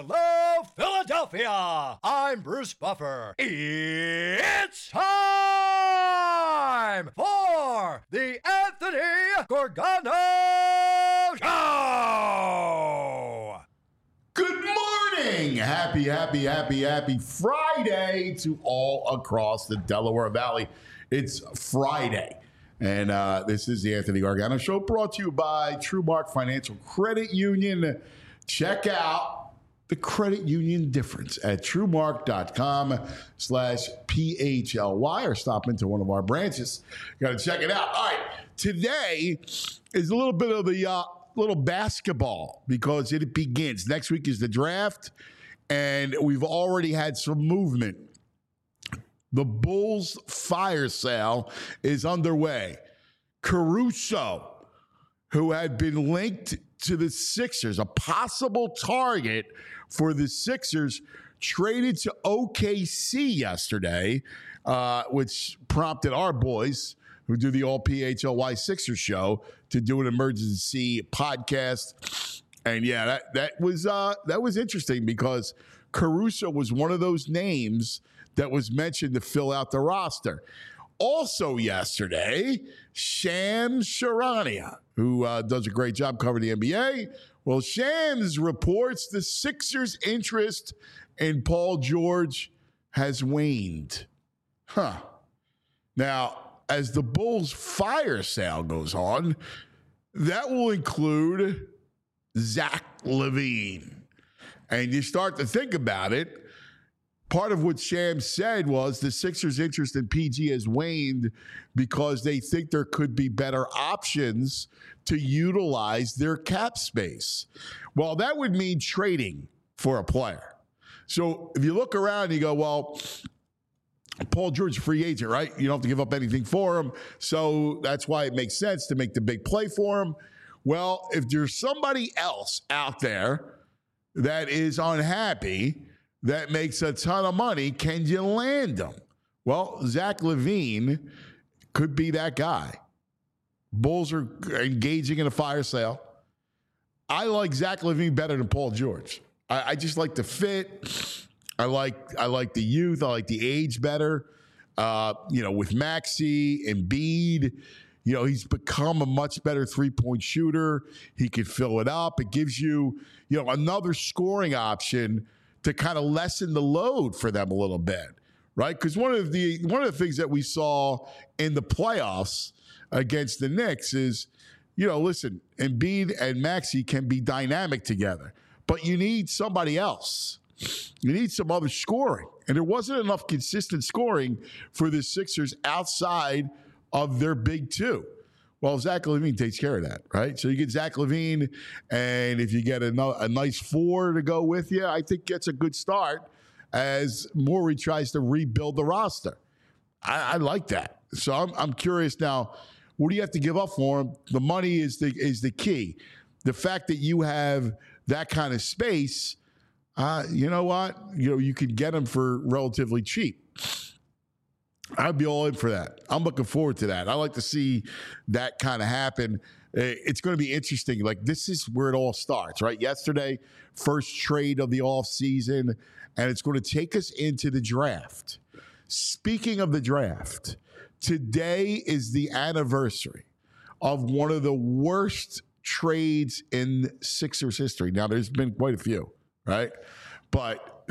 Hello, Philadelphia! I'm Bruce Buffer. It's time for the Anthony Gorgano Show! Good morning! Happy Friday to all across the Delaware Valley. It's Friday. And this is the Anthony Gargano Show, brought to you by TrueMark Financial Credit Union. Check out the credit union difference at TrueMark.com/PHLY or stop into one of our branches. Got to check it out. All right, today is a little bit of the little basketball because it begins. Next week is the draft, and we've already had some movement. The Bulls fire sale is underway. Caruso, who had been linked to the Sixers, a possible target for the Sixers, traded to OKC yesterday, which prompted our boys who do the All PHLY Sixers show to do an emergency podcast. And yeah, that was interesting because Caruso was one of those names that was mentioned to fill out the roster. Also yesterday, Shams Charania, who does a great job covering the NBA. Well, Shams reports the Sixers' interest in Paul George has waned. Now, as the Bulls' fire sale goes on, that will include Zach LaVine. And you start to think about it. Part of what Shams said was the Sixers' interest in PG has waned because they think there could be better options to utilize their cap space. Well, that would mean trading for a player. So if you look around and you go, well, Paul George is a free agent, right? You don't have to give up anything for him. So that's why it makes sense to make the big play for him. Well, if there's somebody else out there that is unhappy, that makes a ton of money, can you land them? Well, Zach LaVine could be that guy. Bulls are engaging in a fire sale. I like Zach LaVine better than Paul George. I just like the fit. I like the youth. I like the age better. With Maxey and Embiid, he's become a much better three-point shooter. He can fill it up. It gives you, another scoring option to kind of lessen the load for them a little bit, right? Because one of the things that we saw in the playoffs against the Knicks is, listen, Embiid and Maxey can be dynamic together, but you need somebody else. You need some other scoring. And there wasn't enough consistent scoring for the Sixers outside of their big two. Well, Zach LaVine takes care of that, right? So you get Zach LaVine, and if you get a nice four to go with you, I think gets a good start as Morey tries to rebuild the roster. I like that. So I'm curious now, what do you have to give up for him? The money is the key. The fact that you have that kind of space, you know what? You can get him for relatively cheap. I'd be all in for that. I'm looking forward to that. I like to see that kind of happen. It's going to be interesting. Like, this is where it all starts, right? Yesterday, first trade of the offseason, and it's going to take us into the draft. Speaking of the draft, today is the anniversary of one of the worst trades in Sixers history. Now, there's been quite a few, right? But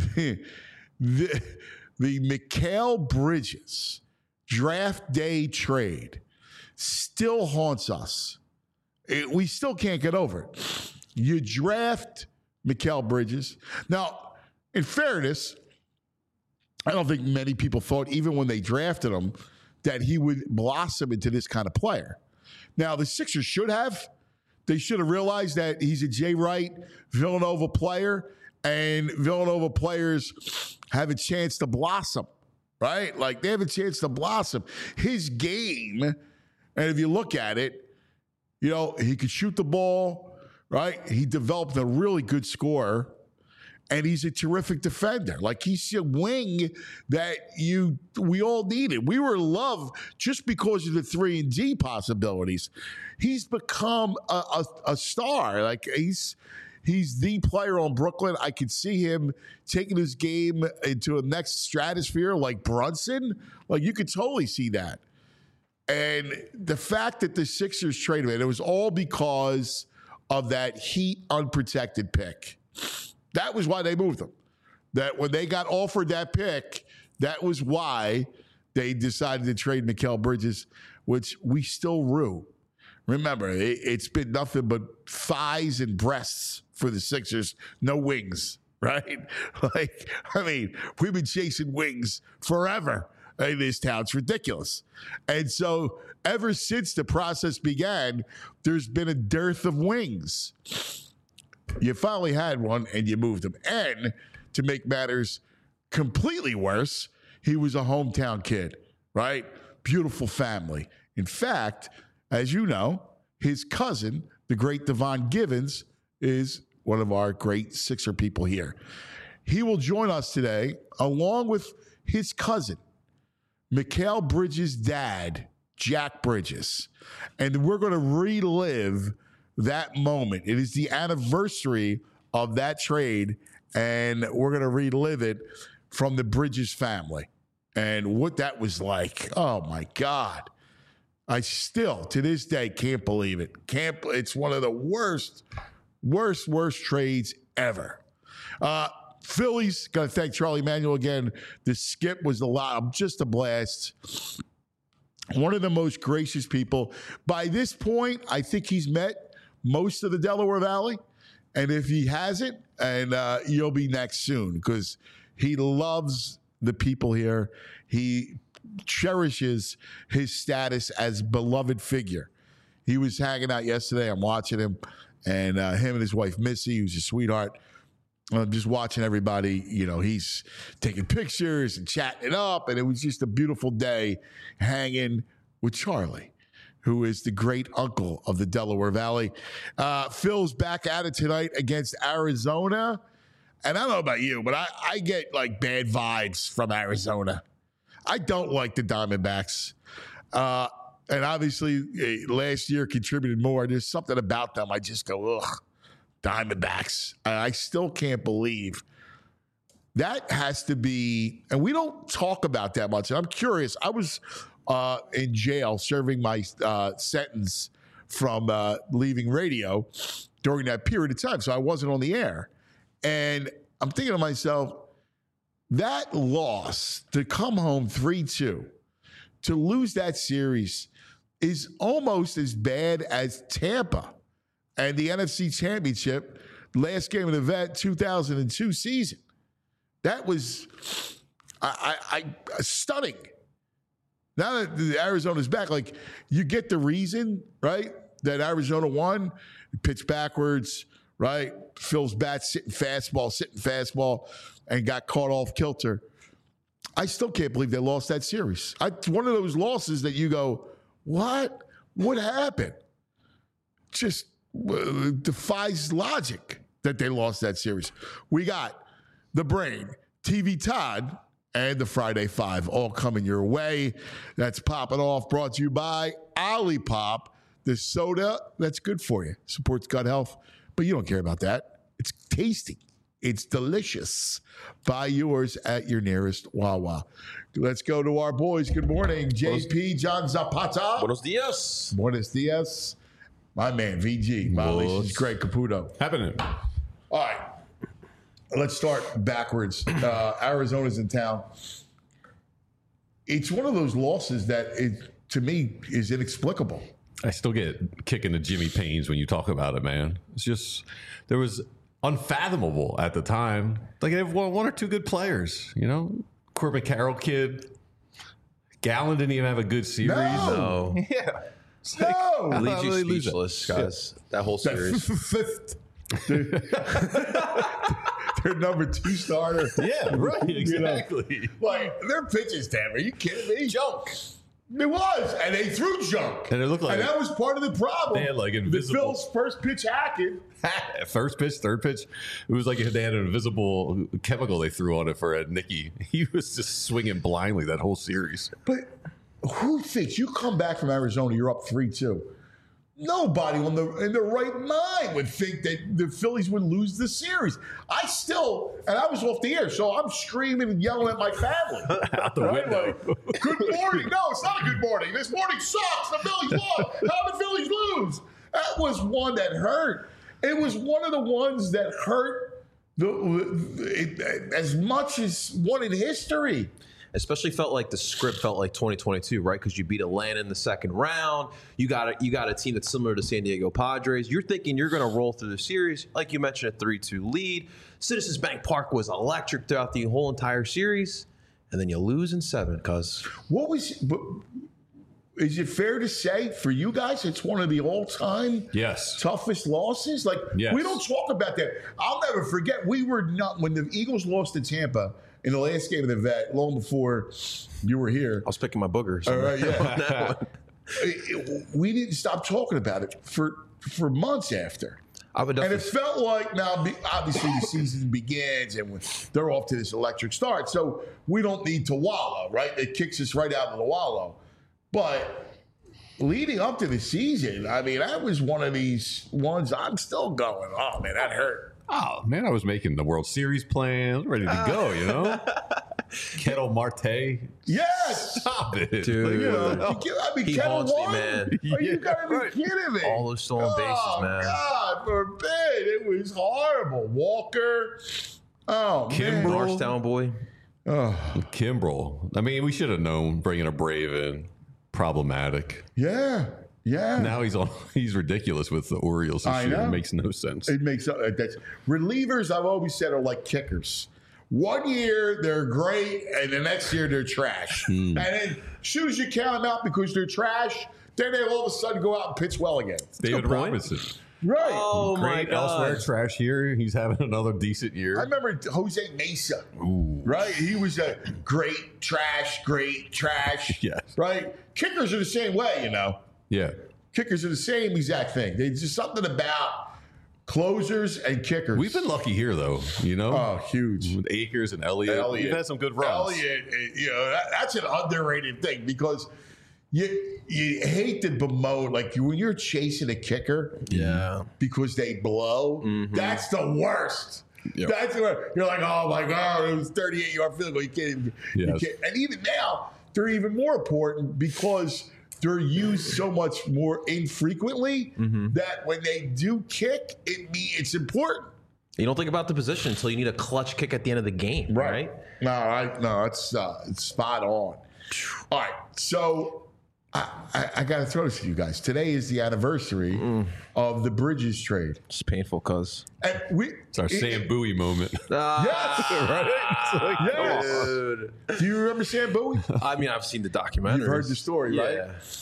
the Mikal Bridges draft day trade still haunts us. We still can't get over it. You draft Mikal Bridges. Now, in fairness, I don't think many people thought, even when they drafted him, that he would blossom into this kind of player. Now, the Sixers should have. They should have realized that he's a Jay Wright, Villanova player, and Villanova players have a chance to blossom, right? Like, they have a chance to blossom. His game, and if you look at it, he could shoot the ball, right? He developed a really good scorer, and he's a terrific defender. Like, he's a wing that we all needed. We were in love just because of the 3-and-D possibilities. He's become a star. Like, He's the player on Brooklyn. I could see him taking his game into a next stratosphere like Brunson. Like, you could totally see that. And the fact that the Sixers traded him, it was all because of that Heat unprotected pick. That was why they moved him. That when they got offered that pick, that was why they decided to trade Mikal Bridges, which we still rue. Remember, it's been nothing but thighs and breasts for the Sixers, no wings, right? Like, I mean, we've been chasing wings forever in this town. It's ridiculous. And so ever since the process began, there's been a dearth of wings. You finally had one and you moved him. And to make matters completely worse, he was a hometown kid, right? Beautiful family. In fact, as you know, his cousin, the great Devon Givens, is one of our great Sixer people here. He will join us today along with his cousin, Mikal Bridges' dad, Jack Bridges. And we're going to relive that moment. It is the anniversary of that trade, and we're going to relive it from the Bridges family and what that was like. Oh, my God. I still, to this day, can't believe it. It's one of the worst trades ever. Phillies, got to thank Charlie Manuel again. The skip was just a blast. One of the most gracious people. By this point, I think he's met most of the Delaware Valley. And if he hasn't, and you'll be next soon, because he loves the people here. He cherishes his status as beloved figure. He was hanging out yesterday. I'm watching him, and him and his wife Missy, who's a sweetheart. Just watching everybody, you know, he's taking pictures and chatting it up, and it was just a beautiful day hanging with Charlie, who is the great uncle of the Delaware Valley. Phil's back at it tonight against Arizona, and I don't know about you, but I get like bad vibes from Arizona. I don't like the Diamondbacks. And obviously, last year contributed more. There's something about them. I just go, ugh, Diamondbacks. I still can't believe. That has to be, and we don't talk about that much. And I'm curious. I was in jail serving my sentence from leaving radio during that period of time. So I wasn't on the air. And I'm thinking to myself, that loss, to come home 3-2, to lose that series is almost as bad as Tampa and the NFC Championship, last game of the Vet 2002 season. That was stunning. Now that Arizona's back, like, you get the reason, right, that Arizona won. Pitched backwards, right? Phil's bat sitting fastball, and got caught off kilter. I still can't believe they lost that series. One of those losses that you go, what? What happened? Just defies logic that they lost that series. We got the Brain, TV Todd, and the Friday Five all coming your way. That's popping off, brought to you by Olipop, the soda that's good for you. Supports gut health, but you don't care about that. It's tasty. It's delicious. Buy yours at your nearest Wawa. Let's go to our boys. Good morning, JP, John Zapata. Buenos dias. Buenos dias. My man, VG. Molly, this is Greg Caputo. Happening. All right. Let's start backwards. Arizona's in town. It's one of those losses that, to me, is inexplicable. I still get kicking the Jimmy Pains when you talk about it, man. It's just, there was unfathomable at the time. Like, they have one or two good players, you know? Corbin Carroll kid. Gallen didn't even have a good series. No. Yeah. No. Leaves you speechless, guys. That whole series. Their number 2 starter. Yeah, right. Exactly. You know, like, their pitches, damn. Are you kidding me? Junk. It was, and they threw junk. And it looked like, and that was part of the problem. They had like invisible. The Phil's first pitch hacking. First pitch, third pitch. It was like they had an invisible chemical they threw on it for Nicky. He was just swinging blindly that whole series. But who thinks you come back from Arizona, you're up 3-2. nobody in the right mind would think that the Phillies would lose the series. And I was off the air, so I'm screaming and yelling at my family. Out the window. Like, good morning. No, it's not a good morning. This morning sucks. The Phillies won. How did the Phillies lose? That was one that hurt. It was one of the ones that hurt as much as one in history. Especially felt like the script felt like 2022, right? Because you beat Atlanta in the second round. You got a team that's similar to San Diego Padres. You're thinking you're going to roll through the series. Like you mentioned, a 3-2 lead. Citizens Bank Park was electric throughout the whole entire series. And then you lose in 7 because... Is it fair to say for you guys it's one of the all-time toughest losses? Like, we don't talk about that. I'll never forget, we were not... When the Eagles lost to Tampa... in the last game of the Vet, long before you were here. I was picking my boogers. All right, yeah. We didn't stop talking about it for months after. And it felt like now, obviously, the season begins and they're off to this electric start. So we don't need to wallow, right? It kicks us right out of the wallow. But leading up to the season, I mean, that was one of these ones I'm still going, oh, man, that hurt. Oh, man, I was making the World Series plans, ready to go, you know? Kettle Marte. Yes! Stop it. Dude. You know, I mean, He Kettle haunts me, won? man. You gotta be kidding me. All those stolen bases, man. God forbid. It was horrible. Walker. Oh, man. Marshtown boy. Kimbrel. I mean, we should have known bringing a Brave in. Problematic. Yeah. Yeah. Now he's ridiculous with the Orioles this year. It makes no sense. It makes that's relievers. I've always said are like kickers. One year they're great, and the next year they're trash. And then as soon as you count them out because they're trash, then they all of a sudden go out and pitch well again. David Robinson. Right. Oh, my God. Elsewhere, trash year. He's having another decent year. I remember Jose Mesa. Ooh. Right? He was a great trash. Yes. Right? Kickers are the same way, you know. Yeah. Kickers are the same exact thing. There's just something about closers and kickers. We've been lucky here, though, you know? Oh, huge. With Akers and Elliott. We've had some good runs. Elliott, you know, that's an underrated thing because you hate to bemoan, like when you're chasing a kicker because they blow, that's the worst. Yep. That's where you're like, oh, my God, it was 38-yard field goal. You can't even, and even now, they're even more important because they're used so much more infrequently that when they do kick, it's important. You don't think about the position until you need a clutch kick at the end of the game, right? No, it's spot on. All right, so I got to throw this to you guys. Today is the anniversary of the Bridges trade. It's painful, cuz. It's our Sam Bowie moment. Yes, right? Yes. Dude. Do you remember Sam Bowie? I mean, I've seen the documentary. You've heard the story, right?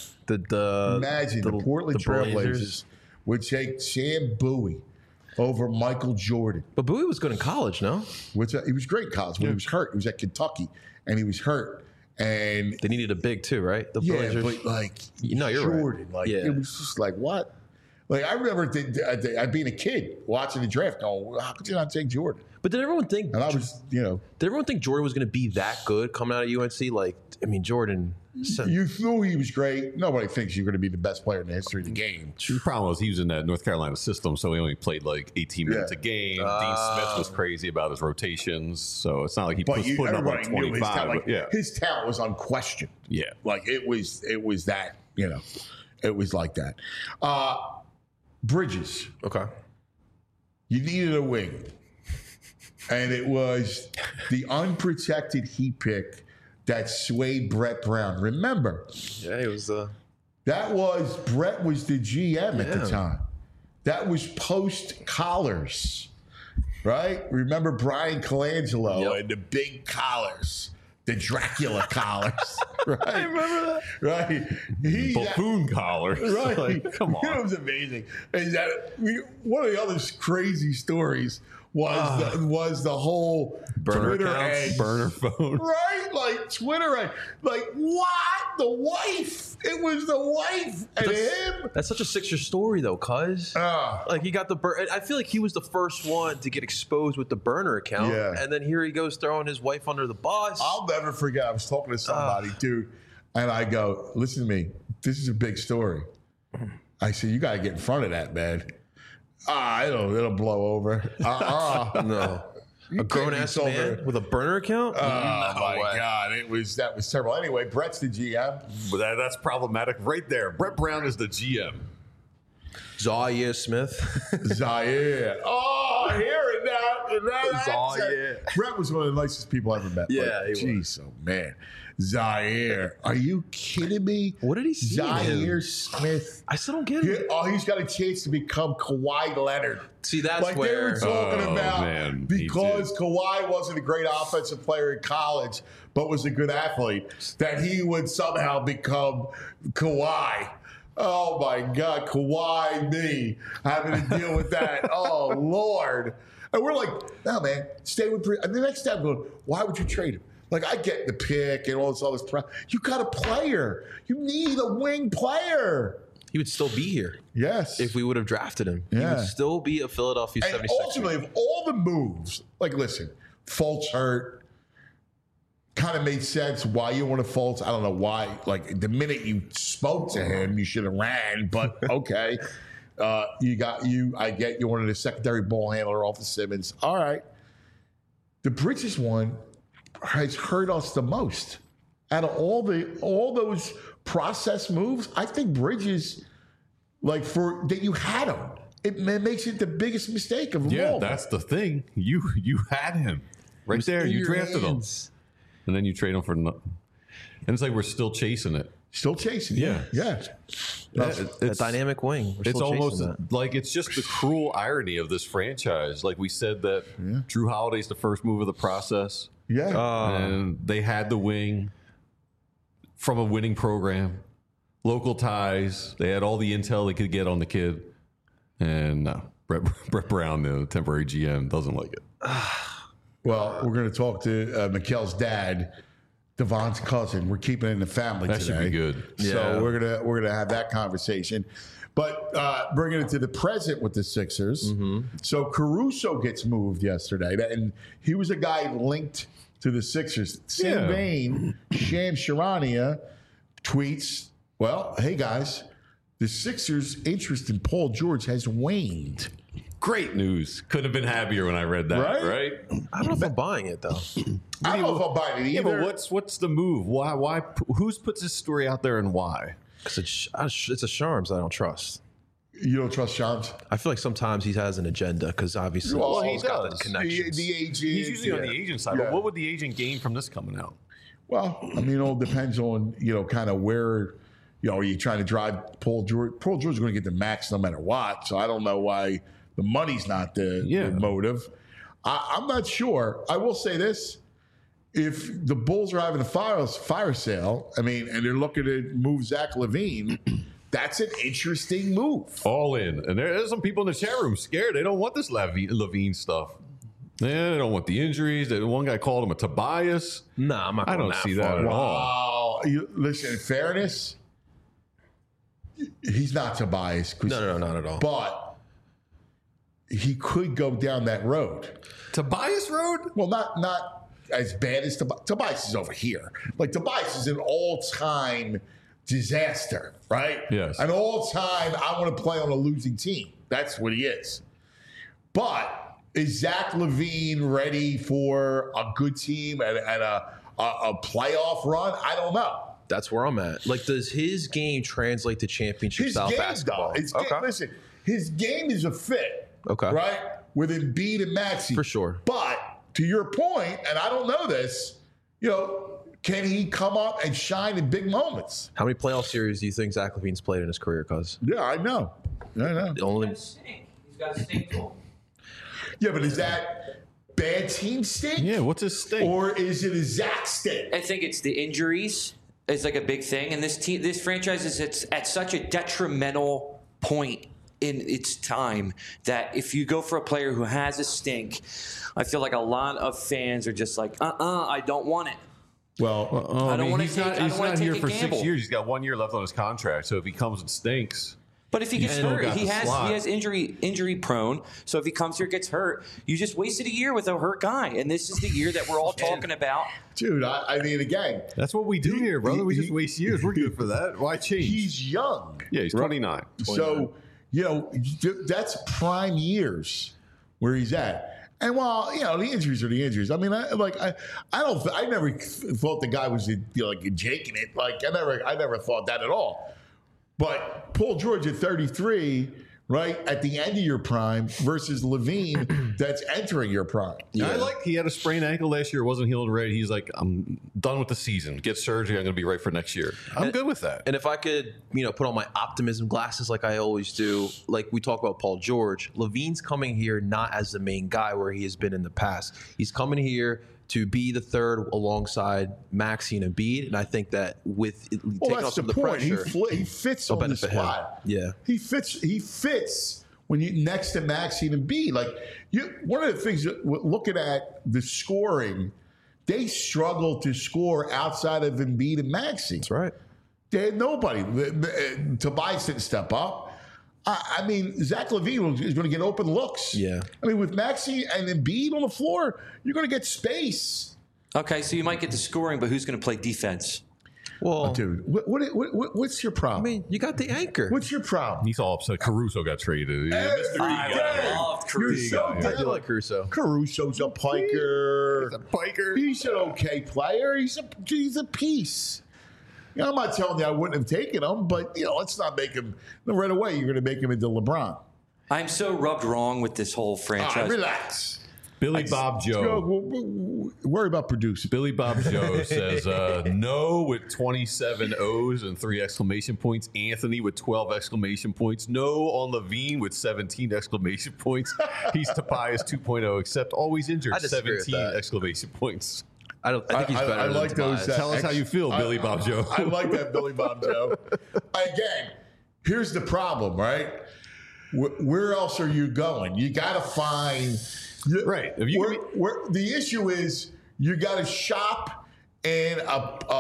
Imagine the Portland Trailblazers would take Sam Bowie over Michael Jordan. But Bowie was good in college, no? He was great in college. When he was hurt, he was at Kentucky, and he was hurt. And they needed a big too, right? The Blazers. But like, you're Jordan, right. It was just like, what? Like, I remember being a kid watching the draft going, how could you not take Jordan? But did everyone think... And I was, Did everyone think Jordan was going to be that good coming out of UNC? Like, I mean, Jordan... You knew he was great. Nobody thinks you're going to be the best player in the history of the game. The problem was he was in that North Carolina system, so he only played like 18 minutes a game. Dean Smith was crazy about his rotations, so it's not like he was putting up like 25. His talent was unquestioned. Yeah. Like, it was that, it was like that. Bridges. Okay. You needed a wing. And it was the unprotected heat pick that swayed Brett Brown. Remember? Yeah, it was Brett was the GM at the time. That was post collars, right? Remember Brian Colangelo and the big collars, the Dracula collars, right? I remember that. Right? Buffoon collars. Right. Like, come on. It was amazing. And one of the other crazy stories was the whole burner Twitter accounts, burner phone. Right? Like Twitter like what? The wife. It was the wife and him. That's such a Sixer story though, cuz. Like he got the I feel like he was the first one to get exposed with the burner account. Yeah. And then here he goes throwing his wife under the bus. I'll never forget. I was talking to somebody, dude, and I go, listen to me. This is a big story. I said, you got to get in front of that, man. It'll blow over. No. A grown-ass man with a burner account? Oh, my God. That was terrible. Anyway, Brett's the GM. But that's problematic right there. Brett Brown is the GM. Zaire Smith. Zaire. Oh, hearing that Zaire. Brett was one of the nicest people I ever met. Yeah, he Jeez, oh, man. Zaire. Are you kidding me? What did he see in him? Zaire Smith. I still don't get it. He's got a chance to become Kawhi Leonard. See, that's Like where... they were talking about man, because Kawhi wasn't a great offensive player in college, but was a good athlete, that he would somehow become Kawhi. Oh, my God. Kawhi, me, having to deal with that. Oh, Lord. And we're like, no, man, stay with – and the next time I'm going, why would you trade him? Like, I get the pick and all this other stuff. You got a player. You need a wing player. He would still be here. Yes. If we would have drafted him. Yeah. He would still be a Philadelphia 76er. And ultimately, of all the moves, like, listen, Fultz hurt. Kind of made sense why you want to Fultz. I don't know why. Like, the minute you spoke to him, you should have ran, but okay. I get you wanted a secondary ball handler off of Simmons. All right. The Bridges one has hurt us the most. Out of all those process moves, I think Bridges, like that you had him, it makes it the biggest mistake of them all. Yeah, that's the thing. You had him right there. You drafted him, and then you trade him for nothing. And it's like we're still chasing it. Still chasing. Yeah. It's a dynamic wing. We're It's still almost chasing that. like it's just the cruel irony of this franchise. Like we said that Drew Holiday's the first move of the process. Yeah. And they had the wing from a winning program, local ties. They had all the intel they could get on the kid. And no, Brett Brown, the temporary GM, doesn't like it. Well, we're going to talk to Mikel's dad, Devon's cousin. We're keeping it in the family That today. should be good. So Yeah. we're gonna have that conversation. But bringing it to the present with the Sixers. So Caruso gets moved yesterday, and he was a guy linked to the Sixers. Same vein, Shams Charania tweets, well, hey guys, the Sixers' interest in Paul George has waned. Great news. Couldn't have been happier when I read that, right? I don't know if I'm buying it, though. I don't know if I'm buying it Yeah, either. but what's the move? Why? Who's puts this story out there and why? Because it's a Charms I don't trust. You don't trust Shams? I feel like sometimes he has an agenda because obviously Well, he's he got the does. connections. The agent. He's usually on the agent side, Yeah. but what would the agent gain from this coming out? Well, I mean, it all depends on, kind of where, are you trying to drive Paul George? Paul George is going to get the max no matter what. So I don't know why the money's not the motive. I'm not sure. I will say this. If the Bulls are having a fire sale, and they're looking to move Zach LaVine, that's an interesting move. All in. And there's some people in the chat room scared. They don't want this Levine stuff. They don't want the injuries. One guy called him a Tobias. Nah, I'm not I going don't that see far. that at all. Wow. Listen, in fairness, he's not Tobias. No, not at all. But he could go down that road. Tobias Road? Well, not as bad as Tobias. Tobias is over here. Like, Tobias is an all-time disaster, right? Yes. An all-time, I want to play on a losing team. That's what he is. But is Zach LaVine ready for a good team and a playoff run? I don't know. That's where I'm at. Like, does his game translate to championship His style game, basketball? though. His game, listen, his game is a fit. Okay. Right? With Embiid and Maxey. For sure. But to your point, and I don't know this, can he come up and shine in big moments? How many playoff series do you think Zach LaVine's played in his career, cuz? Yeah, I know. Only He's got a stink to him. Yeah, but is that bad team stink? Yeah, what's his stink? Or is it a Zach stink? I think it's the injuries is like a big thing, and this franchise is at such a detrimental point in its time that if you go for a player who has a stink, I feel like a lot of fans are just like, I don't want it. Well, I don't want to he's take. not, I he's don't want not to here take a for gamble. 6 years. He's got 1 year left on his contract. So if he comes and stinks, But if he gets still hurt, got he the slot. has injury prone. So if he comes here, gets hurt, you just wasted a year with a hurt guy. And this is the year that we're all talking about. Dude, I mean, again, That's what we do here, brother. We just waste years. We're good for that. Why change? he's young. Yeah, he's 29. So, that's prime years where he's at. And while, the injuries are the injuries. I mean, I never thought the guy was jaking it. Like, I never thought that at all. But Paul George at 33, right, at the end of your prime versus Levine that's entering your prime. Yeah. He had a sprained ankle last year. It wasn't healed right. He's like, I'm done with the season. Get surgery. I'm going to be right for next year. I'm good with that. And if I could, put on my optimism glasses like I always do, like we talk about Paul George, Levine's coming here not as the main guy where he has been in the past. He's coming here to be the third alongside Maxey and Embiid, and I think that with taking off some of the pressure, he fits on the squad. Yeah, he fits when you next to Maxey and Embiid. Like one of the things looking at the scoring, they struggle to score outside of Embiid and Maxey. That's right. They had nobody. Tobias didn't step up. I mean, Zach LaVine is going to get open looks. Yeah. I mean, with Maxey and Embiid on the floor, you're going to get space. Okay, so you might get the scoring, but who's going to play defense? Well, Dude, what's your problem? I mean, you got the anchor. What's your problem? He's all upset. Caruso got traded. I love Caruso. I do like Caruso. Caruso's a piker. He's a piker. He's an okay player. He's a piece. I'm not telling you I wouldn't have taken him, but let's not make him right away. You're going to make him into LeBron. I'm so rubbed wrong with this whole franchise. Relax. Billy Bob Joe. Worry about producing. Billy Bob Joe says no with 27 O's and 3 exclamation points. Anthony with 12 exclamation points. No on Levine with 17 exclamation points. He's Tobias 2.0, except always injured. I disagree with 17 that. exclamation points. I think he's better I than like those. Tobias. Tell us how you feel, Billy Bob Joe. I like that, Billy Bob Joe. Again, here's the problem, right? Where else are you going? You got to find. Right. If you the issue is you got to shop in an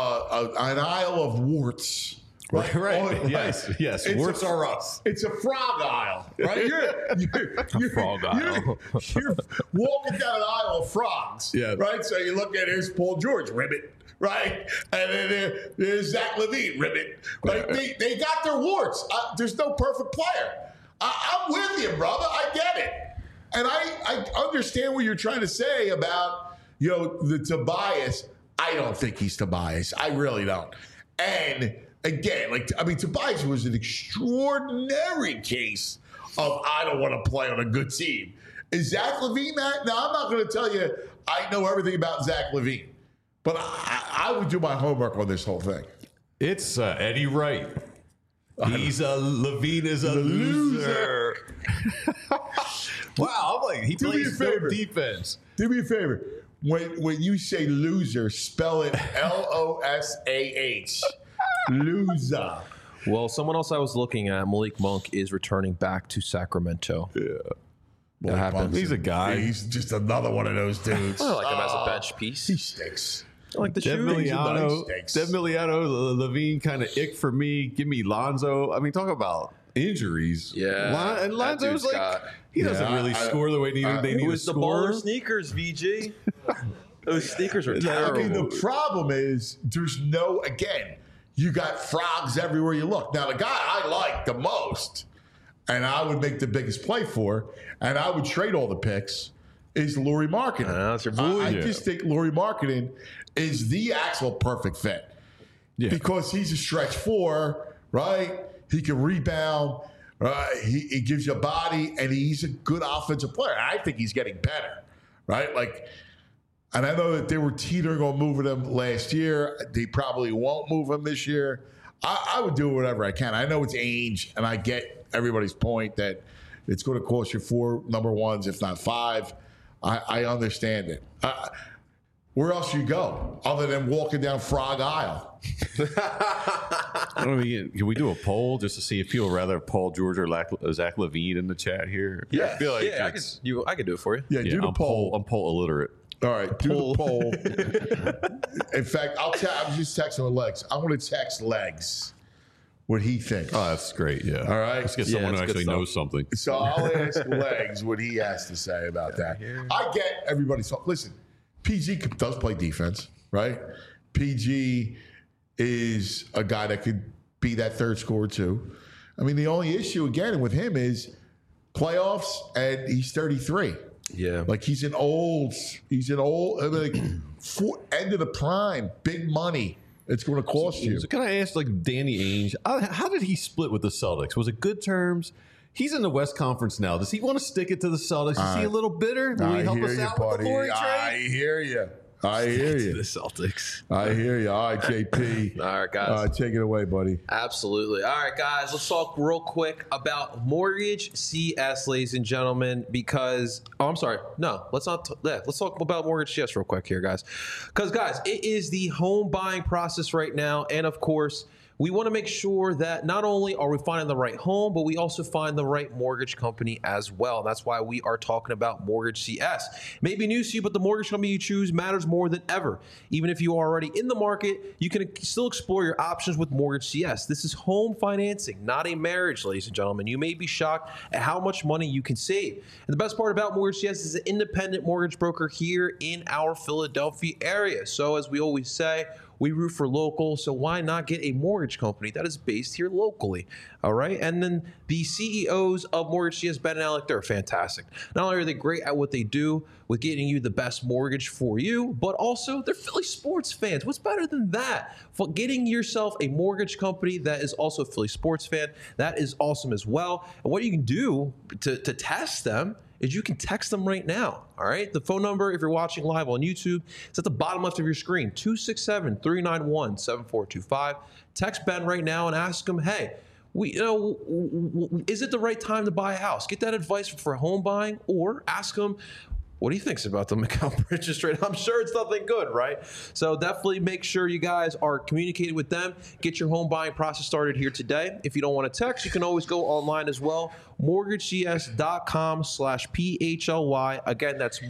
aisle of warts. Right. Yes. Warts are us. It's a frog aisle, right? You're frog aisle. You're walking down an aisle of frogs, Yeah. right? So you look at here's Paul George, ribbit, right? And then there's Zach LaVine, ribbit. Right? They got their warts. There's no perfect player. I'm with you, brother. I get it. And I understand what you're trying to say about, the Tobias. I don't think he's Tobias. I really don't. And again, Tobias was an extraordinary case of I don't want to play on a good team. Is Zach LaVine that? Now, I'm not going to tell you I know everything about Zach LaVine, but I would do my homework on this whole thing. It's Eddie Wright. Levine is a loser. Wow, I'm like, he Do me a plays no favor. defense. Do me a favor. When you say loser, spell it LOSAH. Loser. Well, someone else I was looking at, Malik Monk, is returning back to Sacramento. Yeah. That happens. He's a guy. He's just another one of those dudes. I like him as a bench piece. He stinks. I like the Dev shooting. Miliano, Levine kind of ick for me. Give me Lonzo. I mean, talk about injuries. Yeah. And that Lonzo's dude's like, got- he doesn't really score the way they need It to was the score. baller sneakers, VG. Those sneakers are I terrible. mean, the problem is you got frogs everywhere you look. Now, the guy I like the most, and I would make the biggest play for, and I would trade all the picks, is Lauri Markkanen. That's your boy. I just think Lauri Markkanen is the actual perfect fit. Yeah. Because he's a stretch 4, right? He can rebound. He gives you a body, and he's a good offensive player. I think he's getting better, right? And I know that they were teetering on moving him last year. They probably won't move him this year. I would do whatever I can. I know it's age, and I get everybody's point that it's going to cost you 4 number ones, if not 5. I understand it. Where else you go other than walking down Frog Aisle? I don't know, can we do a poll just to see if people would rather have Paul George or Zach LaVine in the chat here? I feel like I could do it for you. Yeah, do the I'm poll. I'm poll illiterate. All right, do the poll. In fact, I'm just texting with Legs. I'm going to text Legs. what he thinks. Oh, that's great. Yeah. All right. Let's get Yeah, someone it's who good actually stuff. knows something. So I'll ask Legs what he has to say about that. I get everybody's thought. Listen, PG does play defense, right? PG is a guy that could be that third scorer too. I mean, the only issue again with him is playoffs, and he's 33. Yeah. Like he's an old, I mean, like end of the prime, big money. It's going to cost you. So can I ask, like, Danny Ainge, how did he split with the Celtics? Was it good terms? He's in the West Conference now. Does he want to stick it to the Celtics? Is he a little bitter? Will he help us out with the Lori trade? I hear you. I hear The you. Celtics. I hear you. All right, JP. All right, guys. Take it away, buddy. Absolutely. All right, guys, let's talk real quick about Mortgage CS, ladies and gentlemen, because, I'm sorry. No, let's not. Let's talk about Mortgage CS real quick here, guys. Because, guys, it is the home buying process right now. And, of course, we want to make sure that not only are we finding the right home, but we also find the right mortgage company as well. That's why we are talking about Mortgage CS. It may be news to you, but the mortgage company you choose matters more than ever. Even if you are already in the market, you can still explore your options with Mortgage CS. This is home financing, not a marriage, ladies and gentlemen. You may be shocked at how much money you can save. And the best part about Mortgage CS is an independent mortgage broker here in our Philadelphia area. So as we always say, we root for local, so why not get a mortgage company that is based here locally? All right. And then the CEOs of Mortgage CS, Ben and Alec, they're fantastic. Not only are they great at what they do with getting you the best mortgage for you, but also they're Philly sports fans. What's better than that? For getting yourself a mortgage company that is also a Philly sports fan, that is awesome as well. And what you can do to test them is you can text them right now, all right? The phone number, if you're watching live on YouTube, is at the bottom left of your screen, 267-391-7425. Text Ben right now and ask him, hey, is it the right time to buy a house? Get that advice for home buying, or ask him what he thinks about the McCall Bridges trade. I'm sure it's nothing good, right? So definitely make sure you guys are communicating with them. Get your home buying process started here today. If you don't want to text, you can always go online as well. mortgagecs.com/PHLY. Again, that's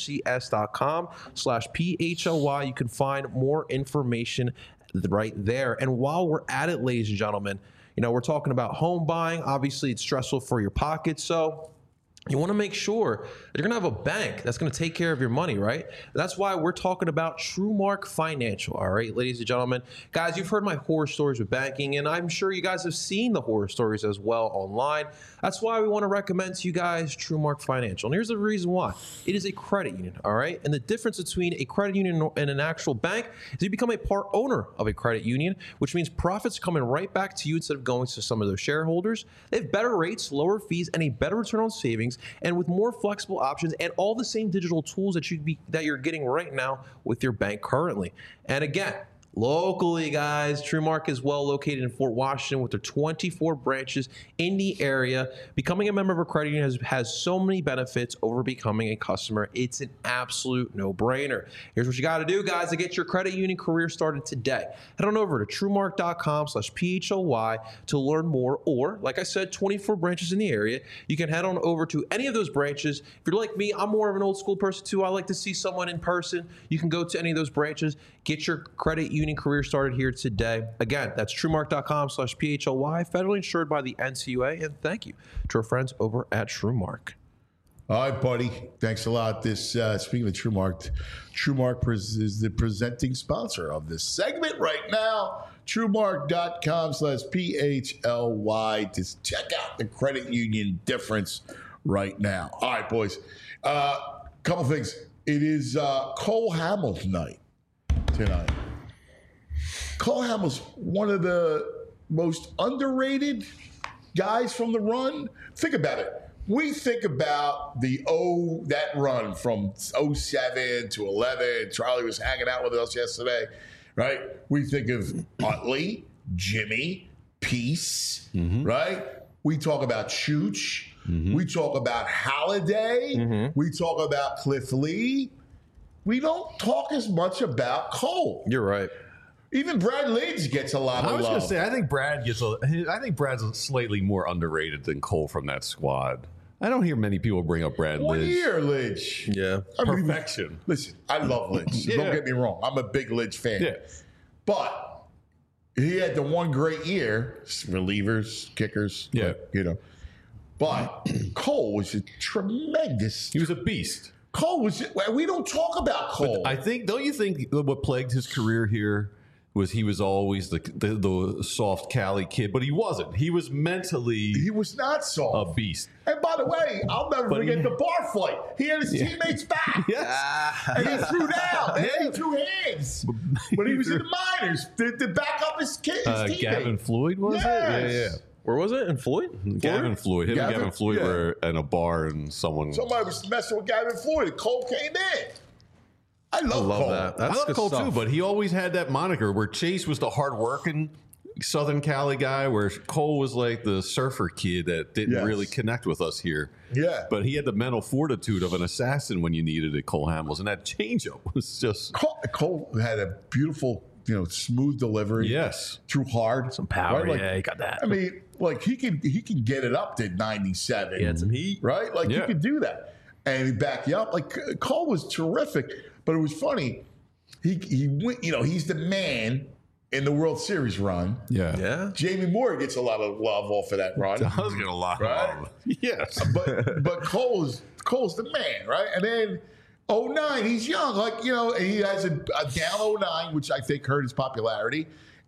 mortgagecs.com/PHLY. You can find more information right there. And while we're at it, ladies and gentlemen, we're talking about home buying. Obviously, it's stressful for your pocket. So you want to make sure that you're going to have a bank that's going to take care of your money, right? That's why we're talking about TrueMark Financial, all right, ladies and gentlemen. Guys, you've heard my horror stories with banking, and I'm sure you guys have seen the horror stories as well online. That's why we want to recommend to you guys TrueMark Financial. And here's the reason why. It is a credit union, all right? And the difference between a credit union and an actual bank is you become a part owner of a credit union, which means profits coming right back to you instead of going to some of those shareholders. They have better rates, lower fees, and a better return on savings, and with more flexible options and all the same digital tools that you're getting right now with your bank currently. And again, locally, guys, TrueMark is well located in Fort Washington with their 24 branches in the area. Becoming a member of a credit union has so many benefits over becoming a customer. It's an absolute no-brainer. Here's what you got to do, guys, to get your credit union career started today. Head on over to TrueMark.com/PHLY to learn more, or, like I said, 24 branches in the area. You can head on over to any of those branches. If you're like me, I'm more of an old school person too. I like to see someone in person. You can go to any of those branches, get your credit union career started here today. Again, that's TrueMark.com/PHLY, federally insured by the NCUA, and thank you to our friends over at TrueMark. All right, buddy. Thanks a lot. Speaking of TrueMark, TrueMark is the presenting sponsor of this segment right now. TrueMark.com/PHLY to check out the credit union difference right now. All right, boys. Couple things. It is Cole Hamels night tonight. Cole Hamels, one of the most underrated guys from the run. Think about it. We think about that run from 07 to 11. Charlie was hanging out with us yesterday, right? We think of Utley, Jimmy, Peace, right? We talk about Chooch. We talk about Halliday. We talk about Cliff Lee. We don't talk as much about Cole. You're right. Even Brad Lidge gets a lot of love. I was going to say, I think Brad's slightly more underrated than Cole from that squad. I don't hear many people bring up Brad One Lidge. year, Lidge. Yeah. Perfection. Listen, I love Lidge. Yeah. Don't get me wrong. I'm a big Lidge fan. Yeah. But he had the one great year, relievers, kickers, Yeah. But Cole was a tremendous. He was a beast. Cole was. We don't talk about Cole. I think, don't you think what plagued his career here was he was always the soft Cali kid, but he wasn't. He was mentally he was not a soft. beast. And by the way, I'll never forget the bar fight. He had his teammates back. Yes. And he threw down. And he threw hands. But he was in the minors to back up his teammate. Gavin Floyd, was it? Yeah. Where was it? In Floyd? Gavin Floyd. Him and Gavin Floyd yeah. were in a bar and somebody was messing with Gavin Floyd. And Cole came in. I love Cole. that. I That's love good Cole stuff. too, but he always had that moniker where Chase was the hardworking Southern Cali guy, where Cole was like the surfer kid that didn't Yes. really connect with us here. Yeah. But he had the mental fortitude of an assassin when you needed it, Cole Hamels. And that changeup was just. Cole had a beautiful, smooth delivery. Yes. Threw hard. Some power. Right? Like, Yeah, he got that. I mean, like he can get it up to 97. He had some heat. Right? Like Yeah. he could do that. And he'd back you up. Like Cole was terrific. But it was funny. He went, he's the man in the World Series run. Yeah. Yeah. Jamie Moore gets a lot of love off of that run. I was going to lie. Right? Yes. But Cole's the man, right? And then 09, he's young, and he has a down 09, which I think hurt his popularity.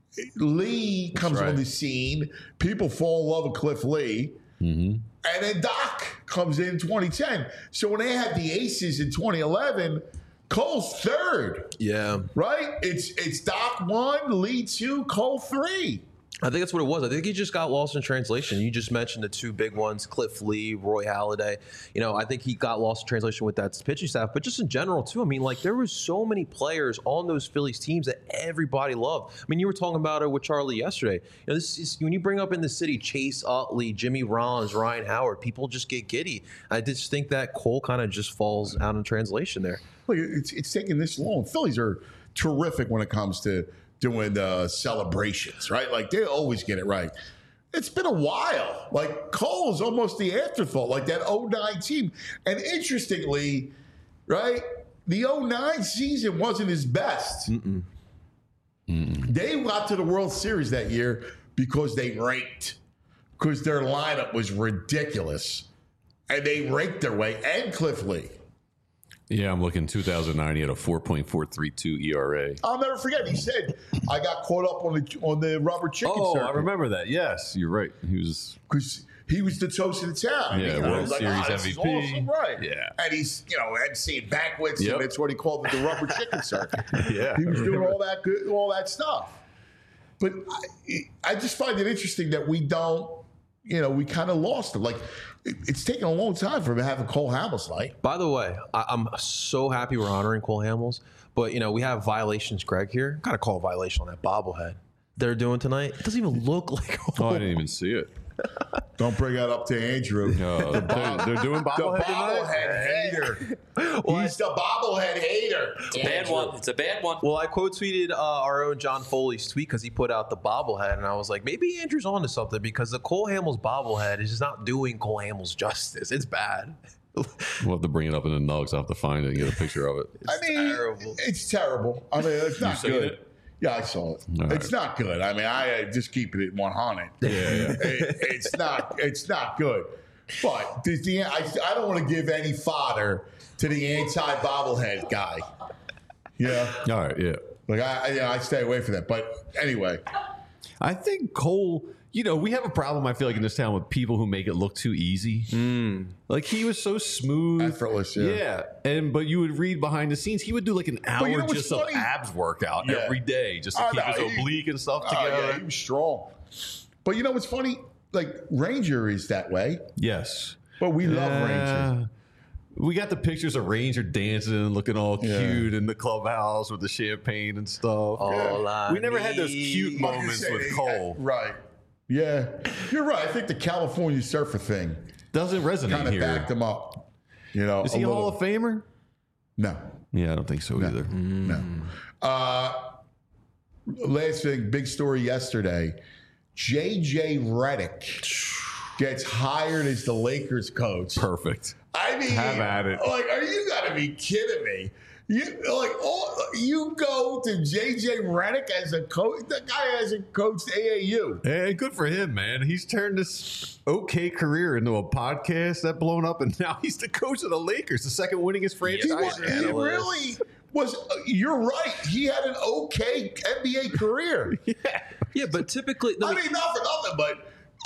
Lee comes on the scene. People fall in love with Cliff Lee. Mm-hmm. And then Doc comes in 2010. So when they had the Aces in 2011, Cole's third, Yeah. right? It's Doc 1, Lee 2, Cole 3. I think that's what it was. I think he just got lost in translation. You just mentioned the two big ones, Cliff Lee, Roy Halladay. I think he got lost in translation with that pitching staff, but just in general too. I mean, like there was so many players on those Phillies teams that everybody loved. I mean, you were talking about it with Charlie yesterday. This is when you bring up in the city Chase Utley, Jimmy Rollins, Ryan Howard, people just get giddy. I just think that Cole kind of just falls out in translation there. Look, it's taking this long. Phillies are terrific when it comes to doing celebrations, right? Like they always get it right. It's been a while. Like Cole's almost the afterthought, like that 09 team. And interestingly, right, the 09 season wasn't his best. They got to the World Series that year because they raked, because their lineup was ridiculous. And they raked their way, and Cliff Lee. Yeah, I'm looking 2009. He had a 4.432 ERA. I'll never forget. He said, "I got caught up on the rubber chicken Oh, circuit." I remember that. Yes, you're right. He was. Because he was the toast of the town. Yeah, World he's Series this is MVP. awesome, right? Yeah. And he's emceeing banquets, Yep. and that's what he called it, the rubber chicken circuit. Yeah. He was doing all that stuff. But I just find it interesting that we don't, we kind of lost it. Like it's taken a long time for him to have a Cole Hamels night. By the way, I'm so happy we're honoring Cole Hamels, but we have violations, Greg, here. Got to call a violation on that bobblehead they're doing tonight. It doesn't even look like Oh, I didn't even see it. Don't bring that up to Andrew. No, they're doing The bobblehead tonight? bobblehead hater. He's the bobblehead hater. Bad one. It's a bad one. Well, I quote tweeted our own John Foley's tweet because he put out the bobblehead, and I was like, maybe Andrew's on to something because the Cole Hamels bobblehead is just not doing Cole Hamels justice. It's bad. We'll have to bring it up in the nugs. I'll have to find it and get a picture of it. Terrible. It's terrible. I mean, it's not seen good. it? Yeah, I saw it. All It's not good. I mean, I just keep it at 100. It's not good. But I don't want to give any fodder to the anti-bobblehead guy. Yeah, All right, yeah. like I stay away from that. But anyway, I think Cole, we have a problem, I feel like, in this town with people who make it look too easy. Like, he was so smooth. Effortless, yeah. But you would read behind the scenes, he would do like an hour what's just of funny? abs workout Yeah. every day just to I keep know, his oblique and stuff oh, together. yeah, he was strong. But you know what's funny? Like Ranger is that way, Yes. but we love Ranger. We got the pictures of Ranger dancing and looking all Yeah. cute in the clubhouse with the champagne and stuff. All I We never had those cute need- moments with Cole. Right. Yeah, you're right. I think the California surfer thing Doesn't resonate kind of here. backed him up. Is he a Hall of Famer? No, Yeah, I don't think so either. no. Last thing, big story yesterday. J.J. Redick gets hired as the Lakers coach. Perfect. I mean, Have at it. Like, are you got to be kidding me? You go to JJ Redick as a coach. The guy hasn't coached AAU. Hey, good for him, man. He's turned this okay career into a podcast that blown up, and now he's the coach of the Lakers, the second winningest franchise. He really was. You're right. He had an okay NBA career. Yeah, but typically, I mean, not for nothing, but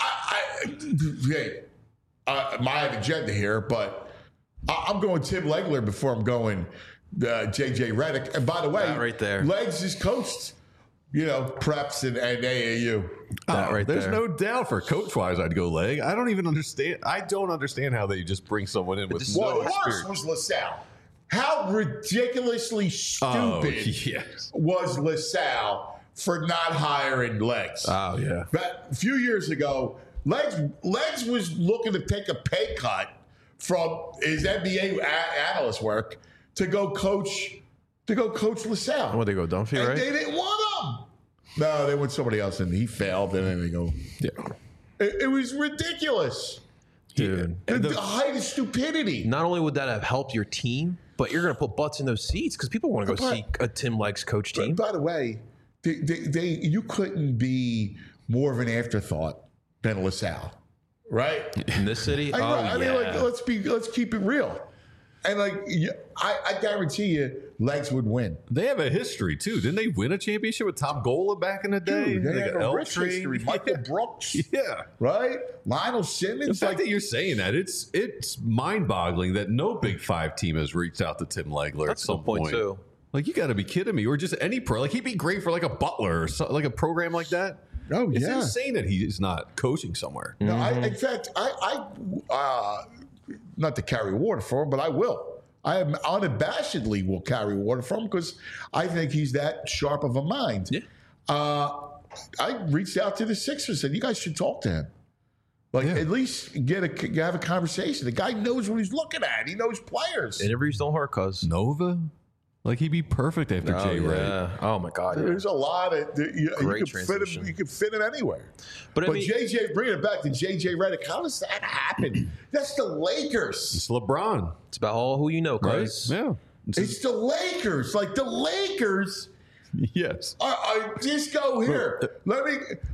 I have an agenda here, but I'm going Tim Legler before I'm going JJ Redick. And by the way, that right there. Legs is coached, preps and AAU. There's no doubt for coach-wise, I'd go Leg. I don't even understand. I don't understand how they just bring someone in with no What worse experience. was LaSalle. How ridiculously stupid was LaSalle for not hiring Legs? Oh, yeah. But a few years ago, Legs was looking to take a pay cut from his NBA analyst work to go coach LaSalle. Where'd they go, Dunphy, And right? they didn't want him. No, they went somebody else, and he failed. And then they go. Yeah. It was ridiculous, Dude. The height of stupidity. Not only would that have helped your team, but you're going to put butts in those seats because people want to go see a Tim Legs coach team. By the way, you couldn't be more of an afterthought than LaSalle, right? In this city? I mean, let's keep it real. And I guarantee you, Legs would win. They have a history too. Didn't they win a championship with Tom Gola back in the day? Dude, they got have a rich L-Train. history. Michael Brooks, Yeah. right? Lionel The Simmons. fact that you're saying that, it's mind-boggling that no Big Five team has reached out to Tim Legler That's at some a good point, too. Like, you got to be kidding me. Or just any pro. Like, he'd be great for like a Butler or like a program like that. Oh, It's yeah. insane that he's not coaching somewhere. No, in fact, I not to carry water for him, but I will. I am unabashedly will carry water for him because I think he's that sharp of a mind. Yeah. I reached out to the Sixers and said, you guys should talk to him. At least have a conversation. The guy knows what he's looking at. He knows players. Interviews don't hurt, cuz. Nova? Like, he'd be perfect after Jay Ray. Oh, my God. Yeah. There's a lot of you Great can fit transition. him. You can fit him anywhere. But I mean, JJ, bringing it back to JJ Redick, how does that happen? That's the Lakers. It's LeBron, it's about all who you know, right? cuz. Yeah. It's the Lakers. Like the Lakers. Yes. I just go here. Let me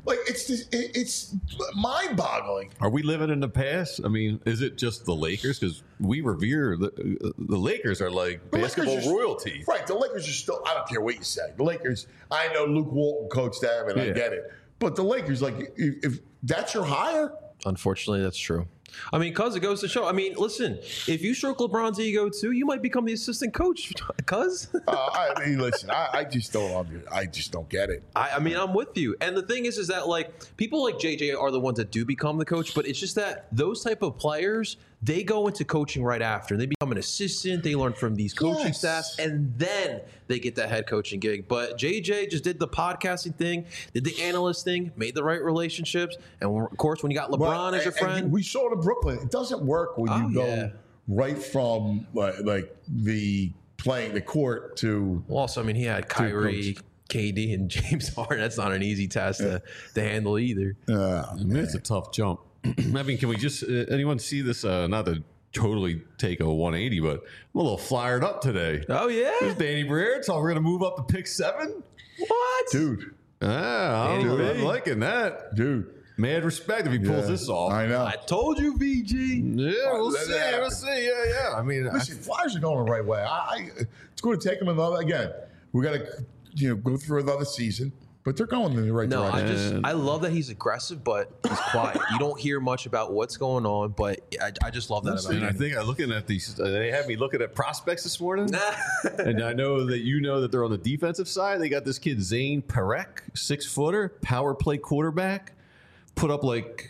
it's mind-boggling. Are we living in the past? I mean, is it just the Lakers? Because we revere the Lakers are like The Lakers basketball are- royalty. Right. The Lakers are still. I don't care what you say. The Lakers. I know Luke Walton coached them, and I Yeah. get it. But the Lakers, like, if that's your hire, Unfortunately, that's true. I mean, cuz it goes to show. I mean, listen, if you stroke LeBron's ego too, you might become the assistant coach, cuz. I mean, listen, I just don't get it. I mean, I'm with you. And the thing is that like people like JJ are the ones that do become the coach, but it's just that those type of players, they go into coaching right after. They become an assistant. They learn from these coaching Yes. staffs, and then they get that head coaching gig. But JJ just did the podcasting thing, did the analyst thing, made the right relationships, and of course, when you got LeBron as your And friend, we saw it in Brooklyn. It doesn't work when you go yeah. right from like the playing the court to. well, also, I mean, he had Kyrie, KD, and James Harden. That's not an easy task to handle either. I mean, it's a tough jump. I mean, can we just anyone see this? Not to totally take a 180, but I'm a little flyered up today. Oh yeah, There's Danny Briere. So we're gonna move up to pick 7. what? Dude, I'm liking that. dude. Mad respect if he pulls Yeah, this off. I know. I told you, VG. Yeah, we'll let see. that We'll happen. see. Yeah. I mean, Listen, Flyers are going the right way. It's going to take them another. Again, we got to go through another season, but they're going in the right No, direction. I love that he's aggressive, but he's quiet. You don't hear much about what's going on, but I just love that about and I him. think I'm looking at these. They had me looking at prospects this morning, and I know that they're on the defensive side. They got this kid Zane Perek, 6-footer, power play quarterback. Put up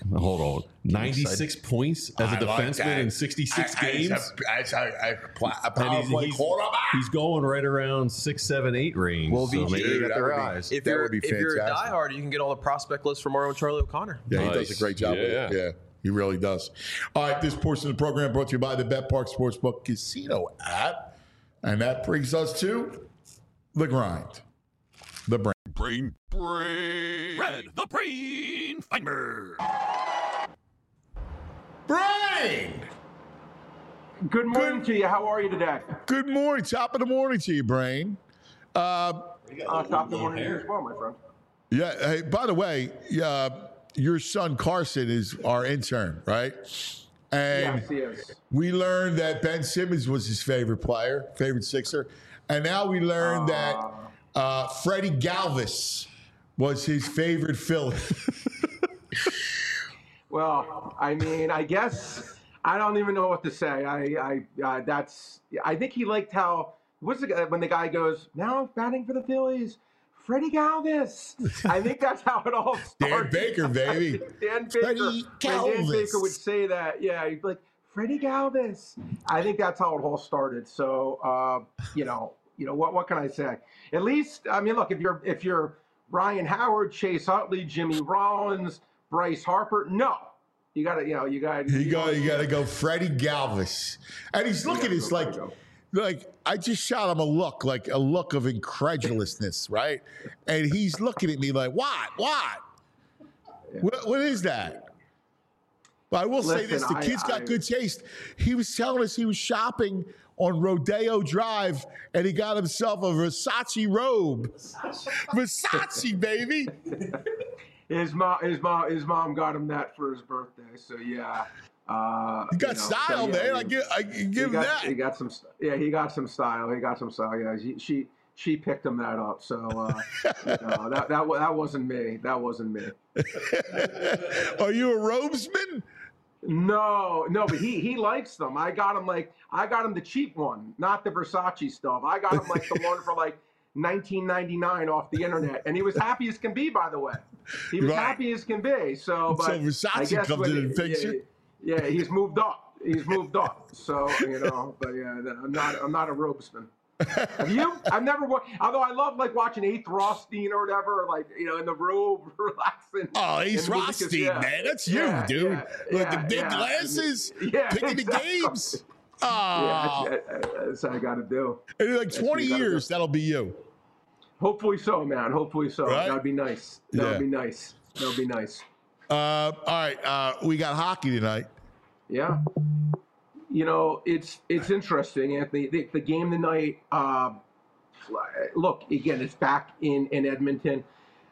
96 points as a I like defenseman that. in 66 games. As a power And play quarterback. he's going right around 6, 7, 8 range. Well, so VG, maybe they got that their would be- eyes. If That you're would be if you're a fantastic. diehard, you can get all the prospect lists from our own Charlie O'Connor. Yeah, he Nice. does a great job with it. Yeah. Yeah, he really does. All right, this portion of the program brought to you by the Bet Park Sportsbook Casino app. And that brings us to The Grind. The Brain. Red the Brain Finder. Brain! Good morning to you. How are you today? Good morning. Top of the morning to you, Brain. Top of the morning to you as well, my friend. Yeah. Hey, by the way, your son Carson is our intern, right? And Yes, he is. we learned that Ben Simmons was his favorite player, favorite Sixer, and now we learned that Freddie Galvis was his favorite Philly. Well, I mean, I guess I don't even know what to say. I think he liked how when the guy goes, now batting for the Phillies, Freddie Galvis. I think that's how it all started. Dan Baker, baby. Dan Baker. Freddie Dan Galvis. Baker would say that. Yeah, he'd be like, Freddie Galvis. I think that's how it all started. So, what can I say? At least, I mean, look, if you're Ryan Howard, Chase Utley, Jimmy Rollins, Bryce Harper, no. You got to go Freddie Galvis. And he's looking at us like I just shot him a look of incredulousness, right? And he's looking at me like, what? What is that? But I will say this, the kid's got good taste. He was telling us he was shopping on Rodeo Drive, and he got himself a Versace robe. Versace, baby. His mom got him that for his birthday. So yeah, he got style, man. I give him that. He got some. Yeah, he got some style. Yeah, she picked him that up. So that wasn't me. That wasn't me. Are you a robesman? No, but he likes them. I got him the cheap one, not the Versace stuff. I got him like the one for like $19.99 off the internet, and he was happy as can be. By the way, he was happy as can be. So Versace comes in and fixes it. Yeah, he's moved up. So but yeah, I'm not a robesman. Have you? I've never. Although I love like watching Eighth Rothstein or whatever, like in the robe, relaxing. Oh, Eighth Rothstein, man, that's you, dude. With the big glasses, picking the games. Oh, that's what I got to do. In like 20 years, that'll be you. Hopefully so, man. Hopefully so. Right? That'd be nice. That'd be nice. All right, we got hockey tonight. Yeah. It's interesting, Anthony. The game tonight. Look, again, it's back in Edmonton.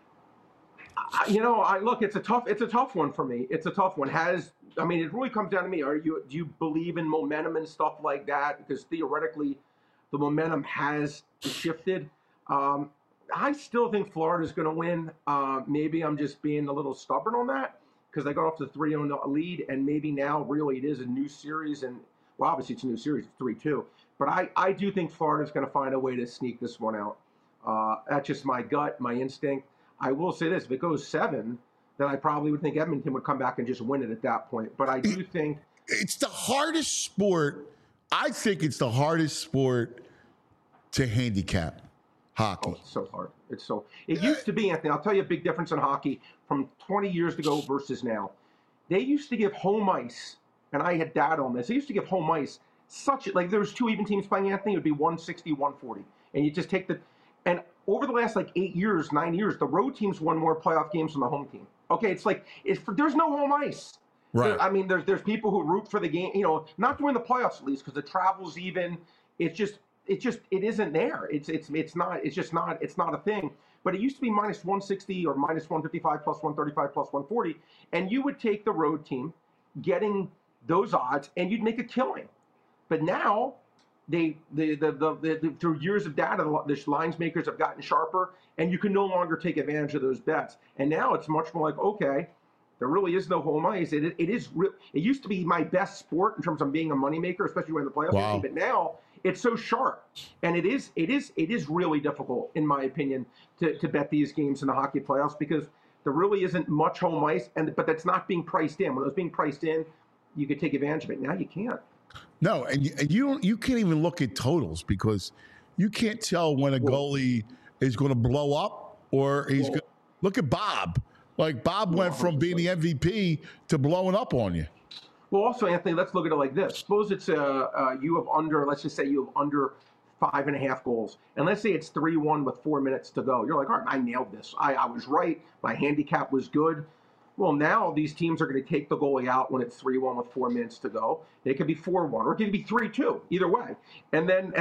It's a tough one for me. It's a tough one. It really comes down to me. Do you believe in momentum and stuff like that? Because theoretically, the momentum has shifted. I still think Florida's going to win. Maybe I'm just being a little stubborn on that because I got off the 3-0 lead, and maybe now really it is a new series. And well, obviously it's a new series, it's 3-2. But I do think Florida's going to find a way to sneak this one out. That's just my gut, my instinct. I will say this: if it goes 7, then I probably would think Edmonton would come back and just win it at that point. But I do think it's the hardest sport. I think it's the hardest sport to handicap. Hockey. Oh, it's so hard. It used to be, Anthony. I'll tell you a big difference in hockey from 20 years ago versus now. They used to give home ice, and I had data on this. They used to give home ice like there was 2 even teams playing, Anthony. It would be 160, 140, and you just take and over the last 9 years, the road teams won more playoff games than the home team. Okay, there's no home ice. Right. There's people who root for the game. Not during the playoffs at least because the travel's even. It isn't there. It's not a thing. But it used to be minus 160 or minus 155 plus 135 plus 140, and you would take the road team, getting those odds, and you'd make a killing. But now, through years of data, the lines makers have gotten sharper, and you can no longer take advantage of those bets. And now it's much more like, okay, there really is no home ice. It used to be my best sport in terms of being a moneymaker, especially when the playoffs. Wow. But now it's so sharp, and it is really difficult, in my opinion, to bet these games in the hockey playoffs because there really isn't much home ice, but that's not being priced in. When it was being priced in, you could take advantage of it. Now you can't. No, and you can't even look at totals because you can't tell when a goalie is going to blow up or he's going to look at Bob. Like Bob went from being the MVP to blowing up on you. Well, also, Anthony, let's look at it like this. Suppose it's let's just say you have under 5.5 goals. And let's say it's 3-1 with 4 minutes to go. You're like, all right, I nailed this. I was right. My handicap was good. Well, now these teams are going to take the goalie out when it's 3-1 with 4 minutes to go. It could be 4-1, or it could be 3-2. Either way, and then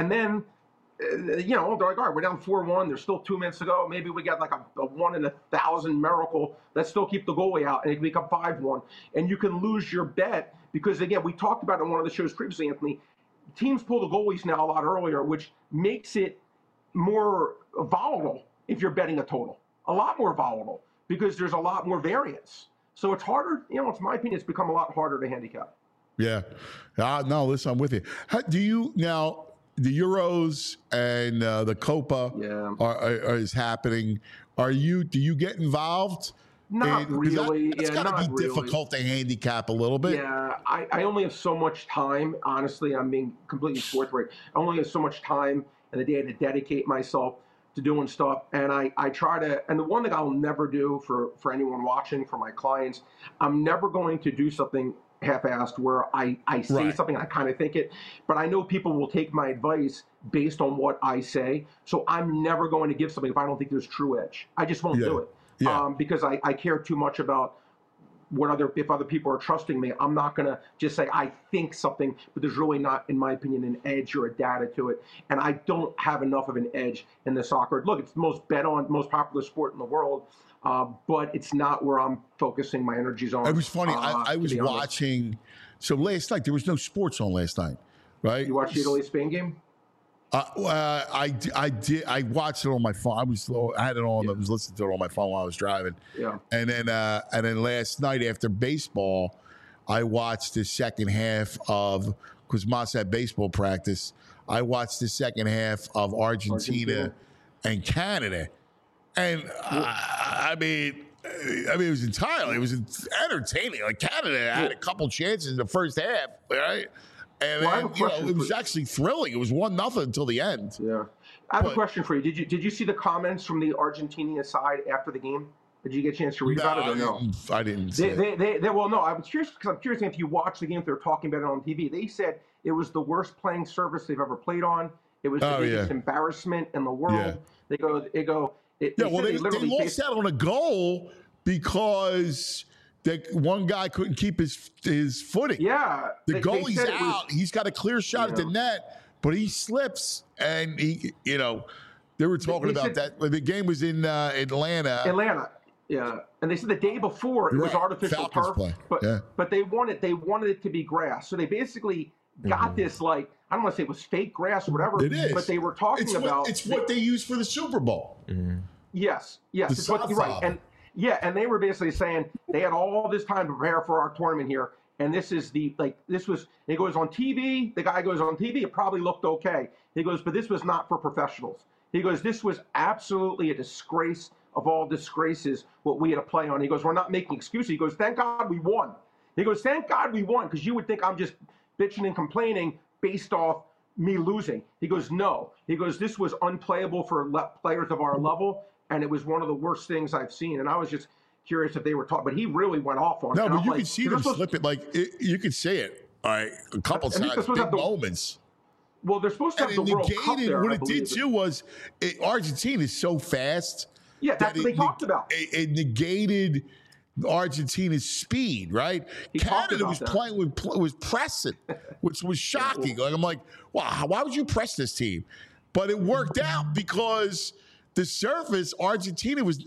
you know, they're like, all right, we're down 4-1. There's still 2 minutes to go. Maybe we got like a 1 in 1,000 miracle. Let's still keep the goalie out, and it can become 5-1. And you can lose your bet because, again, we talked about it in one of the shows previously, Anthony. Teams pull the goalies now a lot earlier, which makes it more volatile if you're betting a total. A lot more volatile because there's a lot more variance. So it's harder. You know, it's my opinion. It's become a lot harder to handicap. Yeah. No, listen, I'm with you. Do you now? The Euros and the Copa is happening. Do you get involved? Not really. It's got to be difficult to handicap a little bit. Yeah, I only have so much time. Honestly, I'm being completely forthright. I only have so much time in the day to dedicate myself to doing stuff. And I try to, and the one thing I'll never do for anyone watching, for my clients, I'm never going to do something half-assed where I say something, I kind of think it, but I know people will take my advice based on what I say. So I'm never going to give something if I don't think there's true edge. I just won't do it because I care too much about if other people are trusting me. I'm not going to just say I think something, but there's really not, in my opinion, an edge or a data to it. And I don't have enough of an edge in the soccer. Look, it's the most popular sport in the world. But it's not where I'm focusing my energies on. It was funny. I was watching. So last night there was no sports on last night, right? You watched the Italy-Spain game? I did. I watched it on my phone. I had it on. I was listening to it on my phone while I was driving. Yeah. And then last night after baseball, I watched the second half of, because Moss had baseball practice. I watched the second half of Argentina and Canada. And I mean, it was entertaining. Like Canada had a couple chances in the first half, right? And then it was actually thrilling. It was 1-0 until the end. Yeah, I have a question for you. Did you see the comments from the Argentinian side after the game? Did you get a chance to read about it or no? I didn't. See well, no. I was curious because I'm curious if you watched the game. If they were talking about it on TV. They said it was the worst playing surface they've ever played on. It was the biggest embarrassment in the world. Yeah. They go. They lost out on a goal because one guy couldn't keep his footing. Yeah. The goalie's out. He's got a clear shot at the net, but he slips. And they were talking about that. The game was in Atlanta. Yeah. And they said the day before it was artificial Falcons turf. But they wanted it to be grass. So they basically got this, like, I don't want to say it was fake grass or whatever. It is. But they were talking about it's what they use for the Super Bowl. Mm-hmm. Yes. It's what you're right. And they were basically saying they had all this time to prepare for our tournament here. And it goes on TV. The guy goes on TV. It probably looked okay. He goes, but this was not for professionals. He goes, this was absolutely a disgrace of all disgraces, what we had to play on. He goes, we're not making excuses. He goes, thank God we won. He goes, thank God we won, because you would think I'm just bitching and complaining based off me losing. He goes, no. He goes, this was unplayable for players of our level, and it was one of the worst things I've seen. And I was just curious if they were talking, but he really went off on it. No, but you can see them slip it. You can say it a couple times, big moments. Well, they're supposed to have the World Cup there. What it did too was Argentina is so fast. Yeah, that's what they talked about. It negated Argentina's speed, right? Canada was was pressing, which was shocking. Like I'm like, wow, why would you press this team? But it worked out because the surface, Argentina was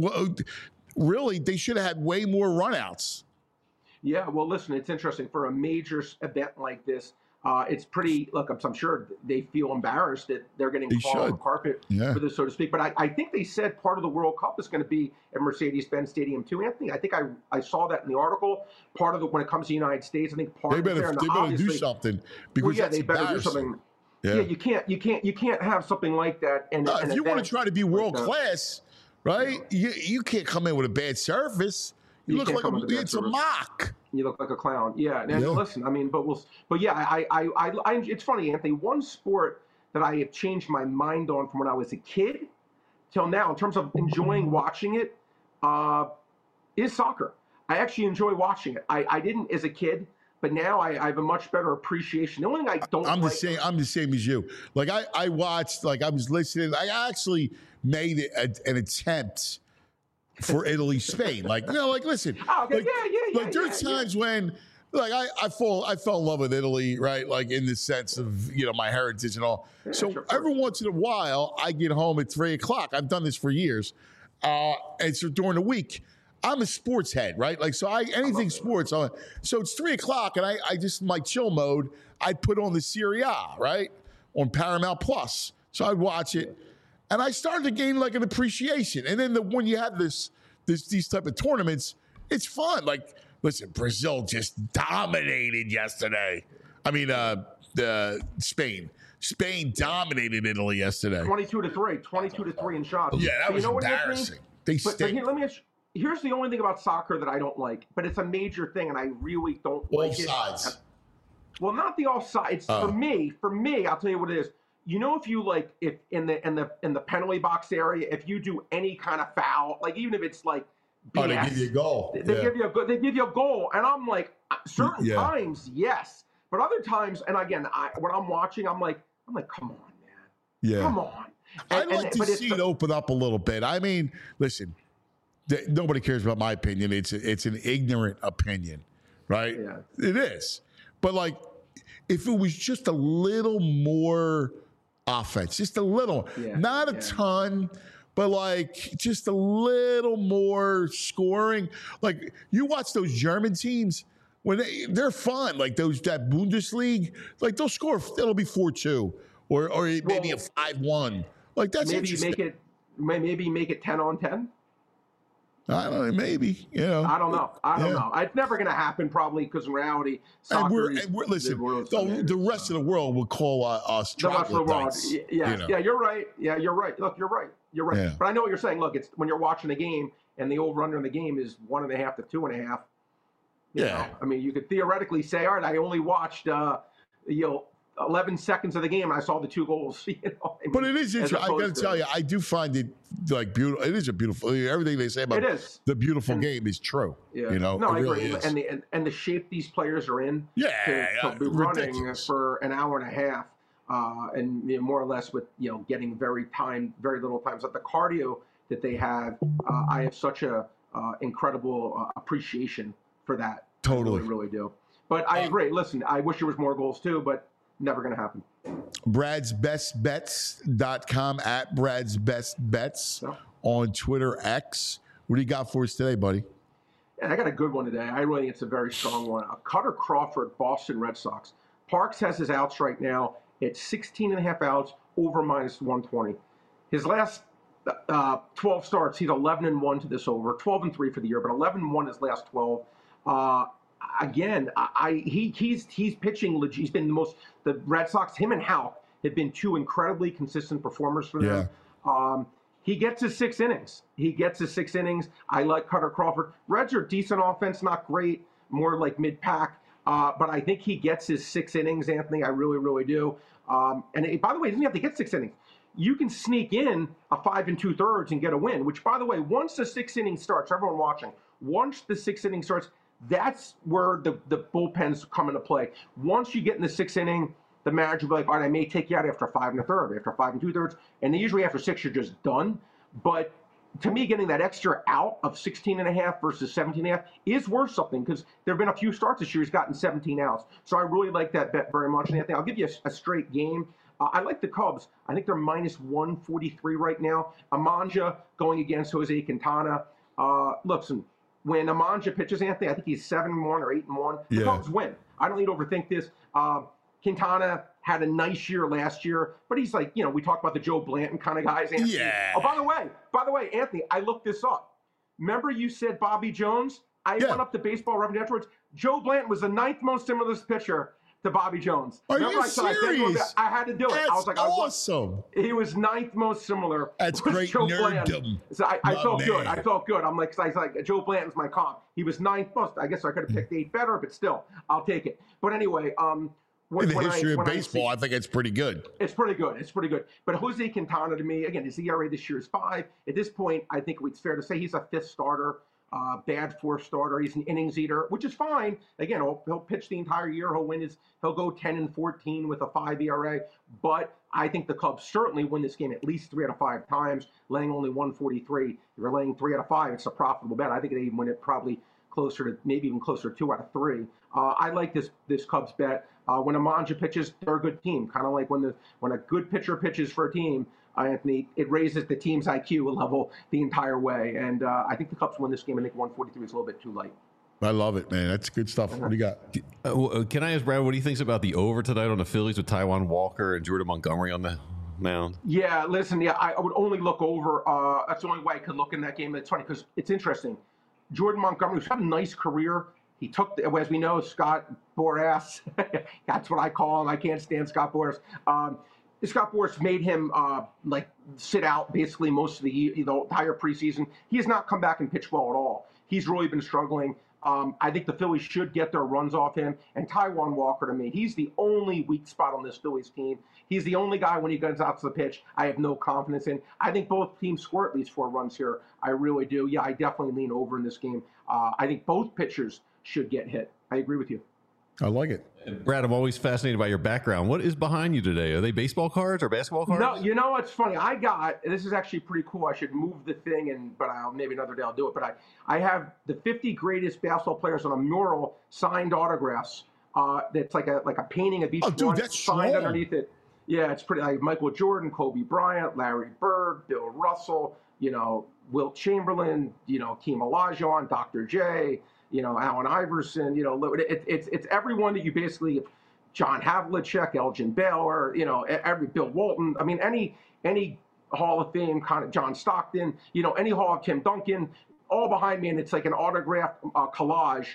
really, they should have had way more runouts. Yeah, well, listen, it's interesting for a major event like this. It's pretty. Look, I'm sure they feel embarrassed that they're getting caught on the carpet for this, so to speak. But I think they said part of the World Cup is going to be at Mercedes-Benz Stadium too, Anthony. I think I saw that in the article. Part of when it comes to the United States, I think part they better do something because they better do something. Yeah, you can't have something like that. And if you want to try to be world class, right? You can't come in with a bad surface. You look like it's a mock. You look like a clown. Yeah. And listen, I mean, but it's funny, Anthony. One sport that I have changed my mind on from when I was a kid till now, in terms of enjoying watching it, is soccer. I actually enjoy watching it. I didn't as a kid, but now I have a much better appreciation. The only thing I don't. I'm the same as you. Like I watched. Like I was listening. I actually made an attempt for Italy, Spain. Like, listen. Oh, okay. Like, Yeah. there's times when, like, I fell in love with Italy, right? Like, in the sense of, my heritage and all. So sure. every once in a while, I get home at 3:00. I've done this for years. And so during the week, I'm a sports head, right? Like, so anything sports. So it's 3:00, and I just, my chill mode, I'd put on the Serie A, right? On Paramount Plus. So I'd watch it. And I started to gain like an appreciation. And then when you have these type of tournaments, it's fun. Like, listen, Brazil just dominated yesterday. I mean, Spain. Spain dominated Italy yesterday. 22-3 in shots. Yeah, that But was you know what, embarrassing. They But stink. here, let me ask you, here's the only thing about soccer that I don't like, but it's a major thing, and I really don't Both like it. sides. Well, not the offsides. Oh. For me, I'll tell you what it is. You know, if you if in the penalty box area, if you do any kind of foul, like even if it's like BS, They give you a goal. they give you a goal, and I'm like, certain Yeah. times, yes, but other times, and again, when I'm watching, I'm like, come on, man, Yeah. come on. I'd like to but it's see it open up a little bit. I mean, listen, nobody cares about my opinion. It's an ignorant opinion, right? Yeah. It is. But like, if it was just a little more offense, just a little, not a ton, but like just a little more scoring. Like, you watch those German teams when they're fun. Like that Bundesliga, like they'll score. It'll be 4-2 or maybe a 5-1. Like, that's maybe interesting. make it 10-on-10. I don't know, maybe, I don't know. I don't know. It's never going to happen, probably, because in reality, soccer and we're listen. world's The rest of the world will call us the rest of the world. troglodytes. Yeah, you're right. Yeah, you're right. Look, you're right. You're right. Yeah. But I know what you're saying. Look, it's when you're watching a game and the over/under in the game is 1.5 to 2.5. You know, I mean, you could theoretically say, all right, I only watched 11 seconds of the game and I saw the 2 goals. But it is interesting. I got to tell you, I do find it like beautiful. It is a beautiful. Everything they say about the beautiful game is true. Yeah. No, I really agree. is. And the shape these players are in. To be ridiculous. running for an hour and a half, and more or less with getting very little time. So the cardio that they have, I have such a incredible appreciation for that. Totally. I really do. But I agree. Listen, I wish there was more goals too, but never going to happen. Brad'sBestBets.com at Brad's Best Bets on Twitter X. What do you got for us today, buddy? And I got a good one today. I really think it's a very strong one. Cutter Crawford, Boston Red Sox. Parks has his outs right now at 16.5 outs over -120. His last 12 starts, he's 11-1 to this over, 12-3 for the year, but 11-1 his last 12. Again, he's pitching. He's been the Red Sox. Him and Houck have been 2 incredibly consistent performers for them. He gets his 6 innings. I like Cutter Crawford. Reds are decent offense, not great, more like mid-pack. But I think he gets his 6 innings, Anthony. I really, really do. And by the way, he doesn't have to get 6 innings. You can sneak in a 5 2/3 and get a win. Which, by the way, once the 6th inning starts, everyone watching, once the 6th inning starts, that's where the bullpens come into play. Once you get in the 6th inning, the manager will be like, all right, I may take you out after 5 1/3, after 5 2/3. And usually after 6, you're just done. But to me, getting that extra out of 16.5 versus 17.5 is worth something, because there have been a few starts this year he's gotten 17 outs. So I really like that bet very much. And Anthony, I'll give you a straight game. I like the Cubs. I think they're -143 right now. Amanja going against Jose Quintana. Listen, when Amanja pitches, Anthony, I think he's 7-1 or 8-1. The Cubs win. I don't need to overthink this. Quintana had a nice year last year, but he's like, we talk about the Joe Blanton kind of guys, Anthony. Yeah. Oh, by the way, Anthony, I looked this up. Remember you said Bobby Jones? I went up to Baseball Reference afterwards. Joe Blanton was the 9th most similar pitcher to Bobby Jones. Are Remember you I said serious? I had to do it. That's I was like, awesome. He was 9th most similar. That's was great Joe nerddom. Blanton. So I felt good. I felt good. I'm like, Joe Blanton's my comp. He was 9th most. I guess I could have picked 8 better, but still, I'll take it. But anyway, in the history of baseball, I think it's pretty good. It's pretty good. But Jose Quintana, to me, again, his ERA this year is 5. At this point, I think it's fair to say he's a 5th starter. bad fourth starter. He's an innings eater, which is fine. Again, he'll pitch the entire year. He'll go 10-14 with a 5 ERA. But I think the Cubs certainly win this game at least 3 out of 5 times, laying only 143. If you're laying 3 out of 5, it's a profitable bet. I think they even win it probably maybe even closer to 2 out of 3. I like this Cubs bet. When Amanja pitches, they're a good team. Kind of like when a good pitcher pitches for a team, Anthony, it raises the team's IQ a level the entire way. And I think the Cubs win this game. I think 143 is a little bit too light. I love it, man. That's good stuff. What do you got? Can I ask Brad what he thinks about the over tonight on the Phillies with Taijuan Walker and Jordan Montgomery on the mound? Yeah, listen, I would only look over. That's the only way I could look in that game. It's funny because it's interesting. Jordan Montgomery's had a nice career. He took, as we know, Scott Boras. That's what I call him. I can't stand Scott Boras. Scott Boras made him sit out basically most of the entire preseason. He has not come back and pitched well at all. He's really been struggling. I think the Phillies should get their runs off him. And Taijuan Walker, to me, he's the only weak spot on this Phillies team. He's the only guy when he goes out to the pitch I have no confidence in. I think both teams score at least 4 runs here. I really do. Yeah, I definitely lean over in this game. I think both pitchers should get hit. I agree with you. I like it. Brad, I'm always fascinated by your background. What is behind you today? Are they baseball cards or basketball cards? No, you know what's funny? This is actually pretty cool. I should move the thing, but maybe another day I'll do it. But I have the 50 greatest basketball players on a mural, signed autographs. That's like a painting of each one that's signed strong. underneath it. Yeah, it's pretty. Like Michael Jordan, Kobe Bryant, Larry Bird, Bill Russell. Wilt Chamberlain. Keem Olajuwon, Dr. J. Allen Iverson, it's everyone that you basically, John Havlicek, Elgin Baylor, every Bill Walton. I mean, any Hall of Fame kind of John Stockton, any Hall of Tim Duncan, all behind me, and it's like an autographed collage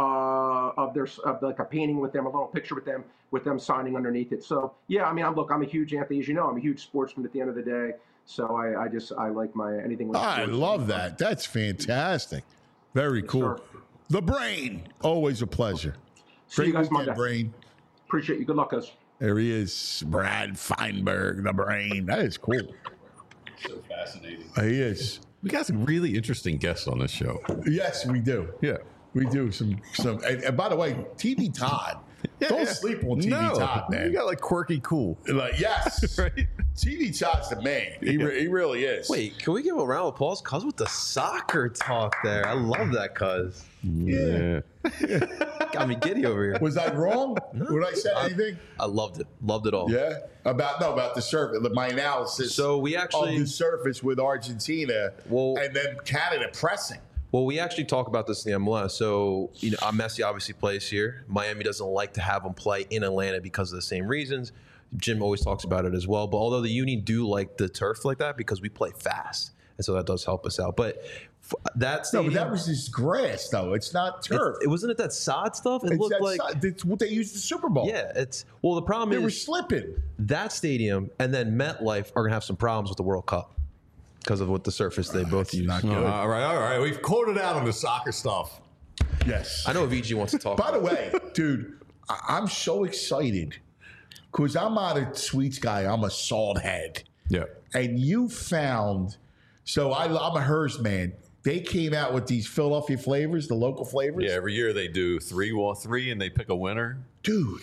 of like a painting with them, a little picture with them signing underneath it. So yeah, I mean, I'm a huge Anthony, as you know, I'm a huge sportsman at the end of the day. So I like anything with I sports. love that. That's fantastic. Very cool. Sure. The Brain, always a pleasure. See you guys weekend, Monday. Brain. Appreciate you. Good luck, guys. There he is, Brad Feinberg, the Brain. That is cool. So fascinating. He is. We got some really interesting guests on this show. Yes, we do. Yeah. We do some. And by the way, TV Todd. Don't sleep on TV Todd, man. You got like quirky cool. Yes. Right? TV Todd's the man. He really is. Wait, can we give a round of applause? Cuz with the soccer talk there. I love that, cuz. Yeah. Got me giddy over here. Was I wrong? Would I say anything? I loved it. Loved it all. Yeah. About the surface. My analysis. So we actually of the surface with Argentina and then Canada pressing. Well, we actually talk about this in the MLS. So, Messi obviously plays here. Miami doesn't like to have him play in Atlanta because of the same reasons. Jim always talks about it as well. But although the Uni do like the turf like that because we play fast. And so that does help us out. But that stadium, but that was just grass, though. It's not turf. It wasn't it that sod stuff? It looked like it's what they used the Super Bowl. Yeah, the problem they is were slipping. That stadium and then MetLife are gonna have some problems with the World Cup because of what the surface they both use. Not good. All right. We've quoted out on the soccer stuff. Yes. I know VG wants to talk. By the way, dude, I'm so excited because I'm not a sweets guy. I'm a salt head. Yeah. And you found, so I'm a Hearst man. They came out with these Philadelphia flavors, the local flavors. Yeah, every year they do three and they pick a winner. Dude,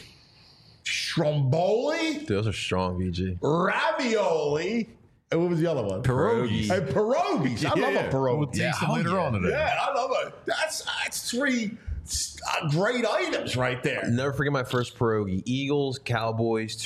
Stromboli, Dude, those are strong, VG. ravioli, and what was the other one? Pierogi. And pierogies. I love a pierogi. We'll taste them later on today. Yeah, I love it. That's 3 great items right there. Never forget my first pierogi. Eagles, Cowboys,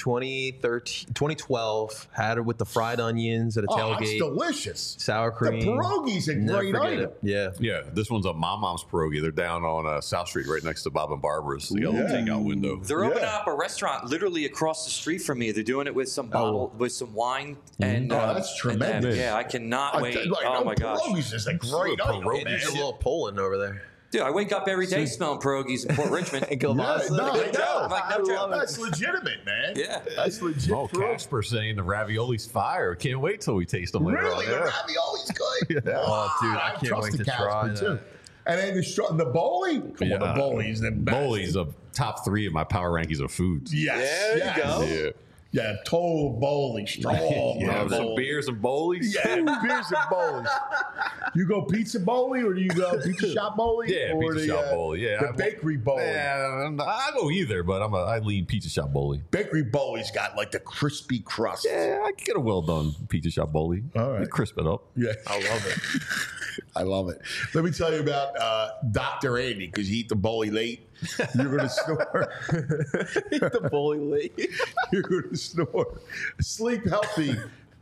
2012. Had it with the fried onions at a Oh, tailgate. it's delicious. Sour cream. The pierogi's a Never great forget item. it. Yeah. Yeah, this one's a Mom's Pierogi. They're down on South Street right next to Bob and Barbara's. They got a little takeout window. They're opening up a restaurant literally across the street from me. They're doing it with some with some wine and that's tremendous. Yeah, I cannot wait. Oh my gosh, Pierogies is a great item. There's a little Poland over there. dude! I wake up every day smelling pierogies in Port Richmond. Yeah, no, I know. Like, no joke. That's legitimate, man. Yeah. That's legit. Oh, Casper saying the ravioli's fire. Can't wait till we taste them later Really? on. The Yeah. ravioli's good. Oh, dude, I can't trust wait the to Casper, try too. that. And then the bowling? Come on, the bowling's the best. Bowley's a top 3 of my power rankings of foods. Yes. There you yes. go. Yeah. Yeah, total bowling, strong. Yeah, some bowling. beers and bowlies. Yeah, beers and bowling. You go pizza bowling or do you go pizza shop bowling? Yeah, or pizza shop bowling. Yeah, the bakery bowling. Yeah, I go either, but I lean pizza shop bowling. Bakery bowling's got like the crispy crust. Yeah, I can get a well done pizza shop bowling. All right. Crisp it up. Yeah. I love it. I love it. Let me tell you about Dr. Andy, because you eat the bowling late, you're going to snore. The bowling late. You're going to snore. Sleep Healthy,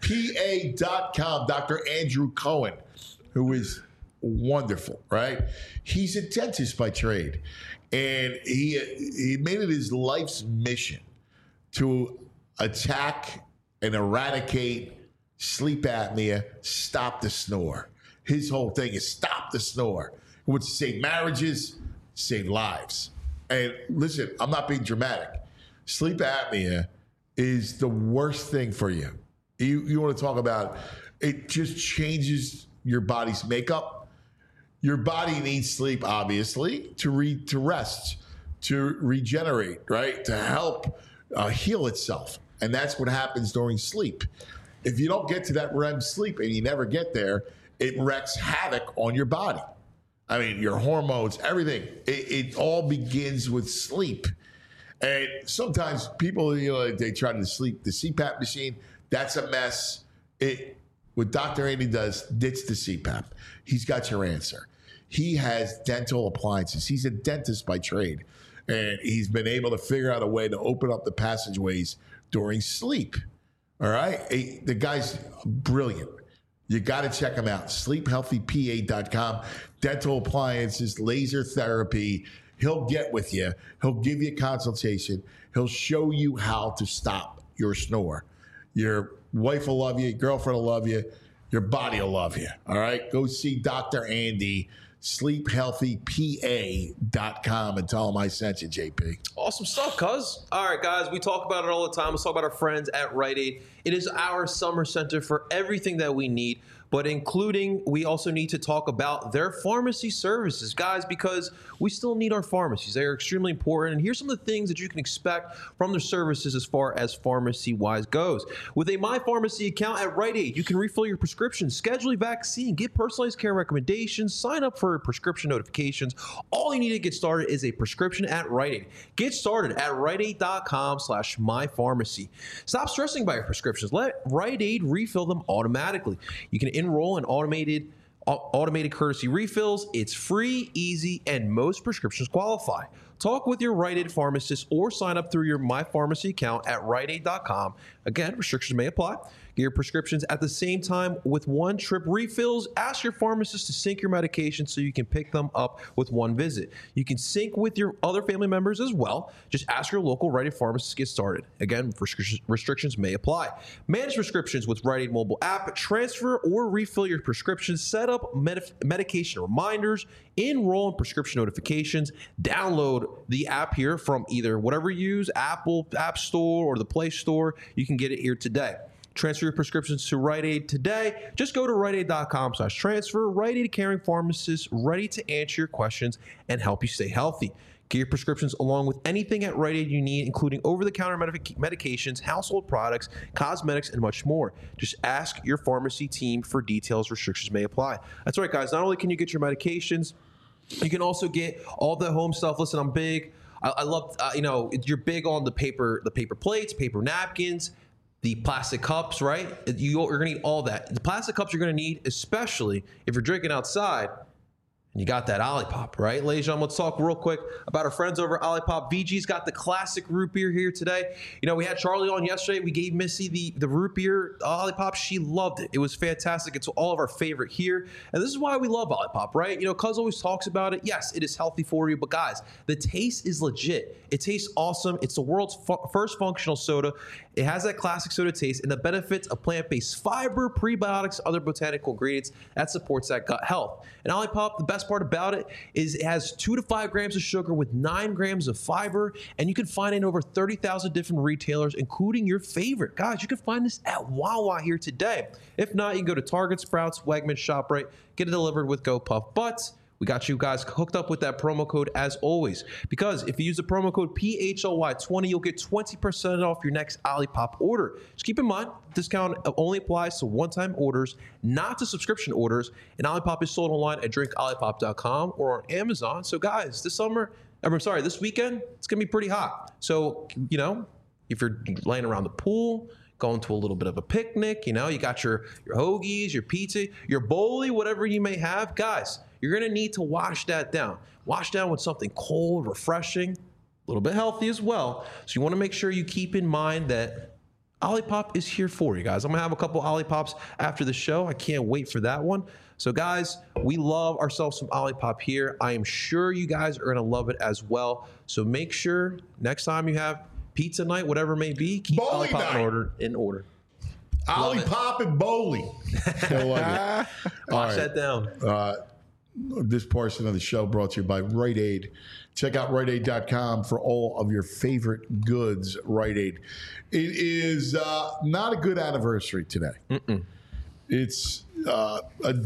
PA.com. Dr. Andrew Cohen, who is wonderful, right? He's a dentist by trade, and he made it his life's mission to attack and eradicate sleep apnea, stop the snore. His whole thing is stop the snore. It would save marriages, save lives. And listen, I'm not being dramatic. Sleep apnea is the worst thing for you. You want to talk about it just changes your body's makeup. Your body needs sleep, obviously, to rest, to regenerate, right? To help heal itself. And that's what happens during sleep. If you don't get to that REM sleep and you never get there, it wreaks havoc on your body. I mean, your hormones, everything. It all begins with sleep. And sometimes people, they try to sleep the CPAP machine. That's a mess. What Dr. Andy does, ditch the CPAP. He's got your answer. He has dental appliances. He's a dentist by trade. And he's been able to figure out a way to open up the passageways during sleep. All right? The guy's brilliant. You got to check him out. SleepHealthyPA.com. Dental appliances, laser therapy. He'll get with you. He'll give you a consultation. He'll show you how to stop your snore. Your wife will love you. Your girlfriend will love you. Your body will love you. All right? Go see Dr. Andy, SleepHealthyPA.com, and tell him I sent you, JP. Awesome stuff, cuz. All right, guys, we talk about it all the time. Let's talk about our friends at Rite Aid. It is our summer center for everything that we need, but including, we also need to talk about their pharmacy services, guys, because we still need our pharmacies. They are extremely important. And here's some of the things that you can expect from their services as far as pharmacy-wise goes. With a My Pharmacy account at Rite Aid, you can refill your prescriptions, schedule a vaccine, get personalized care recommendations, sign up for prescription notifications. All you need to get started is a prescription at Rite Aid. Get started at riteaid.com/mypharmacy. Stop stressing about your prescriptions. Let Rite Aid refill them automatically. You can enroll in automated courtesy refills. It's free, easy, and most prescriptions qualify. Talk with your Rite Aid pharmacist or sign up through your My Pharmacy account at riteaid.com. Again, restrictions may apply. Get your prescriptions at the same time with one-trip refills. Ask your pharmacist to sync your medication so you can pick them up with one visit. You can sync with your other family members as well. Just ask your local Rite Aid pharmacist to get started. Again, restrictions may apply. Manage prescriptions with Rite Aid mobile app. Transfer or refill your prescriptions. Set up medication reminders. Enroll in prescription notifications. Download the app here from either whatever you use, Apple App Store or the Play Store. You can get it here today. Transfer your prescriptions to Rite Aid today. Just go to riteaid.com/transfer. Rite Aid caring pharmacists ready to answer your questions and help you stay healthy. Get your prescriptions along with anything at Rite Aid you need, including over-the-counter medications, household products, cosmetics, and much more. Just ask your pharmacy team for details. Restrictions may apply. That's right, guys. Not only can you get your medications, you can also get all the home stuff. Listen, I'm big. I love, you're big on the paper plates, paper napkins, the plastic cups, right? You're going to need all that. The plastic cups you're going to need, especially if you're drinking outside, and you got that Olipop, right? Ladies and gentlemen, let's talk real quick about our friends over at Olipop. VG's got the classic root beer here today. We had Charlie on yesterday. We gave Missy the root beer Olipop. She loved it. It was fantastic. It's all of our favorite here. And this is why we love Olipop, right? Cuz always talks about it. Yes, it is healthy for you, but guys, the taste is legit. It tastes awesome. It's the world's first functional soda. It has that classic soda taste and the benefits of plant-based fiber, prebiotics, other botanical ingredients that supports that gut health. And Olipop, the best part about it is it has 2 to 5 grams of sugar with 9 grams of fiber, and you can find it in over 30,000 different retailers, including your favorite. Guys, you can find this at Wawa here today. If not, you can go to Target, Sprouts, Wegmans, ShopRite, get it delivered with GoPuff. But We got you guys hooked up with that promo code as always. Because if you use the promo code PHLY20, you'll get 20% off your next Olipop order. Just keep in mind, discount only applies to one-time orders, not to subscription orders. And Olipop is sold online at drinkolipop.com or on Amazon. So guys, this weekend, it's going to be pretty hot. So, if you're laying around the pool, going to a little bit of a picnic, you got your hoagies, your pizza, your bowlie, whatever you may have, guys, you're going to need to wash that down. Wash down with something cold, refreshing, a little bit healthy as well. So you want to make sure you keep in mind that Olipop is here for you guys. I'm going to have a couple Olipops after the show. I can't wait for that one. So guys, we love ourselves some Olipop here. I am sure you guys are going to love it as well. So make sure next time you have pizza night, whatever it may be, keep Bowling Olipop in order. Olipop and bowling. I like it. Wash that down. This portion of the show brought to you by Rite Aid. Check out RiteAid.com for all of your favorite goods. Rite Aid. It is not a good anniversary today. It's a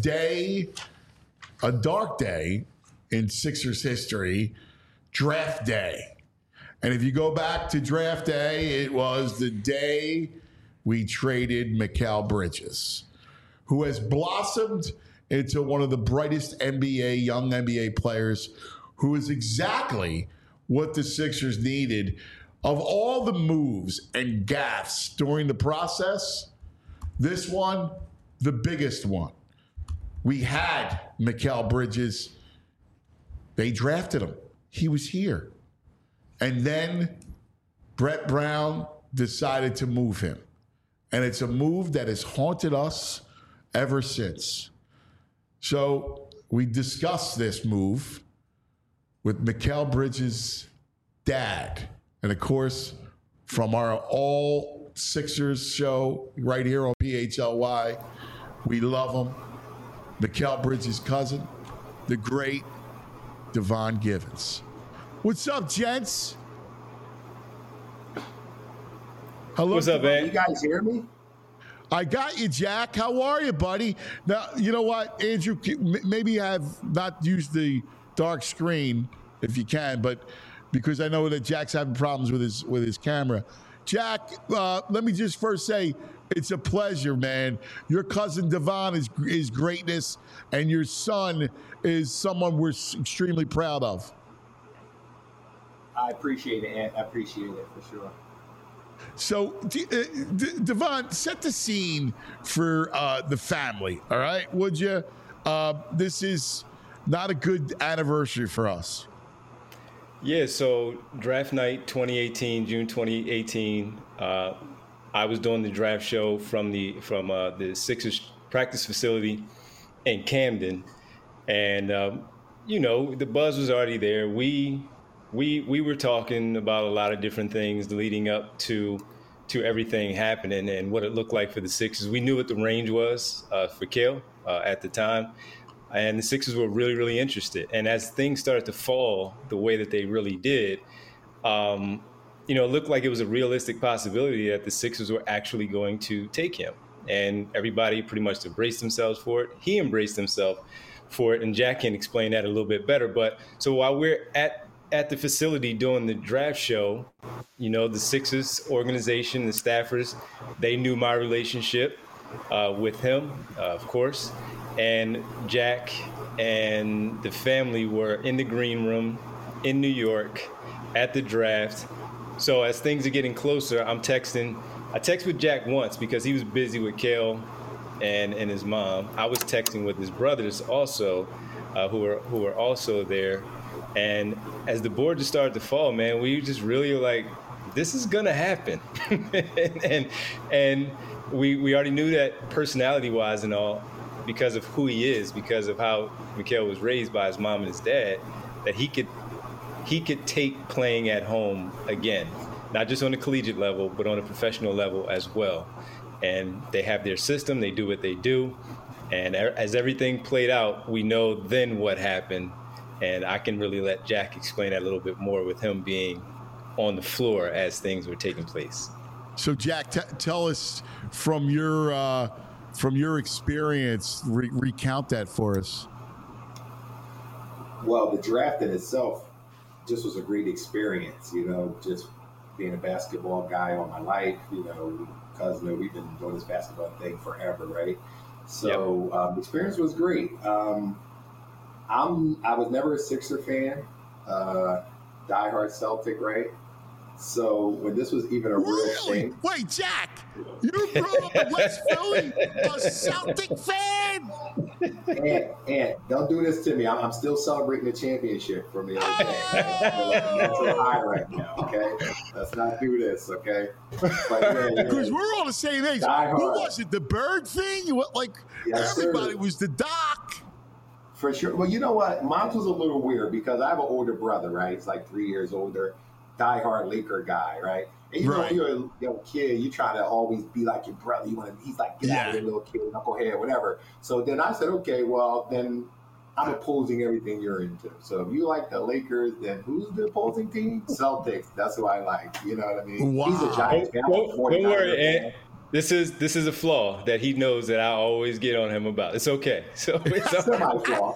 dark day in Sixers history, draft day. And if you go back to draft day, it was the day we traded Mikal Bridges, who has blossomed into one of the brightest young NBA players, who is exactly what the Sixers needed. Of all the moves and gaffes during the process, this one, the biggest one. We had Mikal Bridges. They drafted him. He was here. And then Brett Brown decided to move him. And it's a move that has haunted us ever since. So we discussed this move with Mikal Bridges' dad. And of course, from our All Sixers show right here on PHLY, we love him. Mikal Bridges' cousin, the great Devon Givens. What's up, gents? Hello. What's up, man? You guys hear me? I got you, Jack. How are you, buddy? Now, you know what, Andrew, maybe have not used the dark screen if you can, but because I know that Jack's having problems with his camera. Jack, let me just first say, it's a pleasure, man. Your cousin Devon is greatness, and your son is someone we're extremely proud of. I appreciate it. I appreciate it for sure. So, Devon, set the scene for the family, all right? Would you? This is not a good anniversary for us. Yeah, so draft night 2018, June 2018, I was doing the draft show from the Sixers practice facility in Camden. And, the buzz was already there. We were talking about a lot of different things leading up to everything happening and what it looked like for the Sixers. We knew what the range was for Kale at the time, and the Sixers were really, really interested. And as things started to fall the way that they really did, it looked like it was a realistic possibility that the Sixers were actually going to take him. And everybody pretty much embraced themselves for it. He embraced himself for it, and Jack can explain that a little bit better. But so while we're at the facility doing the draft show, the Sixers organization, the staffers, they knew my relationship with him, of course. And Jack and the family were in the green room in New York at the draft. So as things are getting closer, I text with Jack once because he was busy with Kale and his mom. I was texting with his brothers also, who were also there. And as the board just started to fall, man, we just really were like, this is gonna happen. and we already knew that personality-wise and all, because of who he is, because of how Mikal was raised by his mom and his dad, that he could take playing at home again, not just on the collegiate level, but on a professional level as well. And they have their system, they do what they do. And as everything played out, we know then what happened. And I can really let Jack explain that a little bit more with him being on the floor as things were taking place. So, Jack, tell us from your experience, recount that for us. Well, the draft in itself just was a great experience, just being a basketball guy all my life, because we've been doing this basketball thing forever, right? So the experience was great. I was never a Sixer fan, diehard Celtic, right? So when this was even a real thing. Wait, Jack, you grew up in West Philly, a Celtic fan? And don't do this to me. I'm still celebrating the championship for me. Okay? That's a high right now, okay? Let's not do this, okay? Because we're all the same age. Die Who hard. was it, the Bird thing? Yes, everybody sir. was the Doc. For sure. Well, you know what? Mine was a little weird because I have an older brother, right? He's like 3 years older, diehard Laker guy, right? And Right. you're a young kid, you try to always be like your brother. He's like, get out of here, little kid, knucklehead, whatever. So then I said, okay, well, then I'm opposing everything you're into. So if you like the Lakers, then who's the opposing team? Celtics. That's who I like. You know what I mean? Wow. He's a Giants fan. I'm a Don't 49er worry, fan. Ant. This is a flaw that he knows that I always get on him about. It's okay. So it's Semi-flaw.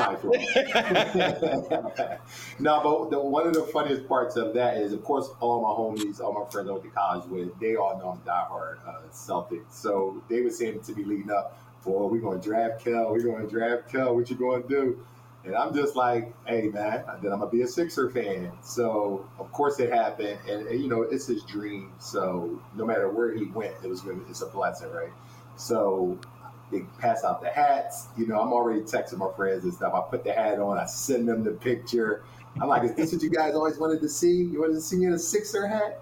No, but one of the funniest parts of that is, of course, all my homies, all my friends I went to college with, they all know I'm diehard Celtics. So they were saying to me leading up, boy, we're going to draft Kel. What you going to do? And I'm just like, hey, man, then I'm going to be a Sixer fan. So, of course, it happened. And it's his dream. So no matter where he went, it's a blessing, right? So they pass out the hats. I'm already texting my friends and stuff. I put the hat on. I send them the picture. I'm like, is this what you guys always wanted to see? You wanted to see me in a Sixer hat?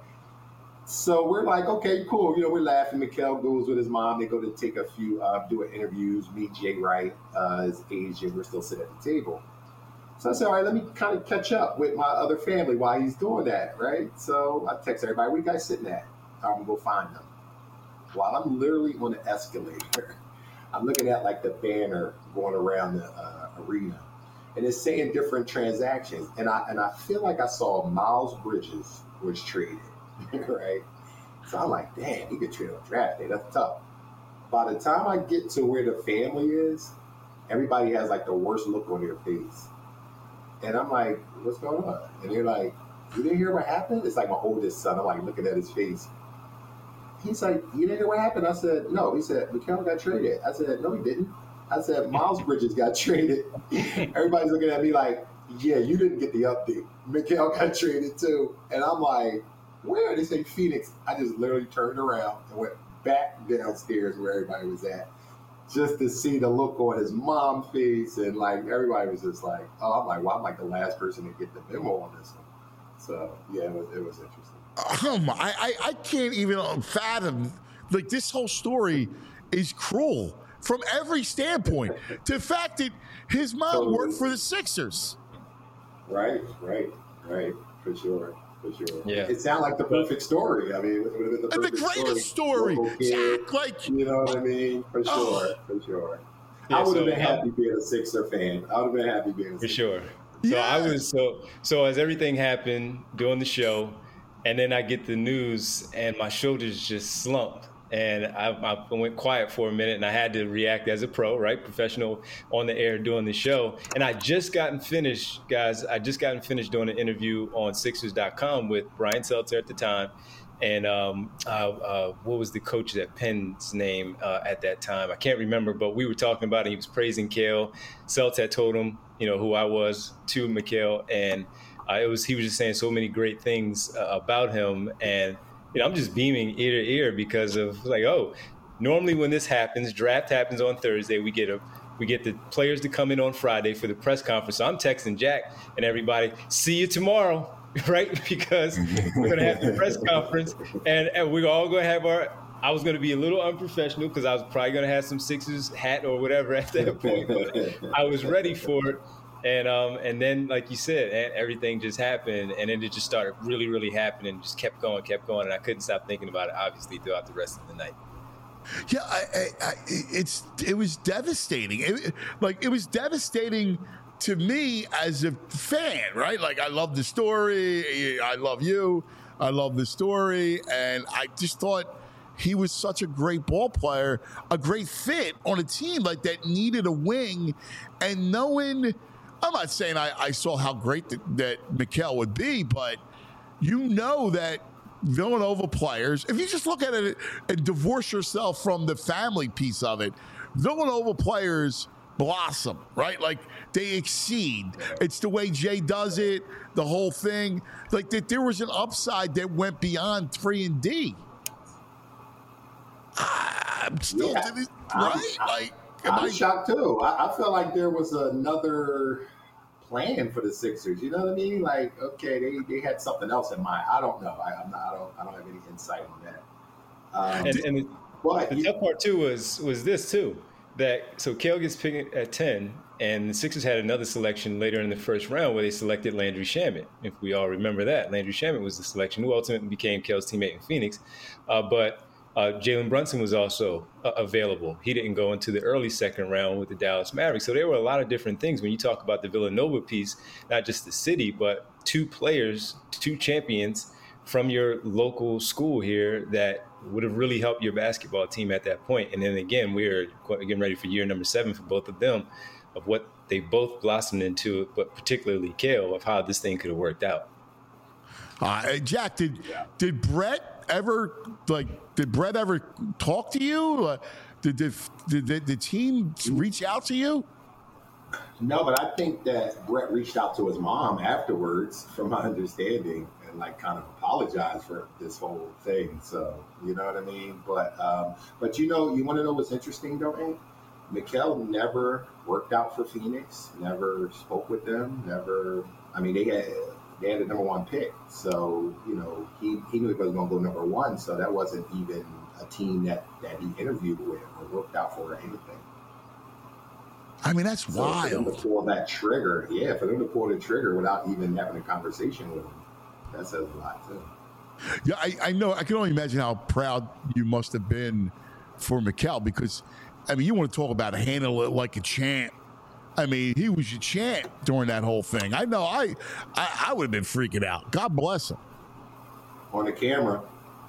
So we're like, okay, cool. We're laughing. Mikal goes with his mom. They go to take a few, doing interviews, meet Jay Wright, his agent. We're still sitting at the table. So I said, all right, let me kind of catch up with my other family while he's doing that, right? So I text everybody, where you guys sitting at? I'm going to go find them. While I'm literally on the escalator, I'm looking at like the banner going around the arena. And it's saying different transactions. And I feel like I saw Miles Bridges was traded. Right? So I'm like, damn, he could trade on draft day. That's tough. By the time I get to where the family is, everybody has like the worst look on their face. And I'm like, what's going on? And they're like, you didn't hear what happened? It's like my oldest son. I'm like looking at his face. He's like, you didn't hear what happened? I said, no. He said, Mikal got traded. I said, no, he didn't. I said, Miles Bridges got traded. Everybody's looking at me like, yeah, you didn't get the update. Mikal got traded too. And I'm like, where? They say Phoenix. I just literally turned around and went back downstairs where everybody was at, just to see the look on his mom's face, and like everybody was just like, "Oh, I'm like, well, I'm like the last person to get the memo on this one." So yeah, it was interesting. I can't even fathom. Like, this whole story is cruel from every standpoint. The fact that his mom worked for the Sixers. Right, for sure. Yeah. It sounded like the perfect story. I mean, it would have been the perfect greatest story. Local kid, Jack, like, you know what I mean? For sure. Yeah, I would have so, been happy being a Sixer fan. I would have been happy being a For Sixer sure. fan. So Yeah. I was so as everything happened doing the show, and then I get the news and my shoulders just slumped. And I went quiet for a minute, and I had to react as a pro, right? Professional on the air doing the show. And I just gotten finished, guys. Doing an interview on Sixers.com with Brian Seltzer at the time. And what was the coach at Penn's name at that time? I can't remember, but we were talking about it. He was praising Kale. Seltz had told him, who I was to Mikal. And he was just saying so many great things about him. And I'm just beaming ear to ear because of like, oh, normally when this happens, draft happens on Thursday. We get the players to come in on Friday for the press conference. So I'm texting Jack and everybody, see you tomorrow, right? Because we're going to have the press conference and we're all going to have I was going to be a little unprofessional because I was probably going to have some Sixers hat or whatever at that point. But I was ready for it. And then, like you said, everything just happened, and then it just started really, really happening. Just kept going, and I couldn't stop thinking about it. Obviously, throughout the rest of the night. Yeah, it was devastating. It was devastating to me as a fan, right? Like, I love the story. I love you. I love the story, and I just thought he was such a great ball player, a great fit on a team like that needed a wing, and knowing I'm not saying I saw how great that Mikal would be, but you know that Villanova players, if you just look at it and divorce yourself from the family piece of it, Villanova players blossom, right? Like they exceed. It's the way Jay does it, the whole thing. Like that there was an upside that went beyond 3 and D. I'm still right? I'm shocked too. I feel like there was another plan for the Sixers. You know what I mean? Like, okay, they had something else in mind. I don't know. I don't have any insight on that. The tough part too was this too. So Cale gets picked at 10, and the Sixers had another selection later in the first round where they selected Landry Shamet. If we all remember that, Landry Shamet was the selection who ultimately became Cale's teammate in Phoenix. But Jalen Brunson was also available. He didn't go into the early second round with the Dallas Mavericks. So there were a lot of different things when you talk about the Villanova piece, not just the city, but 2 players, 2 champions from your local school here that would have really helped your basketball team at that point. And then again, we're getting ready for year number 7 for both of them, of what they both blossomed into, but particularly Cale, of how this thing could have worked out. Jack, did Brett ever talk to you? Did the team reach out to you? No, but I think that Brett reached out to his mom afterwards, from my understanding, and like kind of apologized for this whole thing. So you know what I mean. But you want to know what's interesting though, Hank? Mikal never worked out for Phoenix. Never spoke with them. Never. I mean, they had the number 1 pick, so he knew he was going to go number 1. So that wasn't even a team that he interviewed with or worked out for or anything. I mean, that's wild. For them to pull that trigger, for them to pull the trigger without even having a conversation with him, that says a lot too. Yeah, I know. I can only imagine how proud you must have been for Mikal, because, I mean, you want to talk about handle it like a champ. I mean, he was your champ during that whole thing. I know. I would have been freaking out. God bless him. On the camera,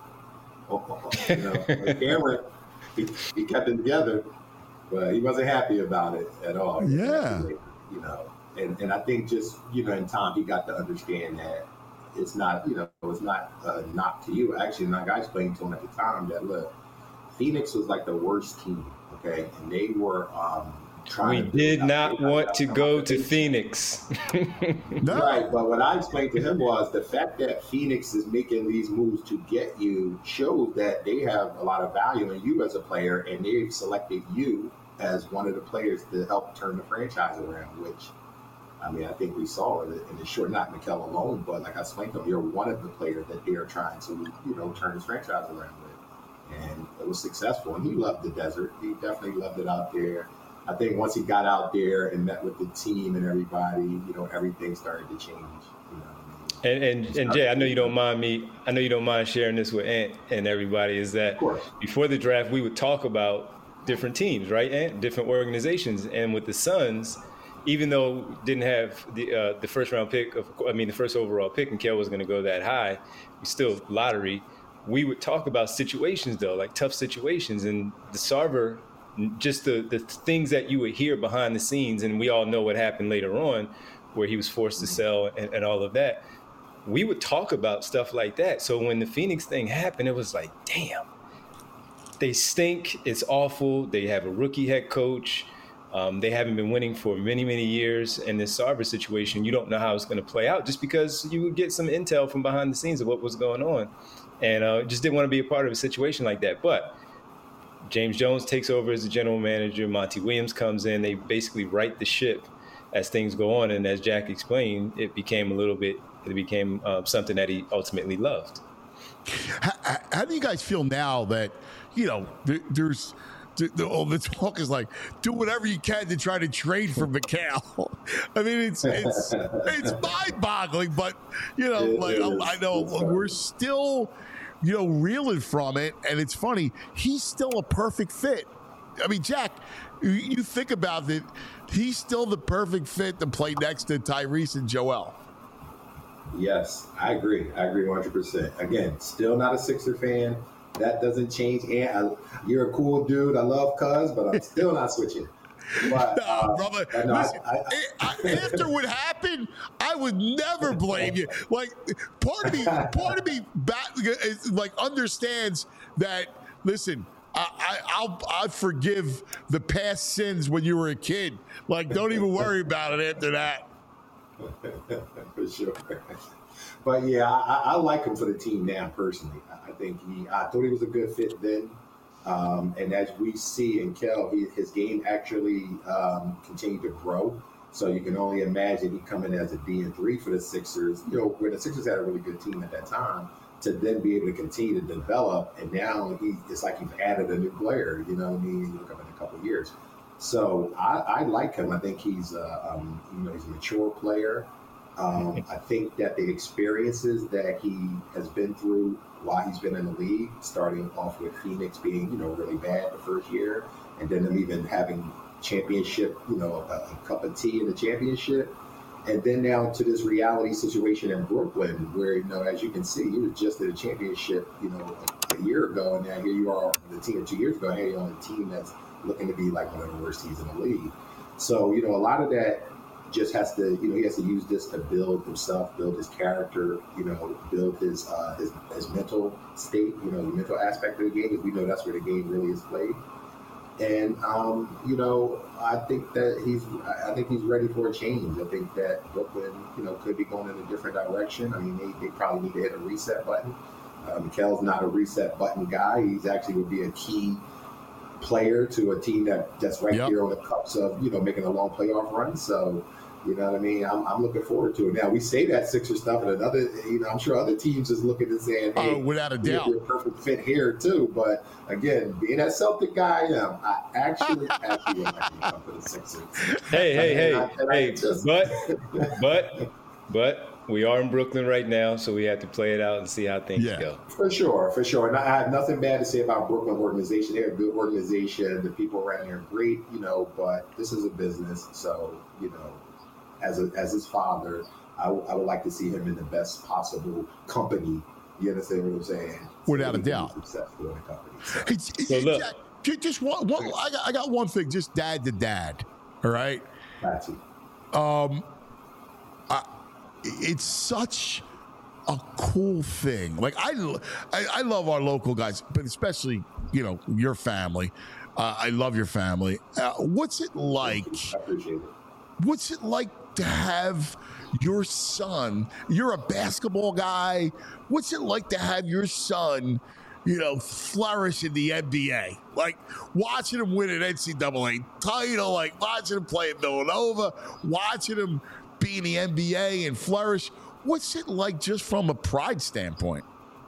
he kept it together, but he wasn't happy about it at all. Yeah. And I think just in time he got to understand that it's not it's not a knock to you. Actually, like I explained to him at the time that look, Phoenix was like the worst team. Okay, and they were. We did not want to go to Phoenix. No. Right, but what I explained to him was the fact that Phoenix is making these moves to get you shows that they have a lot of value in you as a player, and they've selected you as one of the players to help turn the franchise around, which, I mean, I think we saw in the short, not Mikal alone, but like I explained to him, you're one of the players that they are trying to, turn this franchise around with. And it was successful, and he loved the desert. He definitely loved it out there. I think once he got out there and met with the team and everybody, everything started to change. And Jay, I know you don't mind sharing this with Ant and everybody, is that before the draft, we would talk about different teams, right, Ant? Different organizations. And with the Suns, even though didn't have the first round pick, the first overall pick, and Cale was going to go that high, still lottery, we would talk about situations, though, like tough situations. And the Sarver, just the things that you would hear behind the scenes, and we all know what happened later on where he was forced to sell and all of that. We would talk about stuff like that. So when the Phoenix thing happened, it was like, damn, they stink. It's awful. They have a rookie head coach. They haven't been winning for many, many years. And this Sarver situation, you don't know how it's going to play out, just because you would get some intel from behind the scenes of what was going on. And just didn't want to be a part of a situation like that. But James Jones takes over as the general manager. Monty Williams comes in. They basically right the ship as things go on. And as Jack explained, it became something that he ultimately loved. How do you guys feel now that, there's the talk is like, do whatever you can to try to trade for Mikal? I mean, it's mind-boggling, but, I know we're still – reeling from it, and it's funny. He's still a perfect fit. I mean, Jack, you think about it, he's still the perfect fit to play next to Tyrese and Joel. Yes, I agree 100%. Again, still not a Sixer fan. That doesn't change. And you're a cool dude. I love Cuz, but I'm still not switching. But, No, brother. no, Listen, after what happened, I would never blame you. Like, part of me, like understands that. Listen, I forgive the past sins when you were a kid. Like, don't even worry about it after that. For sure. But yeah, I like him for the team now personally. I thought he was a good fit then. And as we see in Kel, his game actually continued to grow. So you can only imagine he coming as a D3 for the Sixers, you know, where the Sixers had a really good team at that time, to then be able to continue to develop. And now it's like you've added a new player, you know what I mean? You look up in a couple of years. So I like him. I think he's he's a mature player. I think that the experiences that he has been through while he's been in the league, starting off with Phoenix being, really bad the first year, and then them even having championship, a cup of tea in the championship, and then now to this reality situation in Brooklyn where, as you can see, you were just at a championship, a year ago, and now here you are on the team 2 years ago, here you're on a team that's looking to be like one of the worst teams in the league. So, a lot of that just has to, he has to use this to build himself, build his character, build his mental state, the mental aspect of the game, because we know that's where the game really is played. And I think he's ready for a change. I think that Brooklyn, could be going in a different direction. I mean, they probably need to hit a reset button. Mikel's not a reset button guy. He's actually would be a key player to a team that's right here on the cups of, making a long playoff run. So, you know what I mean? I'm looking forward to it. Now, we say that Sixer stuff, and another, I'm sure other teams is looking and saying, hey, without a doubt, you're a perfect fit here too. But again, being that Celtic guy I am, I actually would like to come for the Sixers. But we are in Brooklyn right now, so we have to play it out and see how things go. For sure. And I have nothing bad to say about Brooklyn organization. They're a good organization. The people around here are great, but this is a business. So, as his father, I would like to see him in the best possible company. You understand what I'm saying? Without a doubt. Successful in a company. So look, just one. I got one thing. Just dad to dad. All right. Gotcha. It's such a cool thing. Like I love our local guys, but especially your family. I love your family. What's it like? I appreciate it. What's it like to have your son? You're a basketball guy. What's it like to have your son, flourish in the NBA? Like watching him win an NCAA title, like watching him play at Villanova, watching him be in the NBA and flourish. What's it like just from a pride standpoint?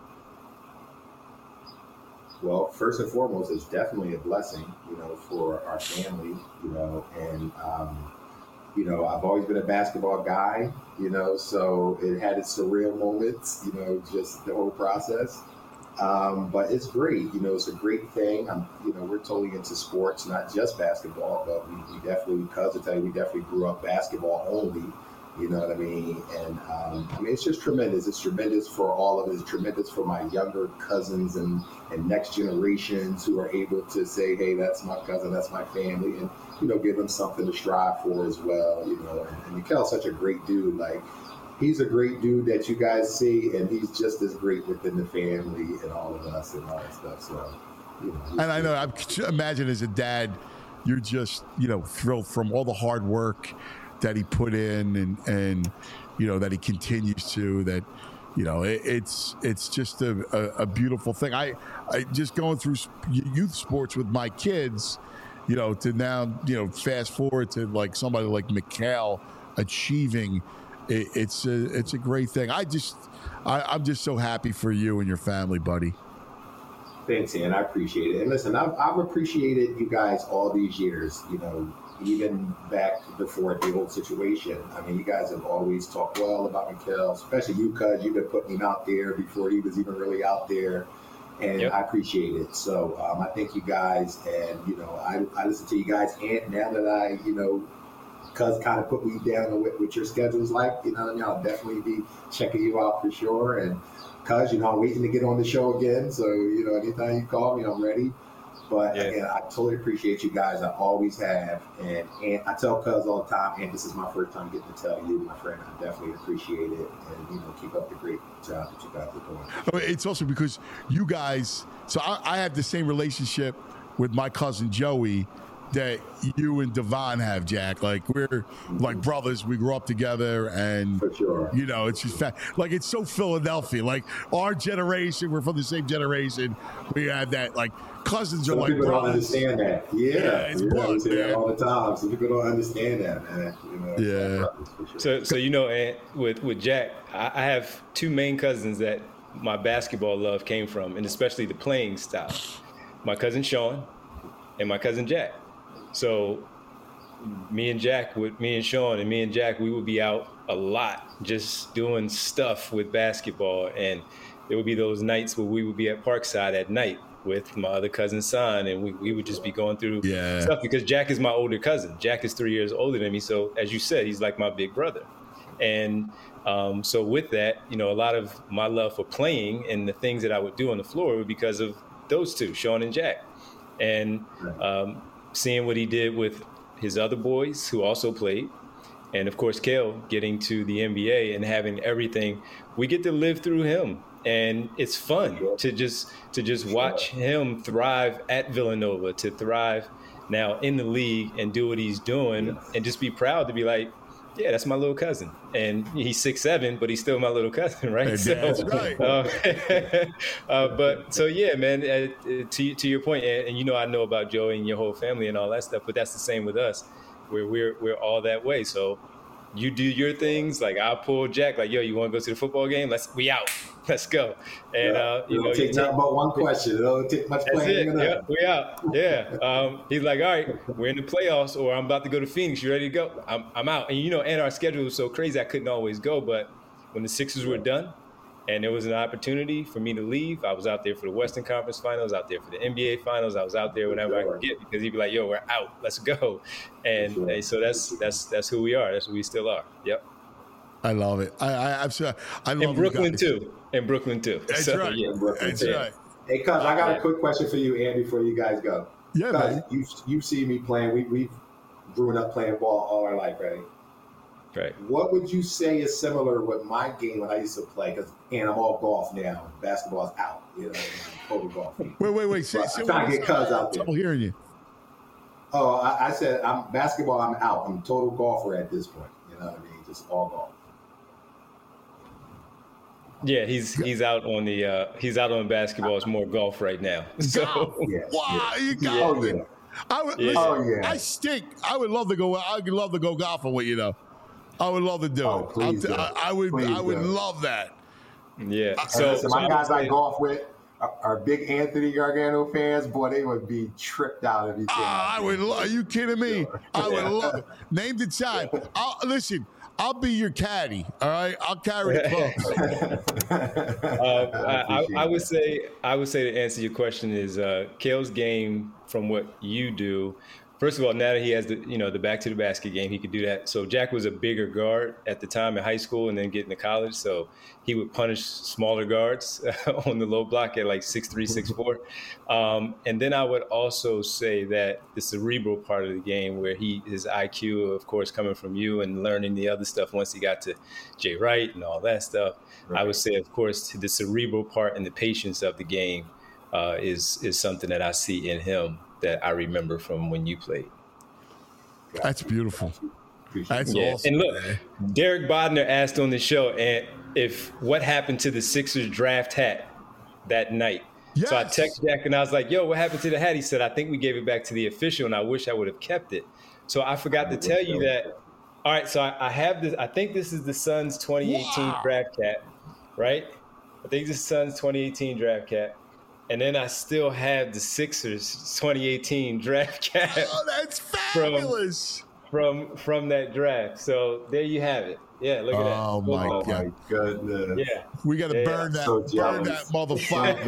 Well, first and foremost, it's definitely a blessing, for our family, and I've always been a basketball guy, so it had its surreal moments, just the whole process. But it's great, it's a great thing. We're totally into sports, not just basketball, but we definitely, because I tell you, we definitely grew up basketball only, you know what I mean? And it's just tremendous. It's tremendous for all of it. It's tremendous for my younger cousins and next generations who are able to say, hey, that's my cousin, that's my family, and, give them something to strive for as well, And Mikel's such a great dude. Like, he's a great dude that you guys see, and he's just as great within the family and all of us and all that stuff. So, and I know, I imagine as a dad, you're just, thrilled from all the hard work that he put in and that he continues to, that, it's just a beautiful thing. I just going through youth sports with my kids, to now, fast forward to like somebody like Mikel achieving, it's a great thing. I'm just so happy for you and your family, buddy. Thanks, Ian. I appreciate it. And listen, I've appreciated you guys all these years, even back before the old situation. I mean, you guys have always talked well about Mikel, especially you, cuz you've been putting him out there before he was even really out there. And I appreciate it. So I thank you guys. And, I listen to you guys. And now that I, cuz kind of put me down on what your schedule's like, I'll definitely be checking you out for sure. And cuz, I'm waiting to get on the show again. So, anytime you call me, I'm ready. But again, I totally appreciate you guys. I always have. And I tell Cuz all the time, and this is my first time getting to tell you, my friend, I definitely appreciate it. And, keep up the great job that you guys are doing. It's also because you guys, so I have the same relationship with my cousin Joey that you and Devon have, Jack. Like, we're like brothers. We grew up together, and for sure, it's just like, it's so Philadelphia. Like, our generation, we're from the same generation. We have that, like, cousins are like people brothers. Don't understand that. It's blood, we say that all the time. Some people don't understand that, man. Sure. So with Jack, I have two main cousins that my basketball love came from, and especially the playing style. My cousin Sean and my cousin Jack. So me and Sean and me and Jack, we would be out a lot just doing stuff with basketball. And there would be those nights where we would be at Parkside at night with my other cousin's son, and we would just be going through stuff because Jack is my older cousin. Jack is 3 years older than me. So as you said, he's like my big brother. And so with that, a lot of my love for playing and the things that I would do on the floor were because of those two, Sean and Jack. And seeing what he did with his other boys who also played, and of course Kale getting to the NBA and having everything, we get to live through him, and it's fun to just watch him thrive at Villanova, to thrive now in the league and do what he's doing, and just be proud to be like, yeah, that's my little cousin, and he's 6'7", but he's still my little cousin, right? That's right. But so yeah, man. To your point, and I know about Joey and your whole family and all that stuff, but that's the same with us. We're all that way. So you do your things, like I'll pull Jack, like, yo, you want to go to the football game? We out. Let's go. And it'll take nothing but one question. It don't take much playing. Yeah, we out. Yeah. He's like, all right, we're in the playoffs, or I'm about to go to Phoenix. You ready to go? I'm out. And and our schedule was so crazy I couldn't always go. But when the Sixers were done, and there was an opportunity for me to leave, I was out there for the Western Conference Finals, out there for the NBA Finals. I was out there whenever I could get, because he'd be like, yo, we're out. Let's go. And so that's who we are. That's who we still are. Yep. I love it. I love in Brooklyn too. In Brooklyn too. That's so, right. Yeah. That's right. Hey, Cuz, I got a quick question for you, Ann, before you guys go. Yeah, man. You see me playing. We've grown up playing ball all our life, right? Right. What would you say is similar with my game when I used to play? And I'm all golf now. Basketball's out. I'm total golf. Wait. I'm trying to get Cuz out there. I'm hearing you. Oh, I said I'm basketball. I'm out. I'm a total golfer at this point. You know what I mean? Just all golf. Yeah, he's out on the basketball. It's more golf right now. So wow, you got it. I I stink. I would love to go. I'd love to go golfing with you, though. I would love to do it. Please I would love that. Yeah. So my guys I golf with are big Anthony Gargano fans. Boy, they would be tripped out if he came. I would love. Are you kidding me? Sure. I would love it. Name the time. Listen. I'll be your caddy. All right, I'll carry the clubs. I would say to answer your question is Kale's game from what you do. First of all, now that he has the back to the basket game, he could do that. So Jack was a bigger guard at the time in high school and then getting to college. So he would punish smaller guards on the low block at like 6'3", 6'4". And then I would also say that the cerebral part of the game, where his IQ, of course, coming from you and learning the other stuff once he got to Jay Wright and all that stuff. Right. I would say, of course, the cerebral part and the patience of the game is something that I see in him that I remember from when you played. That's beautiful. That's awesome. And look, Derek Bodner asked on the show, and if what happened to the Sixers draft hat that night. Yes. So I texted Jack and I was like, yo, what happened to the hat? He said, I think we gave it back to the official, and I wish I would have kept it. So I forgot to tell you that. All right, so I have this. I think this is the Suns 2018 draft hat, right? I think this is Suns 2018 draft hat. And then I still have the Sixers 2018 draft cap. Oh, that's fabulous. From that draft. So there you have it. Yeah, look at that. Oh my goodness. Yeah. We got to burn that. So burn that motherfucker.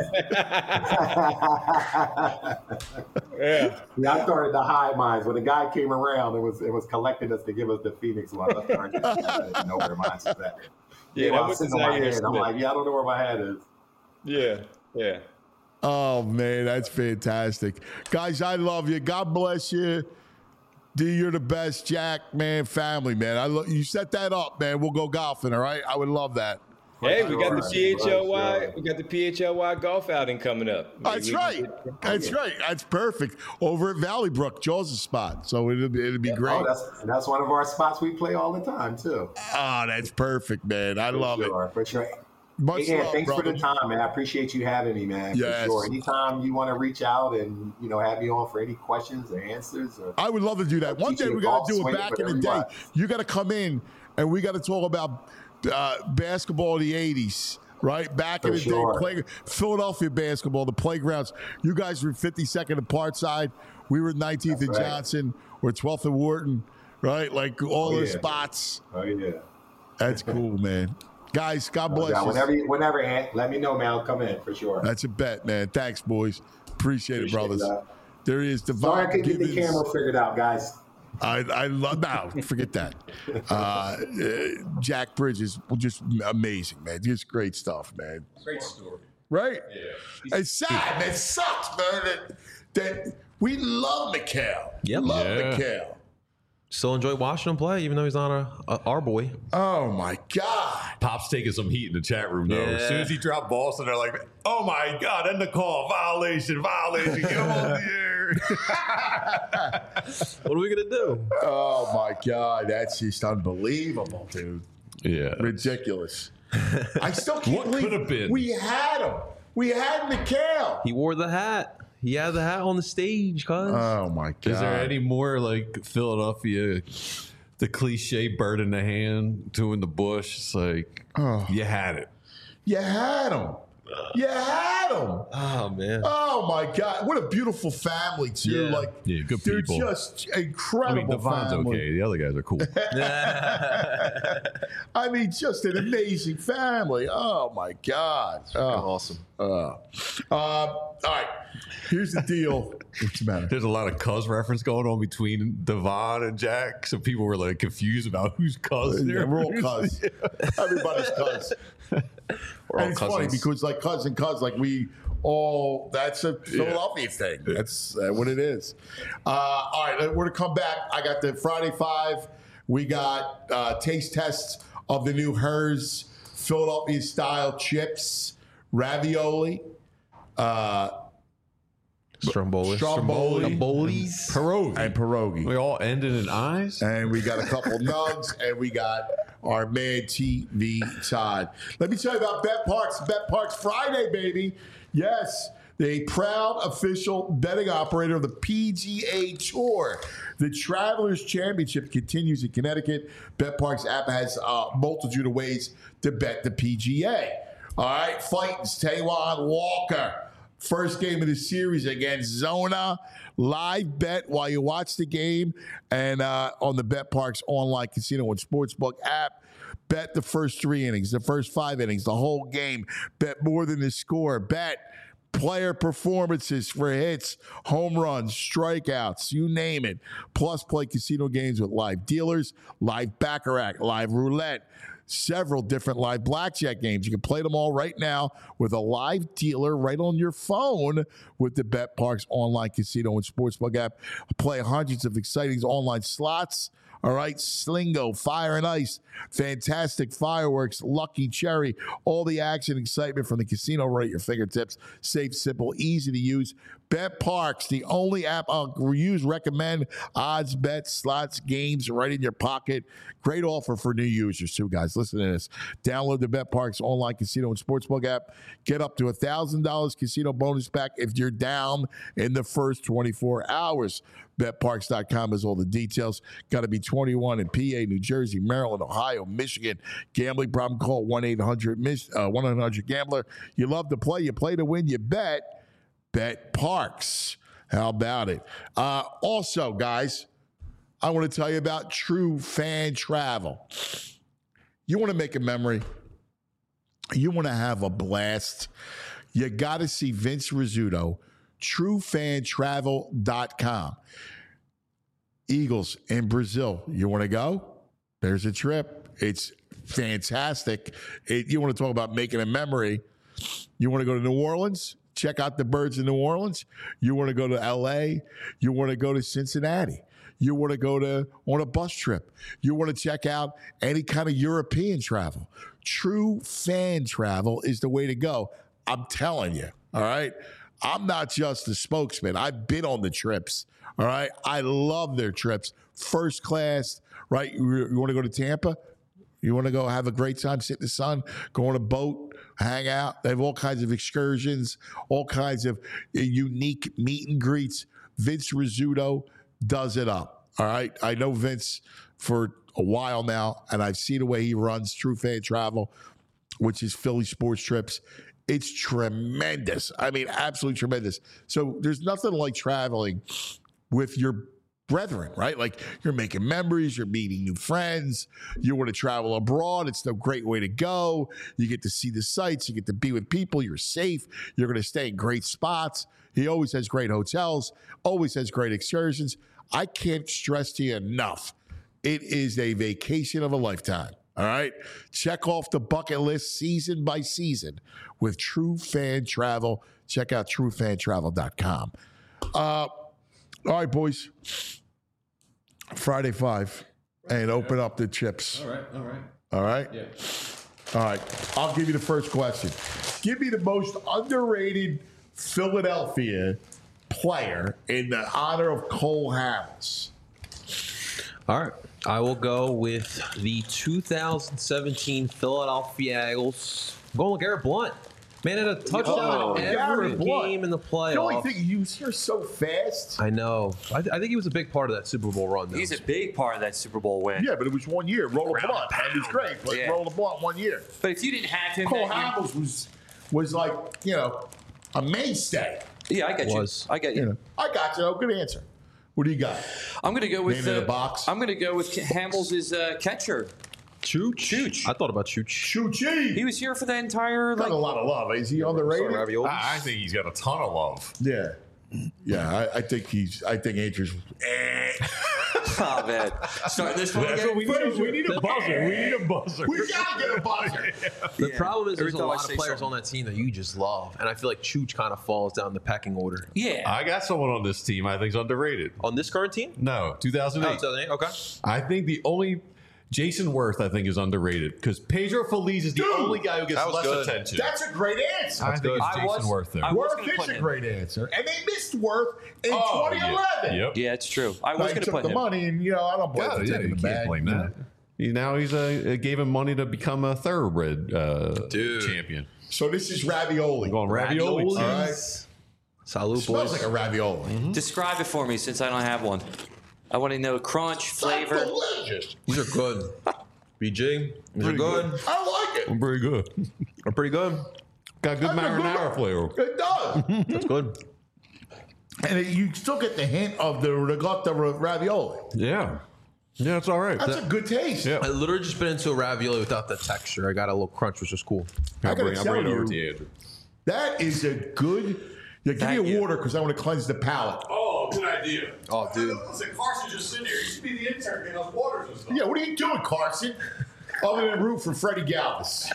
Yeah. I started to hide mine. When the guy came around, it was collecting us to give us the Phoenix one. I didn't know where mine's at. Yeah, I was sitting on my head. I'm like, I don't know where my head is. Yeah. Yeah. Oh, man, that's fantastic. Guys, I love you. God bless you. D, you're the best. Jack, man, family, man. You set that up, man. We'll go golfing, all right? I would love that. Hey, we got the PHLY. We got the PHLY golf outing coming up. That's right. That's right. That's perfect. Over at Valley Brook, Jaws' spot. So it'll be great. Oh, that's one of our spots we play all the time too. Oh, that's perfect, man. I love it. For sure. Much love, Thanks brother. for the time, man. I appreciate you having me, man. Yes. For sure. Anytime you want to reach out and have me on for any questions or answers. I would love to do that. One day we got to do it back in the day. You got to come in and we got to talk about basketball of the 80s. Right? Back in the day, Philadelphia basketball, the playgrounds. You guys were 52nd and Parkside. We were 19th and Johnson. We're 12th and Wharton. Right? Like all the spots. Oh, yeah. That's cool, man. Guys, God bless you. Whenever, Ant, let me know, man. I'll come in for sure. That's a bet, man. Thanks, boys. Appreciate it, brothers. That. There he is, Devon Sorry I couldn't get Gibbons. the camera figured out, guys. I love now. Forget that. Jack Bridges, just amazing, man. Just great stuff, man. Great story. Right? Yeah. It's sad. It sucks, man. That we love Mikal. Yep. Love Mikal. Still enjoy watching him play, even though he's not our boy. Oh my God! Pop's taking some heat in the chat room though. Yeah. As soon as he dropped Boston, they're like, "Oh my God!" End the call. Violation. Get him on the air. What are we gonna do? Oh my God! That's just unbelievable, dude. Yeah. Ridiculous. I still can't What believe could have been? we had him. We had Mikal. He wore the hat. He had the hat on the stage, cuz. Oh my God! Is there any more like Philadelphia, the cliche bird in the hand, two in the bush? It's like, you had it. You had him. You had him. Oh, man. Oh my God! What a beautiful family too. Yeah. Like, Yeah, good they're people. just I mean, incredible Devon's family. okay. The other guys are cool. I mean, just an amazing family. Oh my God! Awesome. All right, here's the deal. What's the matter? There's a lot of cuz reference going on between Devon and Jack, so people were like confused about who's cuz. Yeah, we're all cuz. Everybody's cuz. We're all And it's funny cousins. because like cousin, like we all, that's a Philadelphia thing. That's what it is. All right, we're to come back. I got the Friday Five. We got taste tests of the new Hers Philadelphia style chips, ravioli, Stromboli. Pierogi. and pierogi. We all ended in eyes. And we got a couple nugs, and we got our man TV Todd. Let me tell you about Bet Parks. Bet Parks Friday, baby. Yes, the proud official betting operator of the PGA Tour. The Travelers Championship continues in Connecticut. Bet Parks app has a multitude of ways to bet the PGA. All right, Fightins, Taiwan Walker. First game of the series against Zona. Live bet while you watch the game and on the Bet Parks online casino and sportsbook app. Bet the first 3 innings, the first 5 innings, the whole game. Bet more than the score. Bet player performances for hits, home runs, strikeouts, you name it. Plus, play casino games with live dealers, live baccarat, live roulette, several different live blackjack games. You can play them all right now with a live dealer right on your phone with the Bet Parks online casino and sportsbook app. Play hundreds of exciting online slots. All right, Slingo, Fire and Ice, fantastic fireworks, Lucky Cherry, all the action, excitement from the casino right at your fingertips. Safe, simple, easy to use. Bet Parks, the only app I'll use, recommend odds, bets, slots, games right in your pocket. Great offer for new users too, guys. Listen to this. Download the Bet Parks online casino and sportsbook app. Get up to $1,000 casino bonus back if you're down in the first 24 hours. BetParks.com has all the details. Got to be 21 in PA, New Jersey, Maryland, Ohio, Michigan. Gambling problem, call 1-800-GAMBLER. You love to play. You play to win. You bet. Bet Parks. How about it? Also, guys, I want to tell you about True Fan Travel. You want to make a memory? You want to have a blast? You got to see Vince Rizzuto, TrueFanTravel.com. Eagles in Brazil. You want to go? There's a trip. It's fantastic. You want to talk about making a memory? You want to go to New Orleans? check out the birds in New Orleans? You want to go to L.A.? You want to go to Cincinnati? You want to go on a bus trip? You want to check out any kind of European travel? True Fan Travel is the way to go. I'm telling you, all right? I'm not just the spokesman. I've been on the trips, all right? I love their trips. First class, right? You want to go to Tampa? You want to go have a great time, sit in the sun, go on a boat, hang out. They have all kinds of excursions, all kinds of unique meet and greets. Vince Rizzuto does it up, all right? I know Vince for a while now, and I've seen the way he runs True Fan Travel, which is Philly Sports Trips. It's tremendous. I mean, absolutely tremendous. So there's nothing like traveling with your brethren, right? Like you're making memories, you're meeting new friends, you want to travel abroad. It's a great way to go. You get to see the sights, you get to be with people, you're safe, you're going to stay in great spots. He always has great hotels, always has great excursions. I can't stress to you enough. It is a vacation of a lifetime. All right. Check off the bucket list season by season with True Fan Travel. Check out truefantravel.com. All right, boys. Friday 5 and open up the chips. All right. All right? Yeah. All right. I'll give you the first question. Give me the most underrated Philadelphia player in the honor of Cole Hamels. All right. I will go with the 2017 Philadelphia Eagles. I'm going with Garrett Blunt. Man had a touchdown every game in the playoffs. The only thing, you're so fast. I know. I think he was a big part of that Super Bowl run, though. He's a big part of that Super Bowl win. Yeah, but it was 1 year. Roll a Blunt. And it was great, but Roll a Blunt 1 year. But if you didn't have him, Cole Hamels was like, a mainstay. Yeah, I got you. I got you. I got you. Good answer. What do you got? I'm going to go with Name in the box. I'm going to go with Hamels' catcher. Chooch. I thought about Chooch. Choochy. He was here for the entire. Got a lot of love. Is he underrated? I think he's got a ton of love. Yeah. Yeah, I think Andrews. Oh, man. Starting this one That's again? what we need. We need a buzzer. We need a buzzer. We gotta get a buzzer. The problem is Every there's a time I lot of say players something. on that team that you just love. And I feel like Chooch kind of falls down the pecking order. Yeah. I got someone on this team I think is underrated. On this current team? No, 2008. 2008? Okay. I think the only Jason Worth, I think, is underrated because Pedro Feliz is the only guy who gets that was less good. attention. That's a great answer. I think it's Jason Worth there. Worth is a great answer. And they missed Worth in 2011. Yep. Yeah, it's true. I was He going to took put the him. money, and I don't blame him for Yeah, taking you the can't bag. blame that. Now he's gave him money to become a thoroughbred champion. So this is ravioli. Going ravioli. All right. Salute, Smells boys. like a ravioli. Describe it for me since I don't have one. I want to know crunch, flavor. That's delicious. These are good. BG, these are good. I like it. Very good. They're pretty good. Got good marinara flavor. It does. That's good. And you still get the hint of the ricotta ravioli. Yeah. Yeah, it's all right. That's a good taste. Yeah. I literally just been into a ravioli without the texture. I got a little crunch, which is cool. I gotta I'll tell bring it over you, to you, Andrew. that is a good. Yeah, give Thank me a you. water because I want to cleanse the palate. Oh, good idea. Oh, dude. Listen, Carson's just sitting there. You should be the intern getting us waters and stuff. Yeah, what are you doing, Carson? Other than root for Freddie Galvis.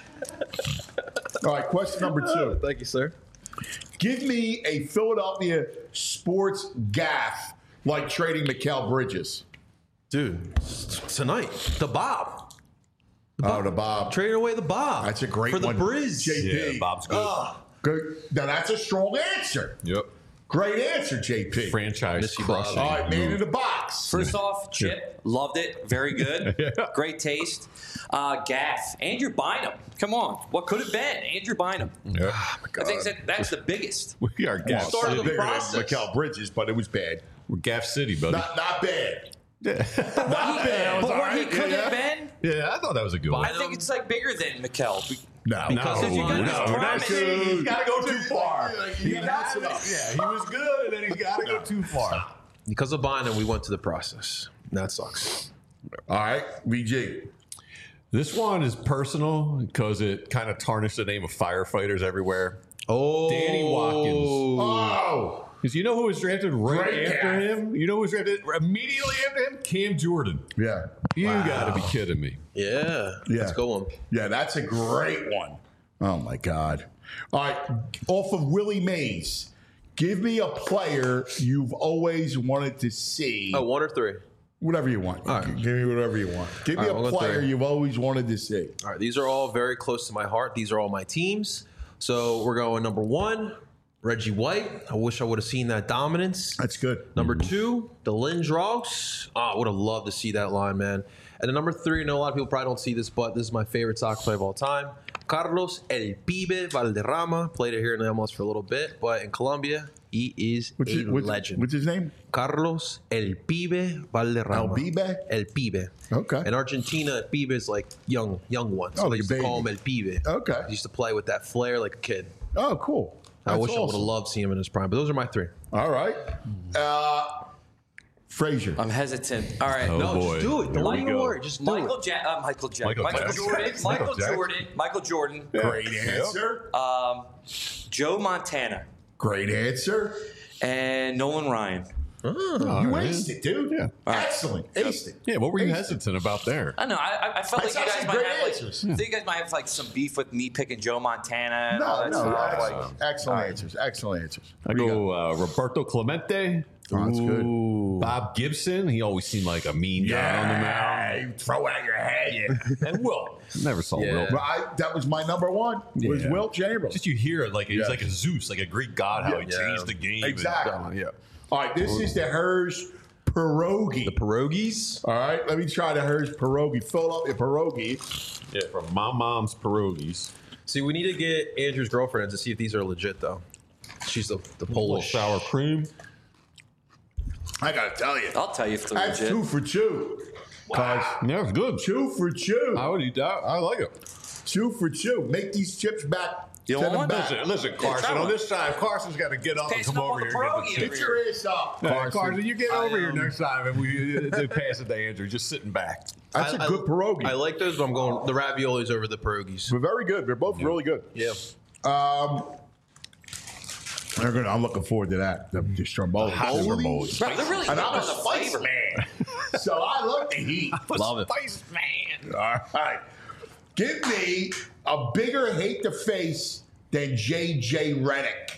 All right, question number 2. Thank you, sir. Give me a Philadelphia sports gaffe like trading Mikal Bridges. Dude, tonight, the Bob. The Bob. Trading away the Bob. That's a great for one. the Briz. JP. Yeah, Bob's good. Good. Now, that's a strong answer. Yep. Great answer, JP. Franchise Miss you, crushing. All right, man in the box. First off, Chip, loved it. Very good. Great taste. Gaff, Andrew Bynum. Come on. What could have been? Andrew Bynum. Yep. I think that's the biggest. We are Gaff Start of City. the Bigger than process. Mikal Bridges, but it was bad. We're Gaff City, buddy. Not bad. But what he could have been, Yeah, I thought that was a good one. I think it's like bigger than Mikkel. No. Because if you got this promise, He's got to go too far. He got it up. Yeah, he was good, and then he's got to go too far. Because of Bynum, we went to the process. That sucks. All right, VG. This one is personal because it kind of tarnished the name of firefighters everywhere. Oh. Danny Watkins. Oh. Because you know who was drafted right Great after guy. him? You know who was drafted immediately after him? Cam Jordan. Yeah. You got to be kidding me. Yeah. Yeah. Let's go on. Yeah, that's a great one. Oh, my God. All right, off of Willie Mays. Give me a player you've always wanted to see. Oh, 1 or 3? Whatever you want. All right. Give me whatever you want. Give me All right, a we'll go player 3. you've always wanted to see. All right, these are all very close to my heart. These are all my teams. So we're going number 1, Reggie White. I wish I would have seen that dominance. That's good. Number 2, the Lindros. Oh, I would have loved to see that line, man. And then number 3, I know a lot of people probably don't see this, but this is my favorite soccer player of all time. Carlos El Pibe Valderrama. Played it here in the MLS for a little bit, but in Colombia, he is a legend. What's his name? Carlos El Pibe Valderrama. El Pibe? El Pibe. Okay. In Argentina, Pibe is like young one. So Oh, they like a used to call baby. him El Pibe. Okay. He used to play with that flair like a kid. Oh, cool. I wish I would have awesome. loved seeing him in his prime, but those are my 3. All right. Frazier. I'm hesitant. All right. Oh, No, boy. just do it. Here Don't we even go. worry. Just do it. Michael Jordan. Michael Jordan. Jackson. Michael Jordan. Great answer. Joe Montana. Great answer. And Nolan Ryan. You aced it, dude. Yeah. Excellent. Aced it. Yeah, what were you Aced it. hesitant about there? I know. I felt That's like you guys actually might great have answers. I think you guys might have like some beef with me picking Joe Montana and all No, that no. stuff. Excellent answers. Excellent answers. I go Roberto Clemente. Oh, that's good. Bob Gibson. He always seemed like a mean guy on the mound. You throw out your head. And Will. Never saw Yeah. Will. But that was my number 1. Was Yeah. Wilt Chamberlain. Just you hear it like he's Yeah. like a Zeus, like a Greek god, how he Yeah. changed the game. Exactly. Yeah. All right, this is the Hers pierogi. The pierogies. All right, let me try the Hers pierogi. Fill up your pierogi. Yeah, from my mom's pierogies. See, we need to get Andrew's girlfriend to see if these are legit, though. She's the Little Polish. sour cream. I gotta tell you, I'll tell you if they're that's legit. 2 for 2. Cause Yeah, it's good. 2 for 2. I would eat that. I like it. 2 for 2. Make these chips back. You Send don't them want back. Listen, Carson. try On one. this side, Carson's got to get up and Passing come up over on here the and pierogi get the Get chips. your ass up, Carson, Carson. you get over here next time and we pass it to Andrew. Just sitting back. That's a good pierogi. I like those, but I'm going the raviolis over the pierogies. They're very good. They're both really good. Yeah. I'm looking forward to that. The stromboli. Stromboli. Bro, they're really good And I'm on a the spice flavor. man. So I like the heat. Love it. Spice man. All right. Give me a bigger hate to face than J.J. Redick.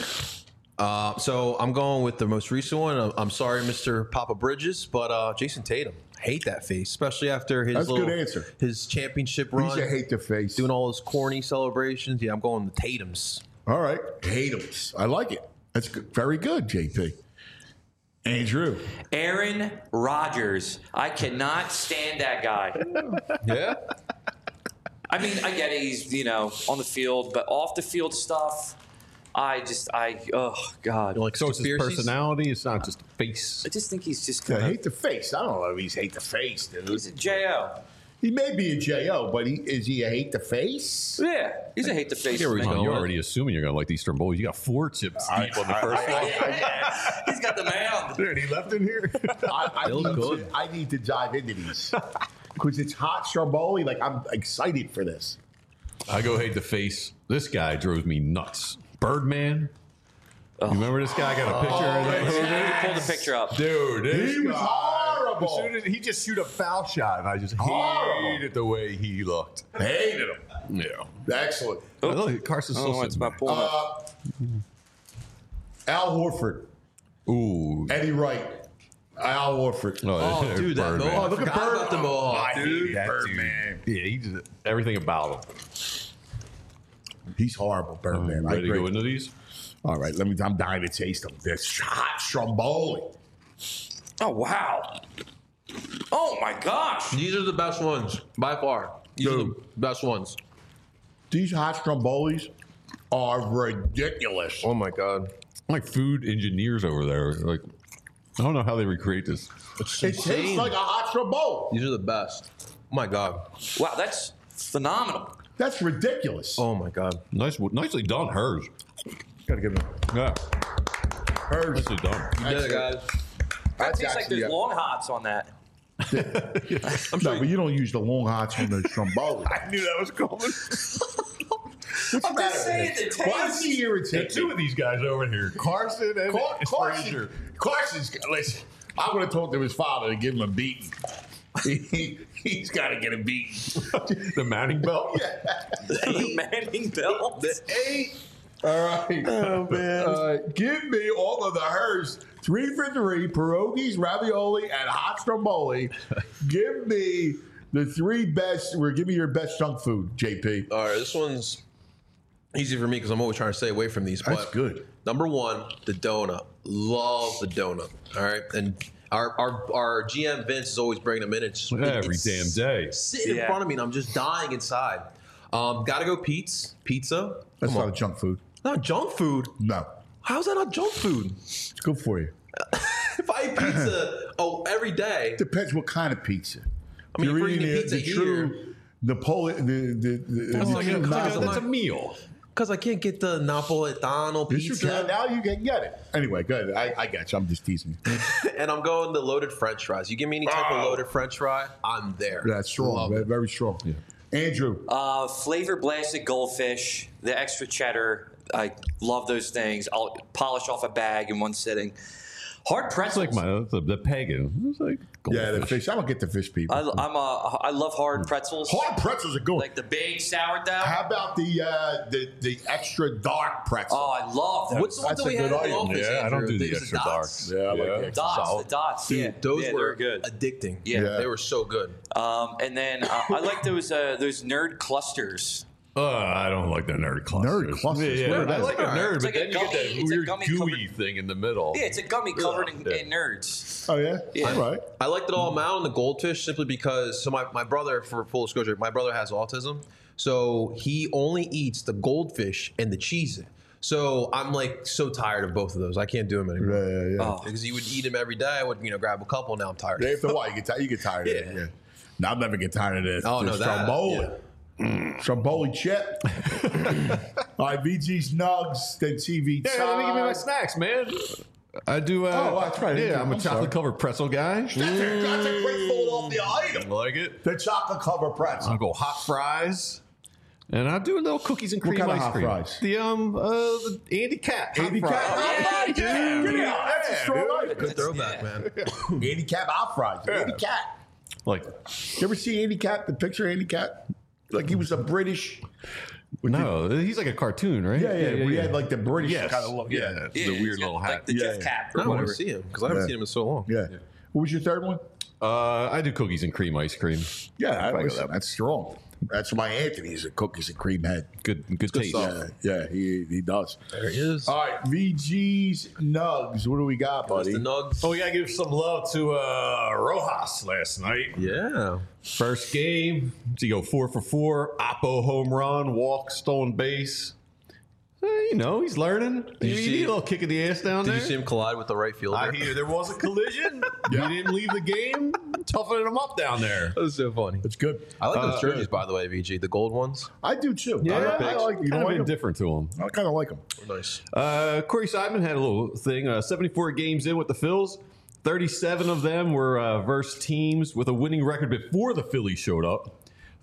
So I'm going with the most recent one. I'm sorry, Mr. Papa Bridges, but Jason Tatum. Hate that face, especially after his That's a little, good answer. his championship run. He's a hate to face. Doing all those corny celebrations. Yeah, I'm going with Tatum's. All right. Tatum's. I like it. That's good. Very good, JP. Andrew. Aaron Rodgers. I cannot stand that guy. Yeah. I mean, I get it. He's, on the field, but off the field stuff, oh, God. Like So it's his conspiracies? personality. It's not just a face. I just think he's just Yeah, kind of. hate the face. I don't know if he's hate the face, dude. He's a J.O. He may be a J.O., but is he a hate the face? Yeah, he's a hate the face. Here we man. go. You're already assuming you're going to like these Stromboli. You got 4 chips deep on the first one. He's got the mound. Dude, he left in here. I need to dive into these because it's hot Stromboli. Like, I'm excited for this. I go hate the face. This guy drove me nuts. Birdman. You remember this guy? I got a picture of that. Pull the picture up. Dude, this He was guy, horrible. As soon as he just shoot a foul shot, and I just Horrible. hated the way he looked. Hated him. Yeah. Excellent. Look, Carson's still Oh, it's sitting my back. pulling up. Al Horford, Ooh. Eddie Wright, Al Horford. Oh, there's dude, that Birdman. mohawk. look at Forgot Bird. about the mohawk, I dude. hate That Birdman. dude. Yeah, he just everything about him. He's horrible, Birdman. I Ready to agree. go into these? All right, I'm dying to taste them. This hot Stromboli. Oh, wow. Oh, my gosh. These are the best ones by far. These are the Dude. best ones. These hot Strombolis are ridiculous. Oh my god. Like food engineers over there. Like, I don't know how they recreate this. It's It tastes like a hot Stromboli. These are the best. Oh my god. Wow, that's phenomenal. That's ridiculous. Oh my god. Nicely done, hers. Gotta give him Yeah, hers. nicely done. You did it, guys. That That's tastes like actually there's long hots on that. No, but you don't use the long hots on the Stromboli. I knew that was coming. What's the matter saying with the him? Why is taste. he irritated? Two of these guys over here, Carson and Carson. Frazier. Carson's. Listen, I would have told to his father to give him a beating. He's got to get a beat. The Manning belt. The Manning belt. The 8. All right. Oh, man. Give me all of the Hearst 3 for 3 pierogies, ravioli, and hot stromboli. Give me the 3 best. Give me your best junk food, JP. All right, this one's easy for me because I'm always trying to stay away from these. That's but good. Number 1, the donut. Love the donut. All right, and our GM Vince is always bringing them in. It's Every damn day. sitting in front of me, and I'm just dying inside. Gotta go pizza. That's Come not on. a junk food. Not junk food. No. How's that not junk food? It's good for you. If I eat pizza every day, Depends what kind of pizza. I mean, if You're we're eating eating pizza the true here, Napoleon. That's a meal. because I can't get the Napolitano Yes, you pizza, can. Now you can get it. Anyway, good. I got you. I'm just teasing. and I'm going the loaded French fries. You give me any type of loaded French fry, I'm there. That's strong. Love it. Very strong. Yeah. Andrew. Flavor blasted goldfish, the extra cheddar. I love those things. I'll polish off a bag in one sitting. Hard It's pretzels. like the pagan. It's like Yeah, the goldfish. fish. I don't get the fish people. I love hard pretzels. Hard pretzels are good. Like the big sourdough. How about the extra dark pretzel? Oh, I love those. What's the one That's that we a had good at the item. office? Yeah, I don't Andrew? do the It was extra dots. dark. Yeah, I like the dots? The dots. Dude, Yeah, those yeah, were they're good. addicting. Yeah. They were so good. And then I like those nerd clusters. I don't like the nerd clusters. Nerd clusters? Yeah, What are I those? like a nerd, It's but like a then you get gummy- that it's a weird gummy gooey covered- thing in the middle. Yeah, it's a gummy covered in Yeah. nerds. Oh, yeah? Yeah. All right. I liked it all amount on the goldfish simply because my brother, for full disclosure, my brother has autism. So he only eats the goldfish and the cheese. So I'm like so tired of both of those. I can't do them anymore. Yeah. Oh. Because he would eat them every day. I would, grab a couple. Now I'm tired. After a while, you get tired of it. Yeah. Yeah. No, I'll never get tired of this. Oh, no, This that, Stromboli. yeah. Stromboli chip. All right, VG's Nugs, then TV Yeah, let me give me my snacks, man. I do. Oh, that's right. Yeah, I'm a I'm sorry. chocolate covered pretzel guy. That's a great Philadelphia item. Like it. The chocolate cover pretzel. I'll go hot fries. And I'll do a little cookies and What cream kind of ice hot cream. fries? The Andy Cat. hot Andy fries. Cap hot fries. Yeah, dude. That's a strong Yeah, item. Good throwback, man. Andy Cap hot fries. Andy Cap. Like, You ever see Andy Cap? The picture of Andy Cap? Like he was a British. no, he's like a cartoon, right? Yeah. We had like the British Yes. kind of look. Yeah. The Yeah, weird it's got, little hat. like the Yeah, Jeff yeah. cap I or want whatever. to see him because I haven't Yeah. seen him in so long. Yeah. What was your third one? I do cookies and cream ice cream. Yeah, that's strong. That's why Anthony's a cookies and cream head. Good taste. stuff. Yeah, he does. There he is. All right, VG's Nugs. What do we got, That's buddy? the nugs. Oh, we gotta give some love to Rojas last night. Yeah. First game, to go 4 for 4, Oppo home run, walk, stolen base. He's learning. you You see- need a little kick in the ass down Did there. you see him collide with the right fielder? I hear there was a collision. He didn't leave the game. Toughening him up down there. That was so funny. It's good. I like those jerseys, by the way, VG. The gold ones. I do too. Yeah, I like. You kind know, of like 'em? indifferent to him. I kind of like them. Nice. Corey Seidman had a little thing. 74 games in with the Phils. 37 of them were versus teams with a winning record before the Phillies showed up.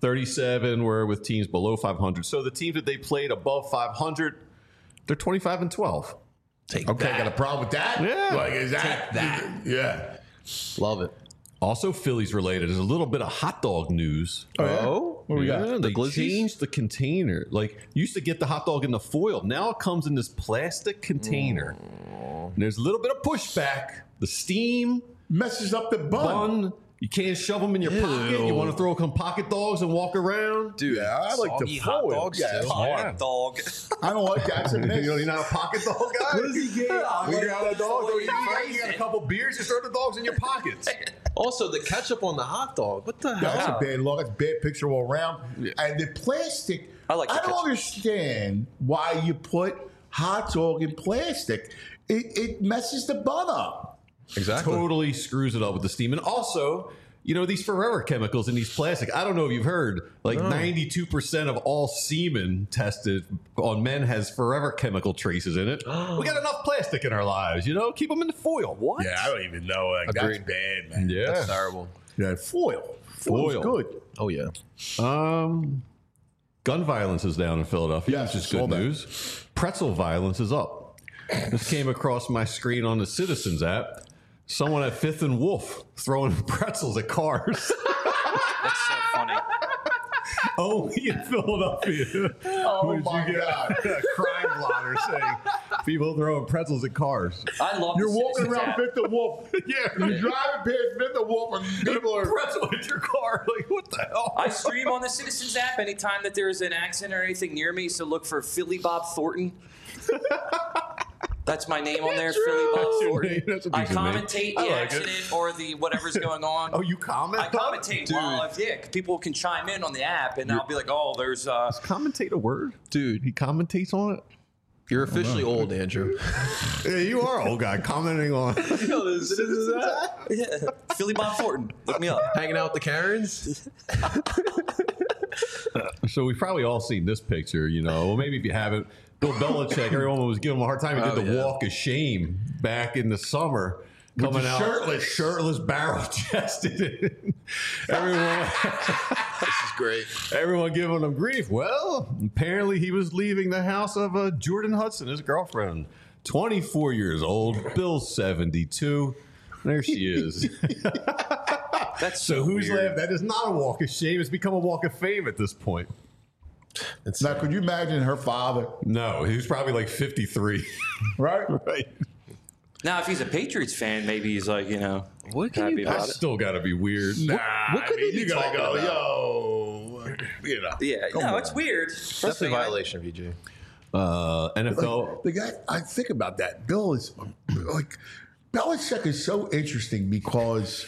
37 were with teams below 500. So the teams that they played above 500, they're 25 and 12. Take Okay, that. got a problem with that? Yeah. Like, is that? Take that. Yeah. Love it. Also, Phillies related. There's a little bit of hot dog news. Oh, What we got? Yeah, The they glizzies? changed the container. Like, you used to get the hot dog in the foil. Now it comes in this plastic container. And there's a little bit of pushback. The steam, Messes up the bun. bun, you can't shove them in your pocket. You want to throw some pocket dogs and walk around? dude. Yeah, I like the soggy hot foil. dogs Yeah, too. Hot dog. I don't like that. It's a miss. You're not a pocket dog guy? What does he get? When you're out of dog, you got a couple beers, you throw the dogs in your pockets. Also, the ketchup on the hot dog. What the That's hell? a bad look. That's a bad picture all around. And the plastic. I like the I don't picture. understand why you put hot dog in plastic. It messes the bun up. Exactly. Totally screws it up with the steam. And also, these forever chemicals in these plastic. I don't know if you've heard, like 92% of all semen tested on men has forever chemical traces in it. We got enough plastic in our lives, keep them in the foil. What? Yeah, I don't even know. Like, that's Agreed. bad, man. Yeah. That's terrible. Yeah, foil. Foil's Foil. good. Oh, yeah. Gun violence is down in Philadelphia, Yes, which is I saw good that. news. Pretzel violence is up. This came across my screen on the Citizens app. Someone at 5th and Wolf throwing pretzels at cars. That's so funny. Only in Philadelphia. Oh my God. A crime blotter saying people throwing pretzels at cars. I love You're the walking Citizens around app. Fifth and Wolf. Yeah. You're driving past Fifth and Wolf and people are. Pretzel at your car. Like, what the hell? I stream on the Citizens app anytime that there is an accident or anything near me, so look for Philly Bob Thornton. That's my name on there, Philly Bob That's your Thornton. name. That's a I decent name. commentate I the like it. accident or the whatever's going on. Oh, you comment? I commentate while people can chime in on the app, and I'll be like, "Oh, there's Is commentate a word? Dude. He commentates on it? You're officially old, Andrew. Yeah, you are old guy commenting on yeah, Philly Bob Thornton. Look me up." Hanging out with the Karens. So we've probably all seen this picture, you know. Well, maybe if you haven't, Bill Belichick, everyone was giving him a hard time. He did the walk of shame back in the summer. Coming out shirtless, barrel-chested. Everyone, This is great. everyone giving him grief. Well, apparently he was leaving the house of Jordan Hudson, his girlfriend, 24 years old. Bill's 72. There she is. That's So who's weird. left? That is not a walk of shame. It's become a walk of fame at this point. Now, could you imagine her father? No, he was probably like 53. Right? Right. Now, if he's a Patriots fan, maybe he's like, What can happy you about That's it. still got to be weird. What could they be you gotta talking go, about? yo, you know. Yeah, Come no, on. it's weird. That's a Personally, violation, VJ. NFL. The guy, I think about that. Bill is like, Belichick is so interesting because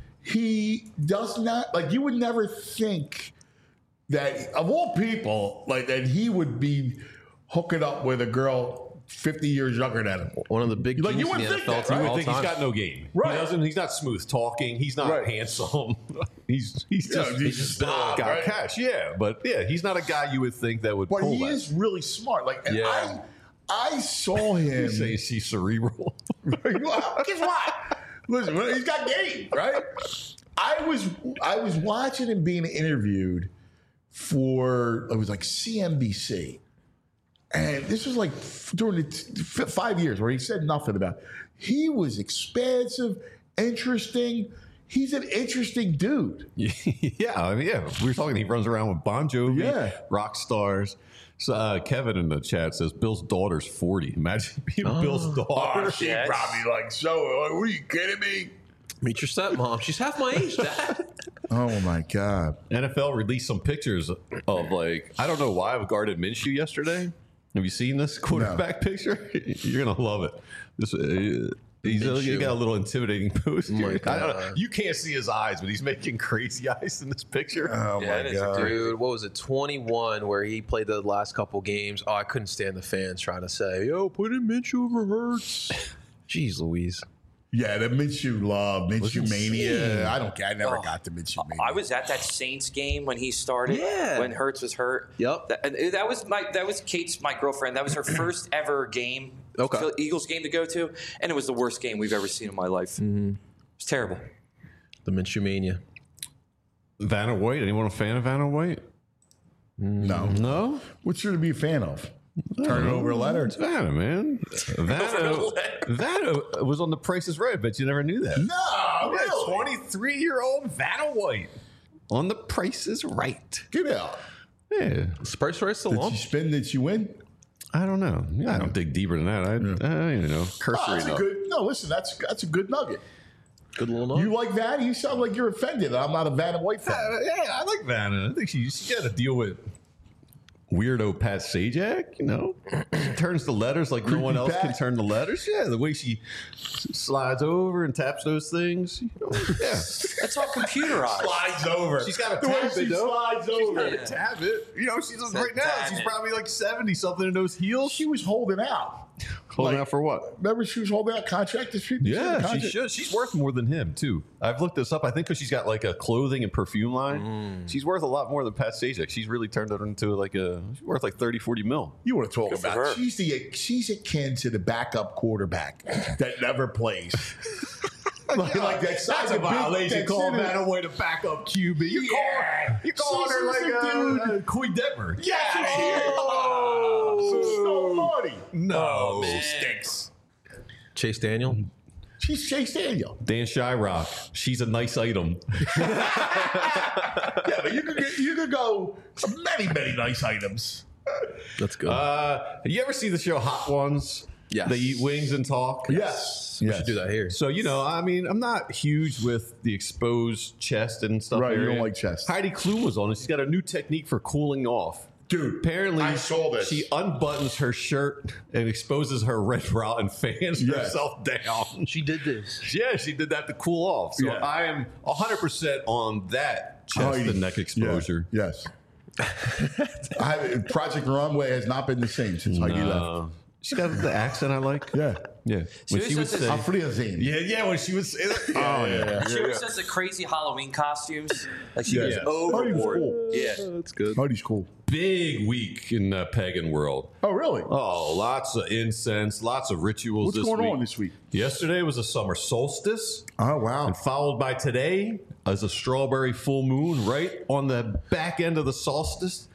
he does not, like, you would never think that, of all people, like, that he would be hooking up with a girl 50 years younger than him. One of the big Like, you teams in the wouldn't think NFL that, team right? You all would think time. he's got no game. Right. He doesn't. He's not smooth talking. He's not Right. handsome. he's Yeah, just he's just got Bob, right? cash. Yeah, but yeah, he's not a guy you would think that would But pull he that. is really smart. Like, and Yeah. I saw him. You say he's cerebral. Well, guess what? Listen, he's got game, right? I was watching him being interviewed for, it was like CNBC, and this was like during the 5 years where he said nothing about it. He was expansive, interesting. He's an interesting dude. Yeah, I mean, yeah. We were talking. He runs around with Bon Jovi, Yeah. rock stars. So Kevin in the chat says Bill's daughter's 40. Imagine being Bill's daughter. She Yes. probably like, so, like, what are you kidding me? Meet your stepmom. She's half my age, Dad. Oh my God. NFL released some pictures of, like, I don't know why, of Gardner Minshew yesterday. Have you seen this quarterback picture? You're gonna love it. This he's got a little intimidating pose. my I don't know. God. You can't see his eyes, but he's making crazy eyes in this picture. Oh Yeah, my it is God. Dude, what was it? 21, where he played the last couple games. Oh, I couldn't stand the fans trying to say, "Yo, put in Minshew over Hurts." Jeez, Louise. Yeah, the Minshew love, Minshew insane. mania. I never got the Minshew mania. I was at that Saints game when he started. Yeah. When Hurts was hurt. Yep. That was Kate's, my girlfriend. That was her first ever game. Okay. Eagles game to go to, and it was the worst game we've ever seen in my life. It was terrible. The Minshew mania. Vanna White. Anyone a fan of Vanna White? No. No. What's there to be a fan of? Turn it over a letter. It's Vanna, man. Vanna was on The Price is Right. I bet you never knew that. No, really? 23-year-old Vanna White on The Price is Right. Get out. Yeah. Spurs right still Did on? you spin? Did you win? I don't know. Yeah, I don't dig deeper than that. I you know, cursory That's a enough. good. No, listen, that's a good nugget. Good little note. You like that? You sound like you're offended. I'm not a Vanna White fan. Yeah, I like Vanna. I think she got to deal with weirdo Pat Sajak, you know? She turns the letters like no one else Pat. can turn the letters. Yeah, the way she slides over and taps those things. You know, yeah. That's all computerized. Slides over. She's got the a way tap she it, though. slides over. Yeah. Tap it. You know, she's right now, tap she's it. probably like 70-something in those heels. She was holding out. Holding like- out for what? Remember, she was holding out contract dispute. Yeah, she should. She's worth more than him, too. I've looked this up. I think because she's got like a clothing and perfume line. She's worth a lot more than Pat Sajak. She's really turned it into she's worth like 30, 40 mil. You want to talk Good for about? her. She's akin to the backup quarterback that never plays. like that. That's That's a violation. Call Vanna White a backup QB. You're calling her like a Coy Detmer. Yeah. Oh, so naughty. No. man. Stinks. Chase Daniel. She's Chase Daniel. Dan Shyrock. She's a nice item. Yeah, but you could go many nice items. That's good. You ever see the show Hot Ones? Yes. They eat wings and talk. Yes. We should do that here. So, I mean, I'm not huge with the exposed chest and stuff. Right, you area. don't like chest. Heidi Klum was on it. She's got a new technique for cooling off. Dude, Apparently, I saw this. She unbuttons her shirt and exposes her red bra and fans herself down. She did this. Yeah, she did that to cool off. So Yeah. I am 100% on that chest and neck exposure. Yeah, yes. Project Runway has not been the same since Heidi left. She got the accent I like. Yeah. Yeah. When she would say, Afriazine. yeah, when she would say that. Oh, yeah. She always does the crazy Halloween costumes. Like she Yeah. goes Heidi's overboard. cool. Yeah. That's good. Heidi's cool. Big week in the pagan world. Oh, really? Oh, lots of incense, lots of rituals What's this going week. on this week? Yesterday was a summer solstice. Oh, wow. And followed by today as a strawberry full moon right on the back end of the solstice.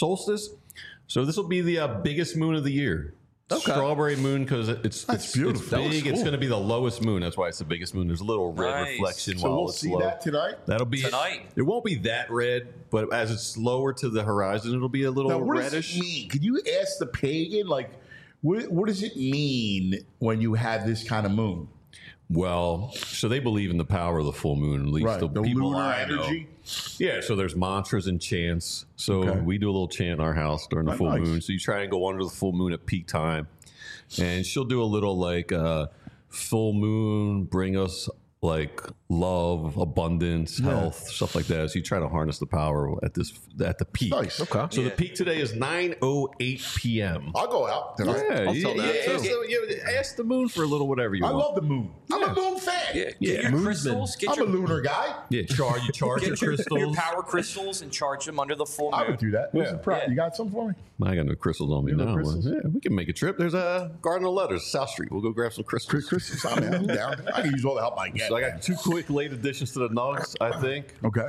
So this will be the biggest moon of the year. Okay. Strawberry moon because it's beautiful. It's That looks big. It's cool. going to be the lowest moon. That's why it's the biggest moon. There's a little red Nice. reflection So while we'll it's see low. that tonight? That'll be Tonight. It won't be that red, but as it's lower to the horizon, it'll be a little Now, what reddish. does it mean? Could you ask the pagan, like, what does it mean when you have this kind of moon? Well, so they believe in the power of the full moon. At least the people lunar I know. energy. Yeah, so there's mantras and chants. So Okay. we do a little chant in our house during the Oh, full nice. moon. So you try and go under the full moon at peak time. And she'll do a little like full moon, bring us like love, abundance, health, stuff like that. So you try to harness the power at the peak. Nice. Okay. So the peak today is 9:08 p.m. I'll go out tonight. Yeah, I'll tell that, too. ask the moon for a little whatever you I want. love the moon. I'm a moon fan. Yeah. Get your crystals. Get I'm a your lunar guy. Yeah, you charge your Get your crystals. power crystals and charge them under the full moon. I would do that. What's Yeah. the price? Yeah. You got some for me? I got no crystals on me You have no now. crystals? Yeah, we can make a trip. There's a Garden of Letters, South Street. We'll go grab some crystals. Crystals, I'm down. I can use all the help I get. So I got 2 quick late additions to the nugs, I think. Okay.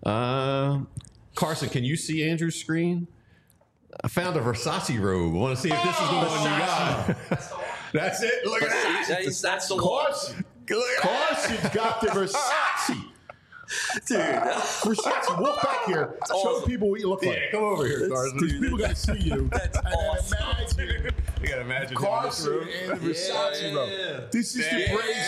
Carson, can you see Andrew's screen? I found a Versace robe. I want to see if this is the one you got. That's it. Look at that. That's the one. Carson. Carson's got the Versace. Dude. Versace, walk back here. Show people what you look like. Yeah, come over here, Carson. People got to see you. That's And then awesome. imagine You got to imagine Carson him in this room. and the Versace robe. This is the praise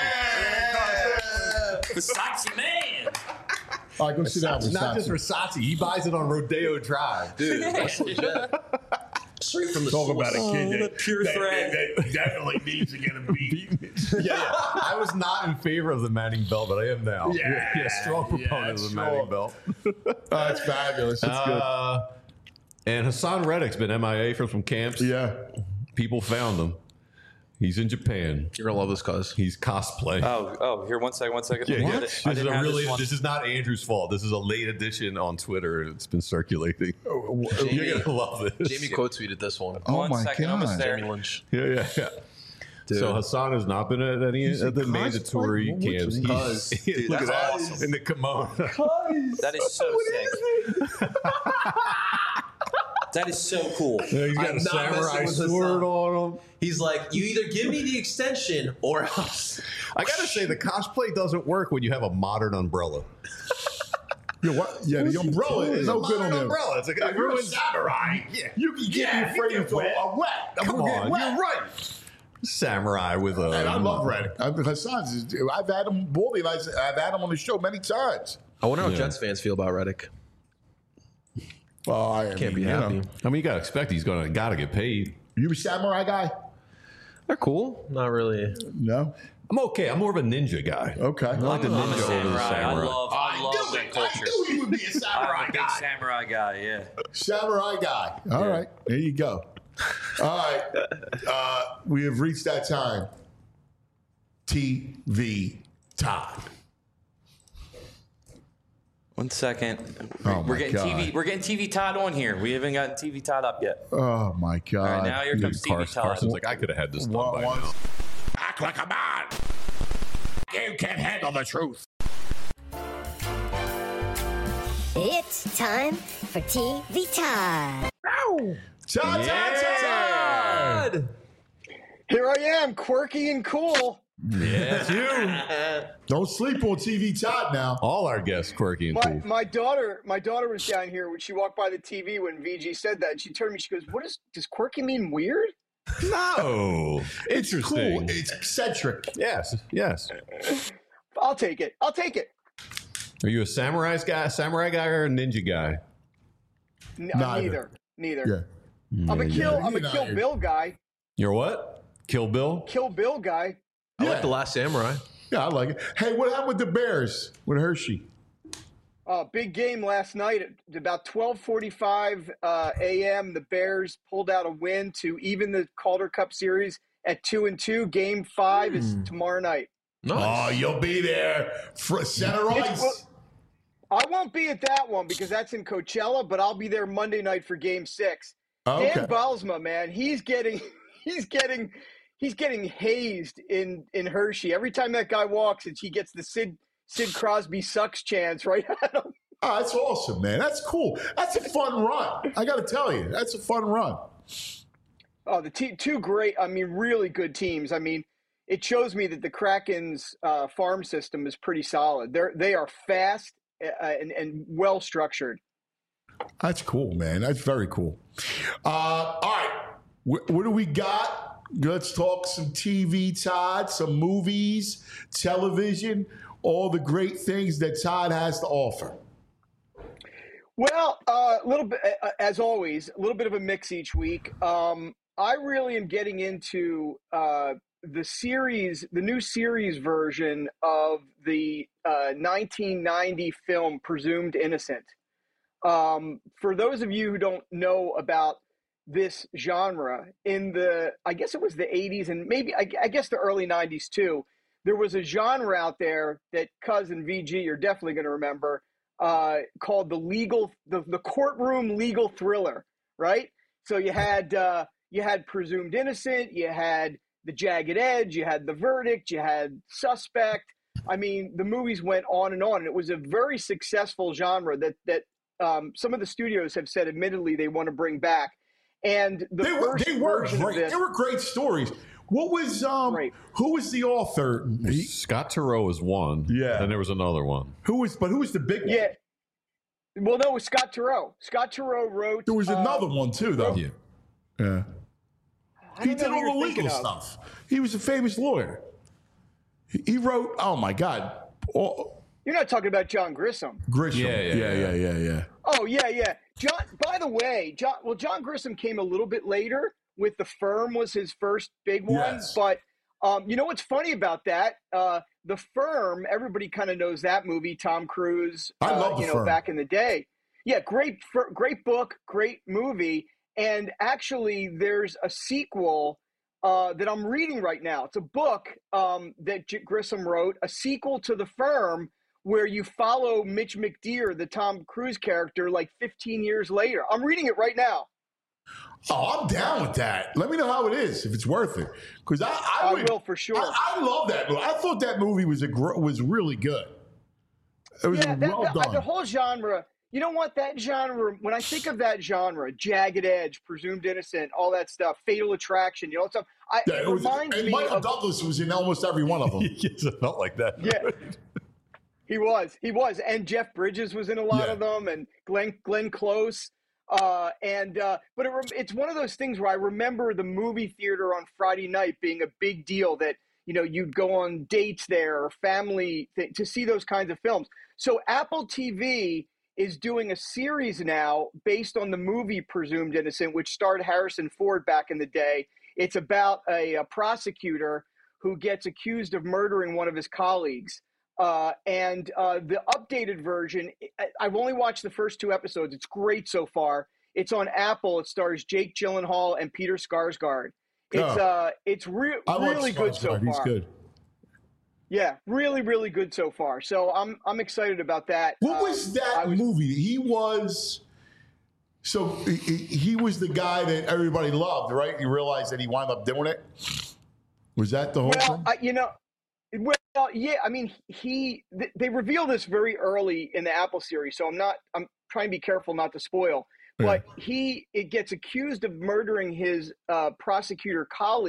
body. Versace man. All right, go sit down, It's not just Versace. Versace. He buys it on Rodeo Drive. Dude, that's legit. Straight from the Talk source. about a kid that, pure thread. that definitely needs to get a beat. Yeah. I was not in favor of the Manning belt, but I am now. Yeah. Strong proponent of the strong. Manning belt. That's fabulous. That's good. And Hassan Reddick's been MIA from some camps. Yeah. People found him. He's in Japan. You're gonna love this, cuz. He's cosplay. Here, one second. Yeah, Let me yeah. get This it. I is didn't a have really. this one. This is not Andrew's fault. This is a late edition on Twitter. It's been circulating. You're gonna love this. Jamie quote tweeted this one. Oh One my second, almost God. there. Jamie Lynch. Yeah. Dude. So Hassan has not been at any of the cosplay? mandatory What's camps. he- Cuz. Dude, Look at that's that awesome. in the kimono. That is so sick. That is so cool. He's got I'm a not samurai messing with sword Hassan. on him. He's like, you either give me the extension or else. I gotta say, the cosplay doesn't work when you have a modern umbrella. Yeah, what? Yeah, the umbrella is no good on them. umbrella. It's like If you're a everyone's samurai, you can get me afraid of a wet. Come on, wet. you're right. Samurai with a. And I love Reddick. Hassan's. I've had him, Baldy and I've had him on the show many times. I wonder how Jets fans feel about Reddick. Well, I Can't be you happy. know. I mean, you gotta expect he's gotta get paid. You a samurai guy? They're cool. Not really. No. I'm okay. I'm more of a ninja guy. Okay. I like the I'm a ninja over the samurai. samurai. I love that culture. I knew you would be a I'm samurai a big guy. samurai guy, yeah. Samurai guy. All right. There you go. All right. We have reached that time. TV time. 1 second. Oh, we're my getting God. TV. We're getting TV Todd on here. We haven't gotten TV Todd up yet. Oh, my God. All right, now here comes TV Todd. Carson's like, I could have had this done by now. Act like a man. You can't handle the truth. It's time for TV Todd. Todd. Here I am, quirky and cool. Yeah, it's you. Don't sleep on TV Todd now. All our guests, quirky and cool. My daughter was down here when she walked by the TV when VG said that. And she turned to me, she goes, does quirky mean weird? No, It's interesting. cool. It's eccentric. Yes. I'll take it. Are you a samurai guy, or a ninja guy? Neither. Neither. Yeah. I'm a You're Kill not- Bill guy. You're what? Kill Bill? Kill Bill guy. I like The Last Samurai. Yeah, I like it. Hey, what happened with the Bears with Hershey? Big game last night at about 12:45 a.m. The Bears pulled out a win to even the Calder Cup series at 2-2. Game 5 is tomorrow night. Oh, you'll be there for center ice. I won't be at that one because that's in Coachella, but I'll be there Monday night for Game 6. Okay. Dan Bylsma, man, he's getting hazed in Hershey. Every time that guy walks, he gets the Sid Crosby sucks chance right at him. Oh, that's awesome, man. That's cool. That's a fun run. I got to tell you, that's a fun run. Oh, the two great, really good teams. It shows me that the Kraken's farm system is pretty solid. They are fast and well structured. That's cool, man. That's very cool. All right. What do we got? Let's talk some TV, Todd, some movies, television, all the great things that Todd has to offer. Well, a little bit, as always, a little bit of a mix each week. I really am getting into the new series version of the 1990 film Presumed Innocent. For those of you who don't know about this genre, I guess it was the 80s and maybe I guess the early 90s too, there was a genre out there that Cousin VG, you're definitely going to remember, called the courtroom legal thriller, right? So you had Presumed Innocent, you had The Jagged Edge, you had The Verdict, you had Suspect. The movies went on, and it was a very successful genre that some of the studios have said, admittedly, they want to bring back. And they were great. They were great stories. What was who was the author? Scott Turow was one. Yeah. Then there was another one. Who was the big one? Yeah. Well, no, it was Scott Turow. Scott Turow wrote. There was another one too, though. Yeah. He did all the legal stuff. He was a famous lawyer. He wrote. Oh my God. You're not talking about John Grisham. Yeah. Oh yeah. John. By the way, John Grisham came a little bit later. With The Firm was his first big one. Yes. But you know what's funny about that? The Firm. Everybody kind of knows that movie. Tom Cruise. I love The Firm. Back in the day. Yeah, great book, great movie. And actually, there's a sequel that I'm reading right now. It's a book that Grisham wrote, a sequel to The Firm, where you follow Mitch McDeere, the Tom Cruise character, like 15 years later. I'm reading it right now. Oh, I'm down with that. Let me know how it is, if it's worth it. Because I will for sure. I love that movie. I thought that movie was really good. It was well done. The whole genre. You know what? That genre, when I think of that genre, Jagged Edge, Presumed Innocent, all that stuff, Fatal Attraction, stuff. It reminds me Michael of Douglas was in almost every one of them. Yes, it felt like that. Yeah. He was. And Jeff Bridges was in a lot of them, and Glenn Close. But it's one of those things where I remember the movie theater on Friday night being a big deal, that you'd go on dates there or family to see those kinds of films. So Apple TV is doing a series now based on the movie Presumed Innocent, which starred Harrison Ford back in the day. It's about a prosecutor who gets accused of murdering one of his colleagues. And the updated version, I've only watched the first 2 episodes. It's great so far. It's on Apple. It stars Jake Gyllenhaal and Peter Skarsgård. It's really good so far. He's good. Yeah, really, really good so far. So I'm excited about that. What was that movie? He was the guy that everybody loved, right? You realized that he wound up doing it. Was that the whole thing? They reveal this very early in the Apple series, so I'm trying to be careful not to spoil. But it gets accused of murdering his prosecutor colleague.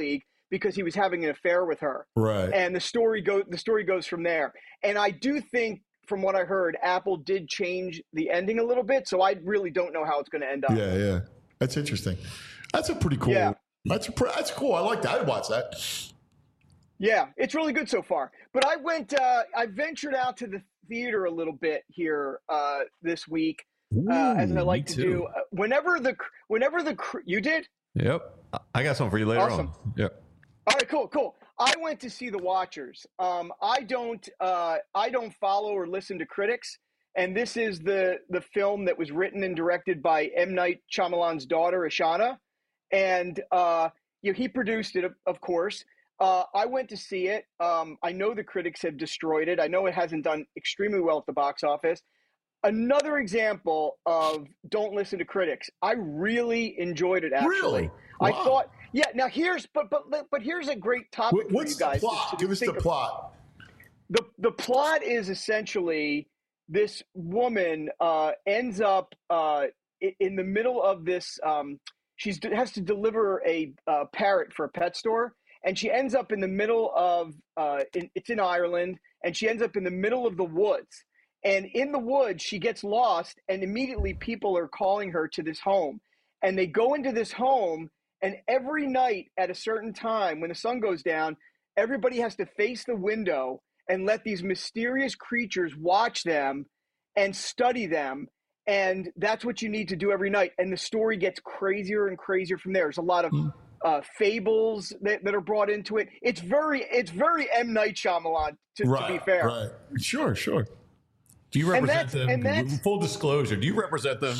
because he was having an affair with her. Right. And the story goes from there. And I do think, from what I heard, Apple did change the ending a little bit, so I really don't know how it's going to end up. Yeah. That's interesting. That's a pretty cool. Yeah. That's cool. I like that. I'd watch that. Yeah, it's really good so far. But I ventured out to the theater a little bit here this week, as I like to do. Whenever you did? Yep. I got something for you later Awesome. on. Yep. All right, cool. I went to see The Watchers. I don't follow or listen to critics, and this is the film that was written and directed by M. Night Shyamalan's daughter, Ashana, and he produced it, of course. I went to see it. I know the critics have destroyed it. I know it hasn't done extremely well at the box office. Another example of don't listen to critics. I really enjoyed it, actually. Really? I Wow. thought, yeah. Now here's a great topic What's for you guys. the plot? Give us the plot. The plot is essentially this woman ends up in the middle of this. She has to deliver a parrot for a pet store, and she ends up in the middle of it's in Ireland, and she ends up in the middle of the woods. And in the woods, she gets lost, and immediately people are calling her to this home. And they go into this home, and every night at a certain time, when the sun goes down, everybody has to face the window and let these mysterious creatures watch them and study them. And that's what you need to do every night. And the story gets crazier and crazier from there. There's a lot of fables that are brought into it. It's very M. Night Shyamalan, to be fair. Right. Sure. Do you represent And them? that's- Full disclosure, do you represent them?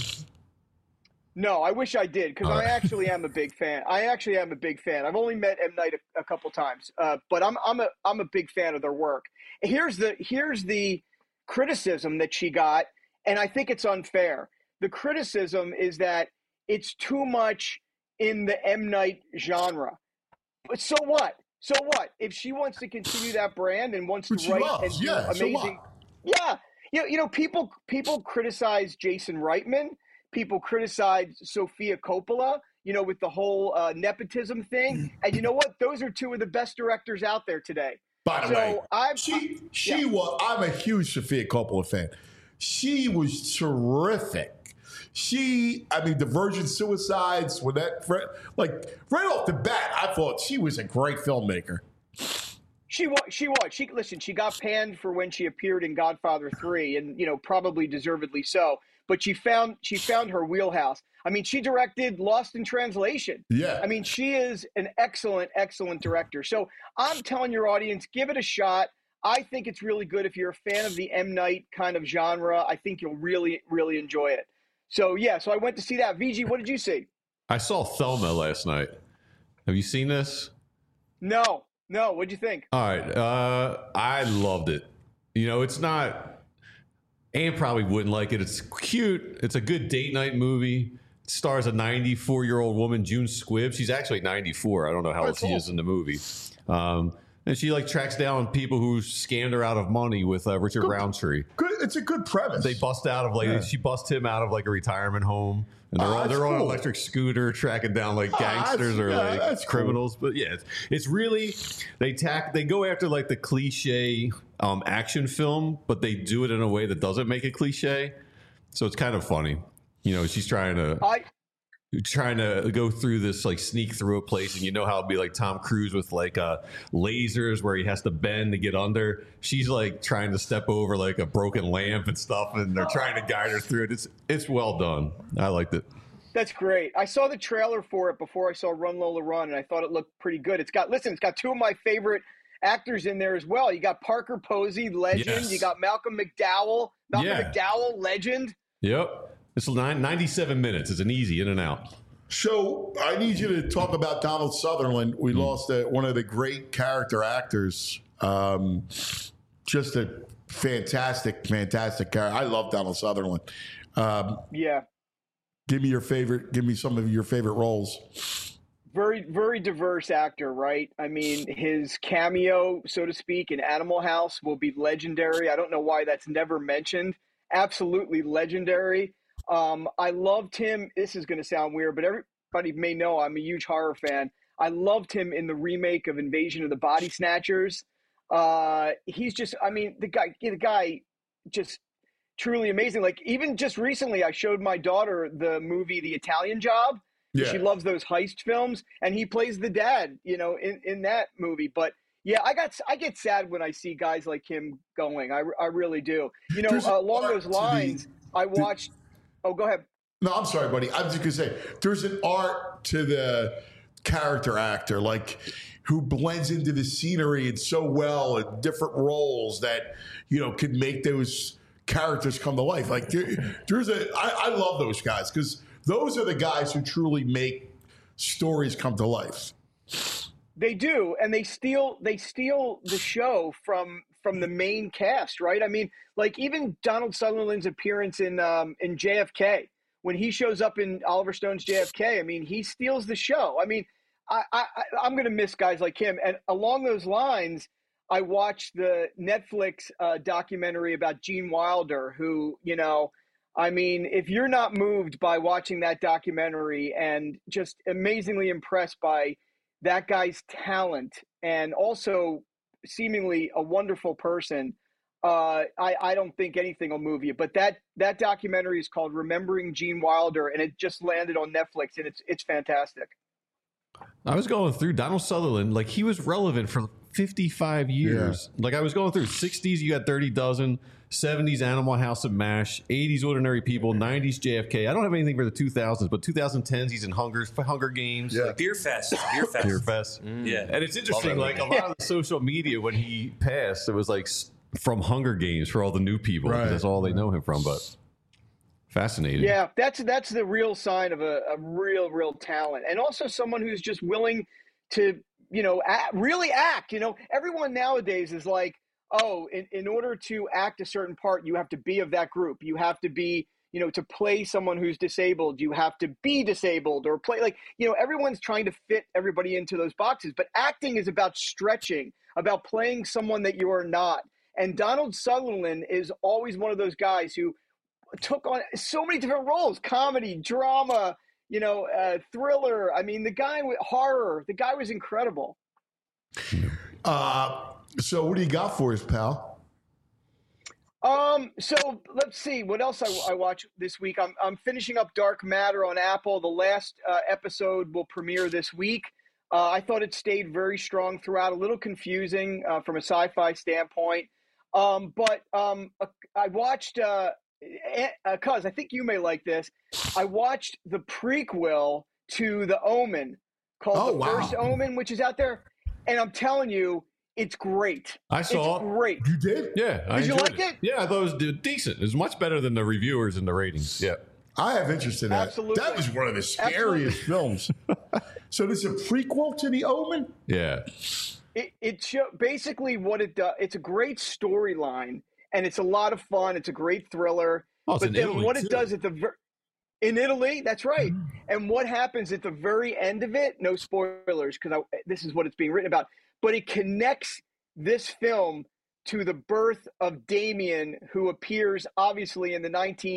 No, I wish I did, because I actually am a big fan. I've only met M. Night a couple times, but I'm a big fan of their work. Here's the criticism that she got, and I think it's unfair. The criticism is that it's too much in the M. Night genre. But so what? If she wants to continue that brand and wants to write and do amazing, people criticize Jason Reitman. People criticize Sofia Coppola, with the whole nepotism thing. And you know what? Those are two of the best directors out there today. By the way, I'm a huge Sofia Coppola fan. She was terrific. The Virgin Suicides, when right off the bat, I thought she was a great filmmaker. She was. She got panned for when she appeared in Godfather 3, and probably deservedly so. But she found her wheelhouse. She directed Lost in Translation. Yeah. She is an excellent director. So I'm telling your audience, give it a shot. I think it's really good. If you're a fan of the M. Night kind of genre, I think you'll really, really enjoy it. So I went to see that. VG, what did you see? I saw Thelma last night. Have you seen this? No. What'd you think? All right. I loved it. It's not... Anne probably wouldn't like it. It's cute. It's a good date night movie. It stars a 94-year-old woman, June Squibb. She's actually 94. I don't know how old she is in the movie. And she tracks down people who scammed her out of money with Richard Roundtree. Good. It's a good premise. They bust out of she busts him out of a retirement home, and they're on an electric scooter tracking down gangsters or criminals. Cool. But yeah, it's really they go after the cliche action film, but they do it in a way that doesn't make it cliche. So it's kind of funny. She's trying to go through this sneak through a place, and how it'd be Tom Cruise with lasers where he has to bend to get under. She's trying to step over a broken lamp and stuff, and they're trying to guide her through it. It's well done. I liked it. That's great. I saw the trailer for it before I saw Run Lola Run, and I thought it looked pretty good. It's got two of my favorite actors in there as well. You got Parker Posey, legend. Yes. You got Malcolm McDowell. McDowell, legend. Yep. It's 97 minutes. It's an easy in and out. So I need you to talk about Donald Sutherland. We lost one of the great character actors. Just a fantastic character. I love Donald Sutherland. Yeah. Give me some of your favorite roles. Very, very diverse actor, right? His cameo, so to speak, in Animal House will be legendary. I don't know why that's never mentioned. Absolutely legendary. I loved him. This is going to sound weird, but everybody may know I'm a huge horror fan. I loved him in the remake of Invasion of the Body Snatchers. He's just, I mean, the guy just truly amazing. Like, even just recently, I showed my daughter the movie The Italian Job. Yeah. She loves those heist films, and he plays the dad, in that movie. But yeah, I get sad when I see guys like him going. I really do. Along those lines, I watched. Oh, go ahead. No, I'm sorry, buddy. I was just gonna say there's an art to the character actor, like, who blends into the scenery and so well in different roles that could make those characters come to life. Like I love those guys because those are the guys who truly make stories come to life. They do, and they steal the show from the main cast, right? I mean, like, even Donald Sutherland's appearance in JFK, when he shows up in Oliver Stone's JFK, I mean, he steals the show. I mean, I'm going to miss guys like him. And along those lines, I watched the Netflix documentary about Gene Wilder, who, I mean, if you're not moved by watching that documentary and just amazingly impressed by that guy's talent and also seemingly a wonderful person, I don't think anything will move you. But that documentary is called Remembering Gene Wilder, and it just landed on Netflix, and it's fantastic. I was going through Donald Sutherland, like, he was relevant for 55 years. Yeah. Like, I was going through 60s, you got Dirty Dozen, 70s Animal House of MASH, 80s Ordinary People, 90s JFK. I don't have anything for the 2000s, but 2010s he's in Hunger Games. Yeah. Beer Fest. Beer Fest. Yeah. And it's interesting, like, a lot of the social media when he passed, it was like from Hunger Games for all the new people. Right. That's all they know him from, but fascinating. Yeah, that's the real sign of a real talent, and also someone who's just willing to really act. Everyone nowadays is like, oh, in order to act a certain part, you have to be of that group. You have to be, to play someone who's disabled, you have to be disabled, or play, like, everyone's trying to fit everybody into those boxes. But acting is about stretching, about playing someone that you are not. And Donald Sutherland is always one of those guys who took on so many different roles: comedy, drama, thriller. I mean, the guy with horror, the guy was incredible. So what do you got for us, pal? So let's see what else I watched this week. I'm finishing up Dark Matter on Apple. The last episode will premiere this week. I thought it stayed very strong throughout, a little confusing from a sci-fi standpoint. But I watched, cuz I think you may like this. I watched the prequel to The Omen called First Omen, which is out there. And I'm telling you, it's great. I saw it. Great. You did? Yeah. Did you like it? Yeah, I thought it was decent. It was much better than the reviewers and the ratings. Yeah. I have interest in that. Absolutely. That was one of the scariest films. So there's a prequel to The Omen? Yeah. It basically what it does. It's a great storyline, and it's a lot of fun. It's a great thriller. Oh, but then what it does in Italy, that's right. And what happens at the very end of it, no spoilers, because this is what it's being written about, but it connects this film to the birth of Damien, who appears obviously in the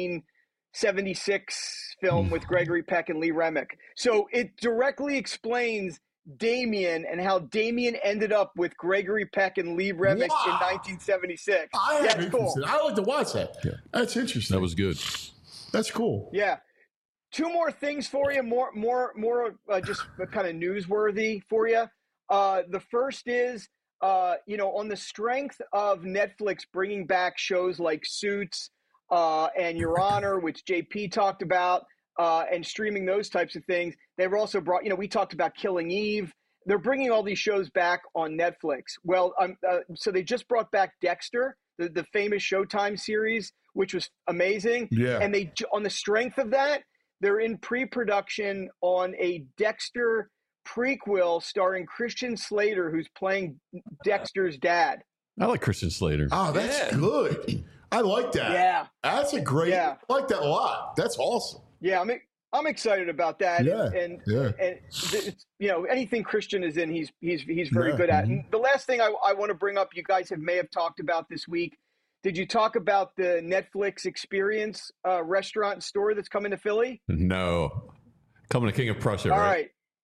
1976 film with Gregory Peck and Lee Remick. So it directly explains Damien and how Damien ended up with Gregory Peck and Lee Remick in 1976. That's cool. I like to watch that. Yeah. That's interesting. That was good. That's cool. Yeah. Two more things for you, more just kind of newsworthy for you. The first is, on the strength of Netflix bringing back shows like Suits and Your Honor, which JP talked about, and streaming those types of things. They've also brought, we talked about Killing Eve. They're bringing all these shows back on Netflix. Well, so they just brought back Dexter, the famous Showtime series, which was amazing. Yeah. And they, on the strength of that, they're in pre-production on a Dexter prequel starring Christian Slater, who's playing Dexter's dad. I like Christian Slater. Oh, that's good. I like that. Yeah. That's a great, I like that a lot. That's awesome. Yeah, I'm excited about that. Yeah. And it's, anything Christian is in, he's very good at. And the last thing I want to bring up, you guys may have talked about this week. Did you talk about the Netflix Experience restaurant store that's coming to Philly? No. Coming to King of Prussia, All right? right.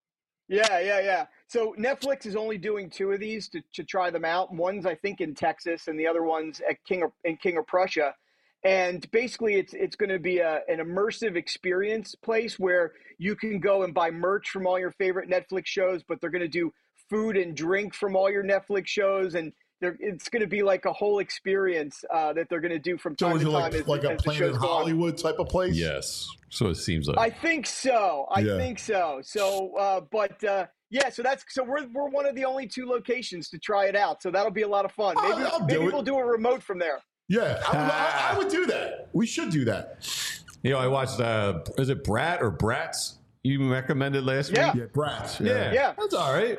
Yeah. So Netflix is only doing 2 of these to try them out. One's, I think, in Texas, and the other one's at King of Prussia. And basically, it's going to be an immersive experience place where you can go and buy merch from all your favorite Netflix shows, but they're going to do food and drink from all your Netflix shows, and it's going to be like a whole experience that they're going to do from time to time. Like a Planet Hollywood type of place? Yes. So it seems like. I think so. So, so we're one of the only 2 locations to try it out. So that'll be a lot of fun. Maybe we'll do a remote from there. Yeah, I would do that. We should do that. I watched, is it Brat or Bratz you recommended last week? Yeah, Bratz. Yeah. That's all right.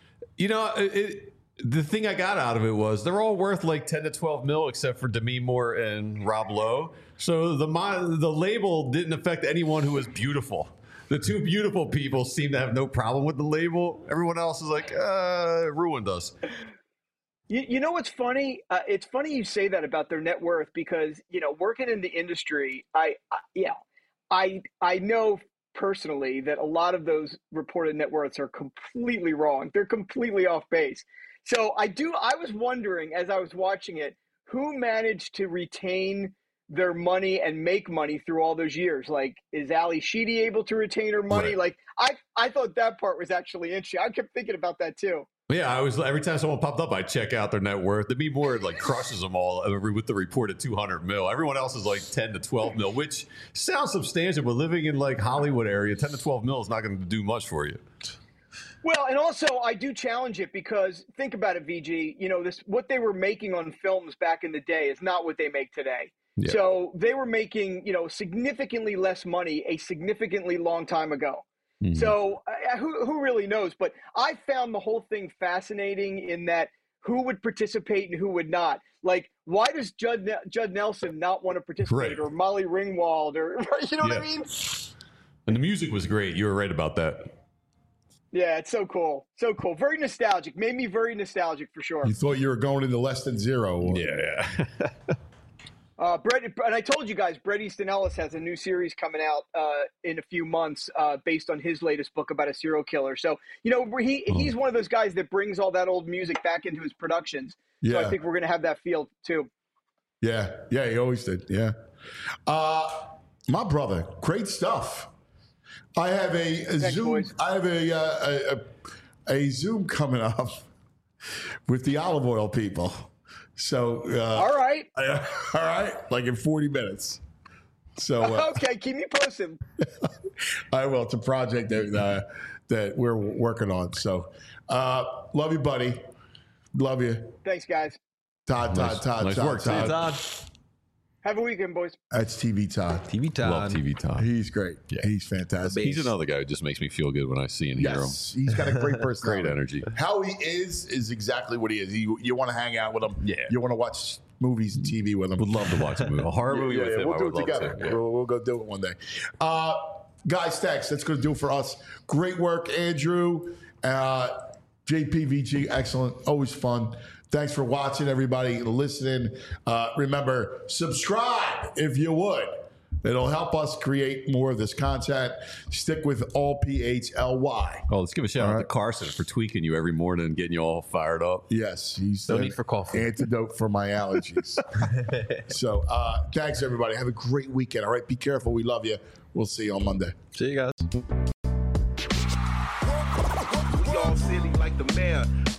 The thing I got out of it was they're all worth like 10 to 12 mil except for Demi Moore and Rob Lowe. So the label didn't affect anyone who was beautiful. The 2 beautiful people seem to have no problem with the label. Everyone else is like, it ruined us. You know what's funny? It's funny you say that about their net worth because, working in the industry, I know personally that a lot of those reported net worths are completely wrong. They're completely off base. So I was wondering as I was watching it, who managed to retain their money and make money through all those years? Like, is Ali Sheedy able to retain her money? Right. Like, I thought that part was actually interesting. I kept thinking about that too. Yeah, every time someone popped up, I check out their net worth. Demi Moore crushes them all with the reported 200 mil. Everyone else is like 10 to 12 mil, which sounds substantial, but living in like Hollywood area, 10 to 12 mil is not going to do much for you. Well, and also I do challenge it because think about it, VG. What they were making on films back in the day is not what they make today. Yeah. So they were making significantly less money a significantly long time ago. Mm-hmm. So who really knows? But I found the whole thing fascinating in that who would participate and who would not. Like, why does Judd Nelson not want to participate, or Molly Ringwald, or what I mean? And the music was great. You were right about that. Yeah, it's so cool. So cool. Very nostalgic. Made me very nostalgic for sure. You thought you were going into Less Than Zero. Yeah. And I told you guys, Bret Easton Ellis has a new series coming out in a few months based on his latest book about a serial killer. So, he's one of those guys that brings all that old music back into his productions. Yeah. So I think we're going to have that feel too. Yeah, he always did. Yeah. My brother, great stuff. I have a Zoom. Boys. I have a Zoom coming up with the olive oil people. So all right, like in 40 minutes. So okay, keep me posted. I will. It's a project that we're working on. So love you, buddy. Love you. Thanks, guys. Todd. Nice work, Todd. Have a weekend, boys. That's TV Todd. TV Todd. Love TV Todd. He's great. Yeah. He's fantastic. He's another guy who just makes me feel good when I see and hear him. He's got a great personality. Great energy. How he is exactly what he is. You want to hang out with him. Yeah. You want to watch movies and TV with him. Would love to watch a movie. A horror movie with him. We'll do it together. Yeah. We'll go do it one day. Guys, thanks. That's going to do it for us. Great work, Andrew. JPVG, excellent. Always fun. Thanks for watching, everybody, listening. Remember, subscribe if you would. It'll help us create more of this content. Stick with all PHLY. Oh, let's give a shout out to Carson for tweaking you every morning and getting you all fired up. Yes, he's no need for coffee. Antidote for my allergies. So, thanks, everybody. Have a great weekend. All right, be careful. We love you. We'll see you on Monday. See you guys. We all silly like the mayor.